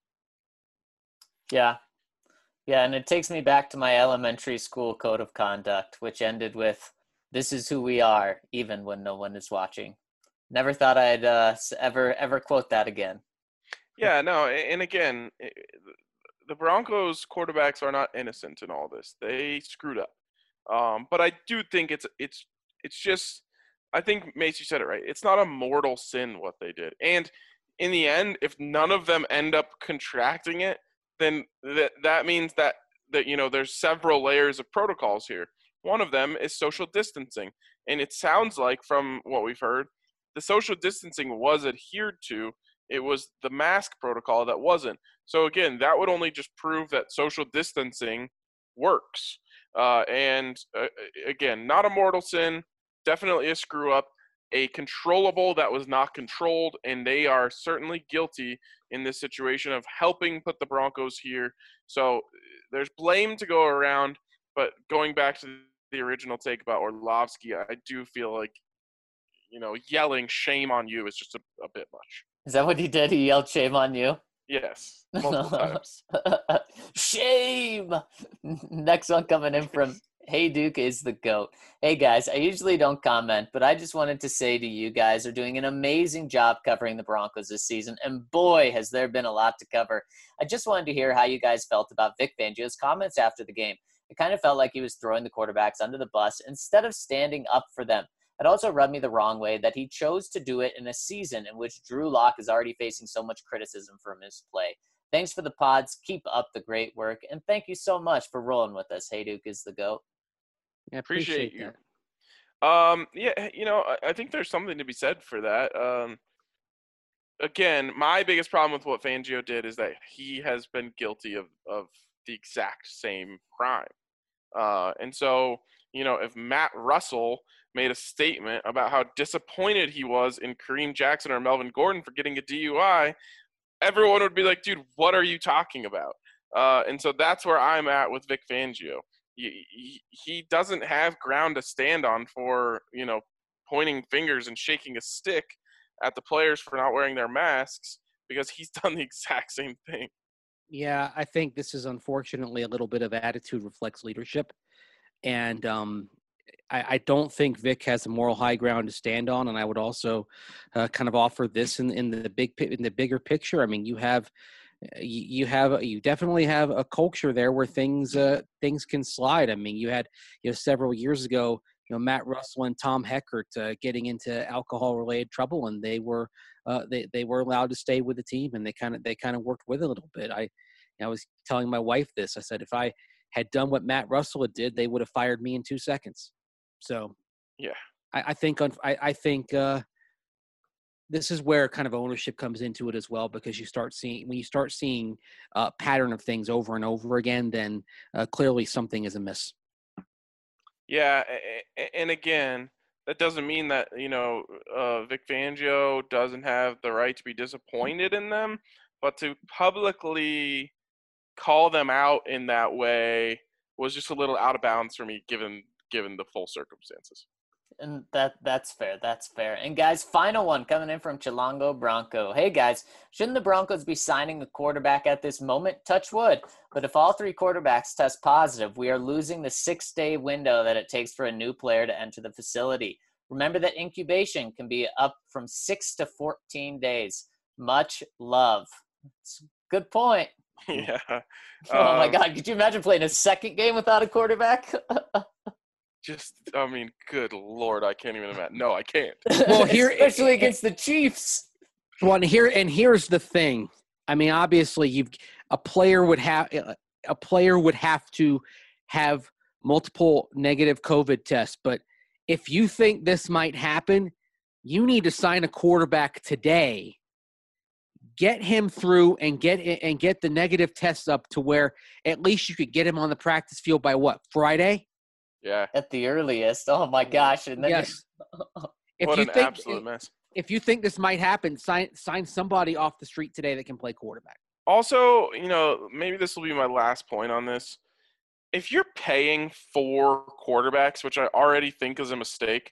Yeah. Yeah, and it takes me back to my elementary school code of conduct, which ended with, this is who we are, even when no one is watching. Never thought I'd uh, ever, ever quote that again. Yeah, no, and again, the Broncos quarterbacks are not innocent in all this. They screwed up. Um, but I do think it's it's it's just I think Macy said it right. It's not a mortal sin what they did. And in the end, if none of them end up contracting it, then that that means that that you know there's several layers of protocols here. One of them is social distancing. And it sounds like from what we've heard, the social distancing was adhered to. It was the mask protocol that wasn't. So again, that would only just prove that social distancing works. Uh, and uh, again, not a mortal sin, definitely a screw up, a controllable that was not controlled, and they are certainly guilty in this situation of helping put the Broncos here. So there's blame to go around, but going back to the original take about Orlovsky, I do feel like, you know, yelling shame on you is just a, a bit much. Is that what he did? He yelled shame on you? Yes, multiple times. Shame! Next one coming in from Hey Duke is the GOAT. Hey guys, I usually don't comment, but I just wanted to say to you guys are doing an amazing job covering the Broncos this season, and boy, has there been a lot to cover. I just wanted to hear how you guys felt about Vic Fangio's comments after the game. It kind of felt like he was throwing the quarterbacks under the bus instead of standing up for them. It also rubbed me the wrong way that he chose to do it in a season in which Drew Lock is already facing so much criticism from his play. Thanks for the pods. Keep up the great work. And thank you so much for rolling with us. Hey Duke is the GOAT. Yeah, Appreciate, appreciate you. that. Um, yeah, you know, I, I think there's something to be said for that. Um, again, my biggest problem with what Fangio did is that he has been guilty of, of the exact same crime. Uh, and so, you know, if Matt Russell made a statement about how disappointed he was in Kareem Jackson or Melvin Gordon for getting a D U I, everyone would be like, dude, what are you talking about? Uh, and so that's where I'm at with Vic Fangio. He, he, he doesn't have ground to stand on for, you know, pointing fingers and shaking a stick at the players for not wearing their masks, because he's done the exact same thing. Yeah, I think this is unfortunately a little bit of attitude reflects leadership. And um, I, I don't think Vic has a moral high ground to stand on. And I would also uh, kind of offer this in, in the big in the bigger picture. I mean, you have you, you have you definitely have a culture there where things uh, things can slide. I mean, you had you know several years ago, you know Matt Russell and Tom Heckert uh, getting into alcohol related trouble, and they were uh, they they were allowed to stay with the team, and they kind of they kind of worked with it a little bit. I I was telling my wife this. I said if I had done what Matt Russell did, they would have fired me in two seconds. So, yeah, I, I think I, I think uh, this is where kind of ownership comes into it as well, because you start seeing when you start seeing a pattern of things over and over again, then uh, clearly something is amiss. Yeah, and again, that doesn't mean that you know uh, Vic Fangio doesn't have the right to be disappointed in them, but to publicly call them out in that way was just a little out of bounds for me, given given the full circumstances. And that that's fair. That's fair. And guys, final one coming in from Chilongo Bronco. Hey guys, shouldn't the Broncos be signing a quarterback at this moment? Touch wood. But if all three quarterbacks test positive, we are losing the six-day window that it takes for a new player to enter the facility. Remember that incubation can be up from six to fourteen days. Much love. It's a good point. Yeah. Oh my um, God. Could you imagine playing a second game without a quarterback? Just, I mean, good Lord, I can't even imagine. No, I can't. Well, here, especially against the Chiefs. Well, and here and here's the thing. I mean, obviously, you've a player would have a player would have to have multiple negative COVID tests. But if you think this might happen, you need to sign a quarterback today. Get him through and get and get the negative tests up to where at least you could get him on the practice field by what, Friday? Yeah. At the earliest. Oh my gosh. And then yes. If what you an think, absolute mess. If you think this might happen, sign sign somebody off the street today that can play quarterback. Also, you know, maybe this will be my last point on this. If you're paying four quarterbacks, which I already think is a mistake,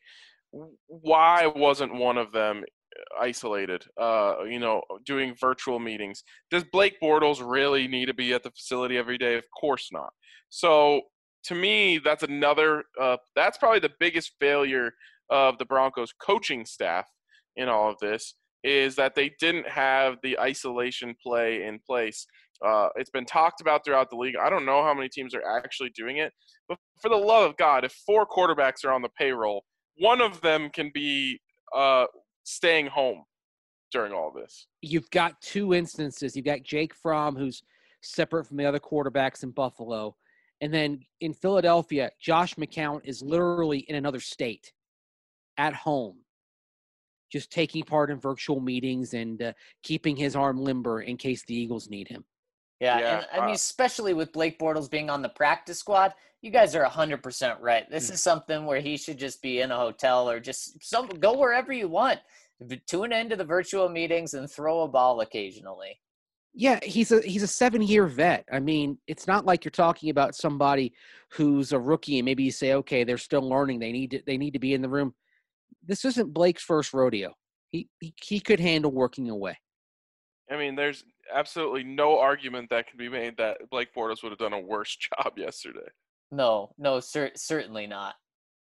why wasn't one of them isolated, uh, you know, doing virtual meetings? Does Blake Bortles really need to be at the facility every day? Of course not. So to me, that's another, uh, that's probably the biggest failure of the Broncos coaching staff in all of this, is that they didn't have the isolation play in place. Uh, it's been talked about throughout the league. I don't know how many teams are actually doing it, but for the love of God, if four quarterbacks are on the payroll, one of them can be uh, staying home during all this. You've got two instances. You've got Jake Fromm, who's separate from the other quarterbacks in Buffalo. And then in Philadelphia, Josh McCown is literally in another state at home, just taking part in virtual meetings and uh, keeping his arm limber in case the Eagles need him. Yeah, Yeah, and I mean, uh, especially with Blake Bortles being on the practice squad, you guys are one hundred percent right. This is something where he should just be in a hotel or just some go wherever you want. Tune into the virtual meetings and throw a ball occasionally. Yeah, he's a he's a seven-year vet. I mean, it's not like you're talking about somebody who's a rookie and maybe you say, okay, they're still learning. They need to they need to be in the room. This isn't Blake's first rodeo. He he, he could handle working away. I mean, there's absolutely no argument that can be made that Blake Bortles would have done a worse job yesterday. No, no, cer- certainly not.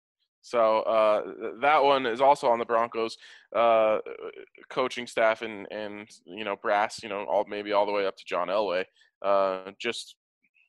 So uh, that one is also on the Broncos uh, coaching staff and, and, you know, brass, you know, all maybe all the way up to John Elway. Uh, just,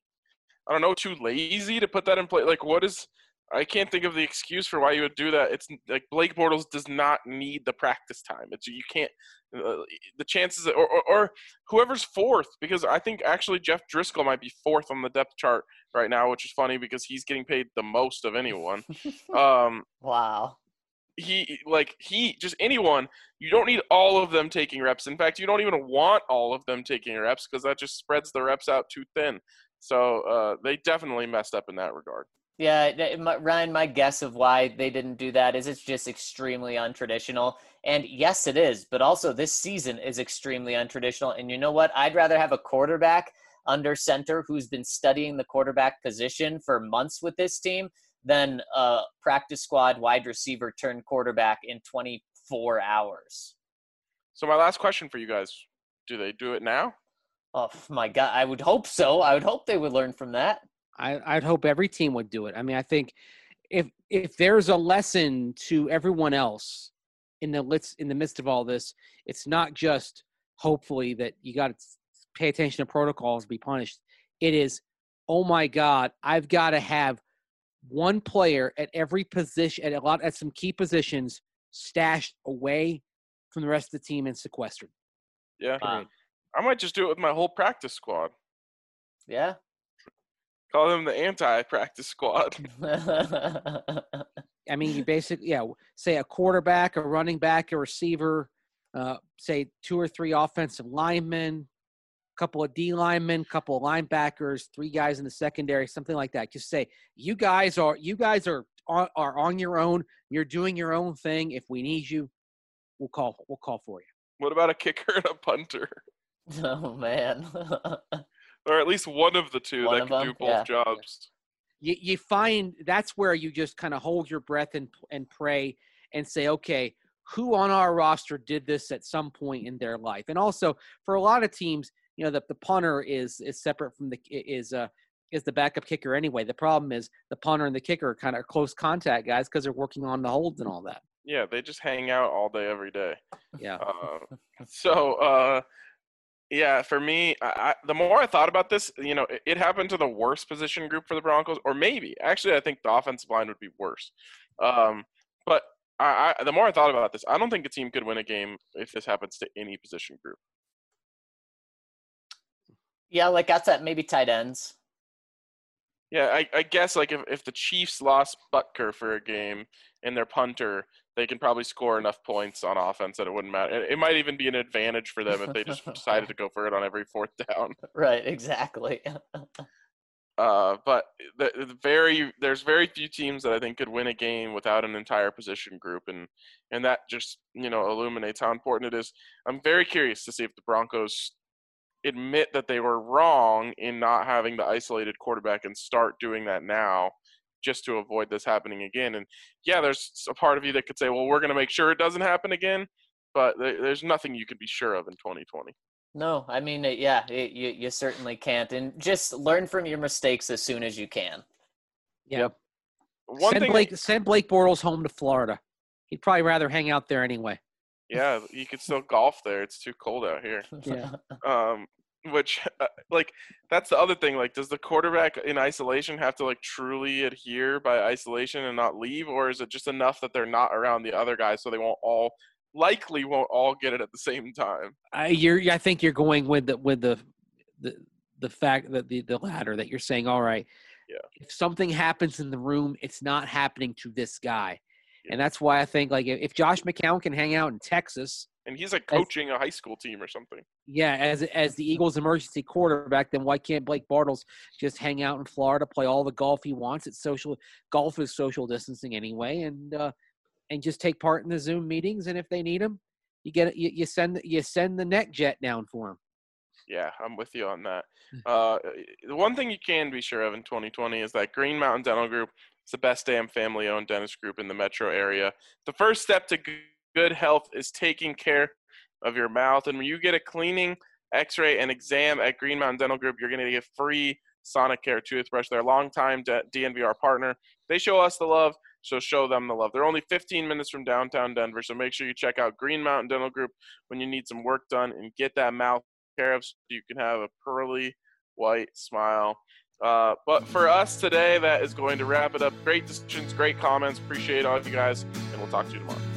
I don't know, too lazy to put that in place. Like, what is – I can't think of the excuse for why you would do that. It's like Blake Bortles does not need the practice time. It's you can't uh, the chances or, or or whoever's fourth, because I think actually Jeff Driscoll might be fourth on the depth chart right now, which is funny because he's getting paid the most of anyone. Um, wow. He like he just anyone. You don't need all of them taking reps. In fact, you don't even want all of them taking reps because that just spreads the reps out too thin. So uh, they definitely messed up in that regard. Yeah, th- my- Ryan, my guess of why they didn't do that is it's just extremely untraditional. And yes, it is, but also this season is extremely untraditional. And you know what? I'd rather have a quarterback under center who's been studying the quarterback position for months with this team than a practice squad wide receiver turned quarterback in twenty-four hours. So my last question for you guys, do they do it now? Oh, my God. I would hope so. I would hope they would learn from that. I, I'd hope every team would do it. I mean, I think if if there's a lesson to everyone else in the let's in the midst of all this, it's not just hopefully that you got to pay attention to protocols, be punished. It is, oh my God, I've got to have one player at every position, at a lot at some key positions, stashed away from the rest of the team and sequestered. Yeah, Wow. I might just do it with my whole practice squad. Yeah. Call them the anti-practice squad. I mean, you basically, yeah, say a quarterback, a running back, a receiver, uh, say two or three offensive linemen, a couple of D linemen, couple of linebackers, three guys in the secondary, something like that. Just say, you guys are, you guys are, are, are on your own. You're doing your own thing. If we need you, we'll call, we'll call for you. What about a kicker and a punter? Oh, man. Or at least one of the two One that of can them? do both Yeah. jobs. You, you find that's where you just kind of hold your breath and and pray and say, okay, who on our roster did this at some point in their life? And also for a lot of teams, you know, the, the punter is is separate from the is uh is the backup kicker anyway. The problem is the punter and the kicker are kind of close contact guys because they're working on the holds and all that. Yeah, they just hang out all day, every day. Yeah. Uh, so, uh, yeah, for me, I, I, the more I thought about this, you know, it, it happened to the worst position group for the Broncos, or maybe actually, I think the offensive line would be worse. Um, but I, I, the more I thought about this, I don't think a team could win a game if this happens to any position group. Yeah, like I said, maybe tight ends. Yeah, I, I guess like if, if the Chiefs lost Butker for a game and their punter, they can probably score enough points on offense that it wouldn't matter. It, it might even be an advantage for them if they just decided to go for it on every fourth down. Right, exactly. Uh, but the, the very there's very few teams that I think could win a game without an entire position group, and and that just you know illuminates how important it is. I'm very curious to see if the Broncos admit that they were wrong in not having the isolated quarterback and start doing that now, just to avoid this happening again. And yeah, there's a part of you that could say, well, we're going to make sure it doesn't happen again, but there's nothing you could be sure of in twenty twenty. No, I mean, it, yeah, it, you you certainly can't, and just learn from your mistakes as soon as you can. Yeah. Yep. One send thing, Blake send Blake Bortles home to Florida. He'd probably rather hang out there anyway. yeah, you could still golf there. It's too cold out here. Yeah. Um, which, uh, like, that's the other thing. Like, does the quarterback in isolation have to, like, truly adhere by isolation and not leave? Or is it just enough that they're not around the other guys so they won't all – likely won't all get it at the same time? I, you're, I think you're going with the with the the, the fact that the, the latter, that you're saying, all right, yeah, if something happens in the room, it's not happening to this guy. Yeah. And that's why I think, like, if Josh McCown can hang out in Texas – and he's like coaching a high school team or something. Yeah, as as the Eagles' emergency quarterback, then why can't Blake Bortles just hang out in Florida, play all the golf he wants? It's social golf is social distancing anyway, and uh, and just take part in the Zoom meetings. And if they need him, you get you, you send you send the net jet down for him. Yeah, I'm with you on that. Uh, the one thing you can be sure of in twenty twenty is that Green Mountain Dental Group is the best damn family-owned dentist group in the metro area. The first step to good health is taking care of your mouth. And when you get a cleaning, x-ray, and exam at Green Mountain Dental Group, you're going to get free Sonicare toothbrush. They're a longtime D N V R partner. They show us the love, so show them the love. They're only fifteen minutes from downtown Denver, so make sure you check out Green Mountain Dental Group when you need some work done and get that mouth care of so you can have a pearly white smile. Uh, but for us today, that is going to wrap it up. Great decisions, great comments. Appreciate all of you guys, and we'll talk to you tomorrow.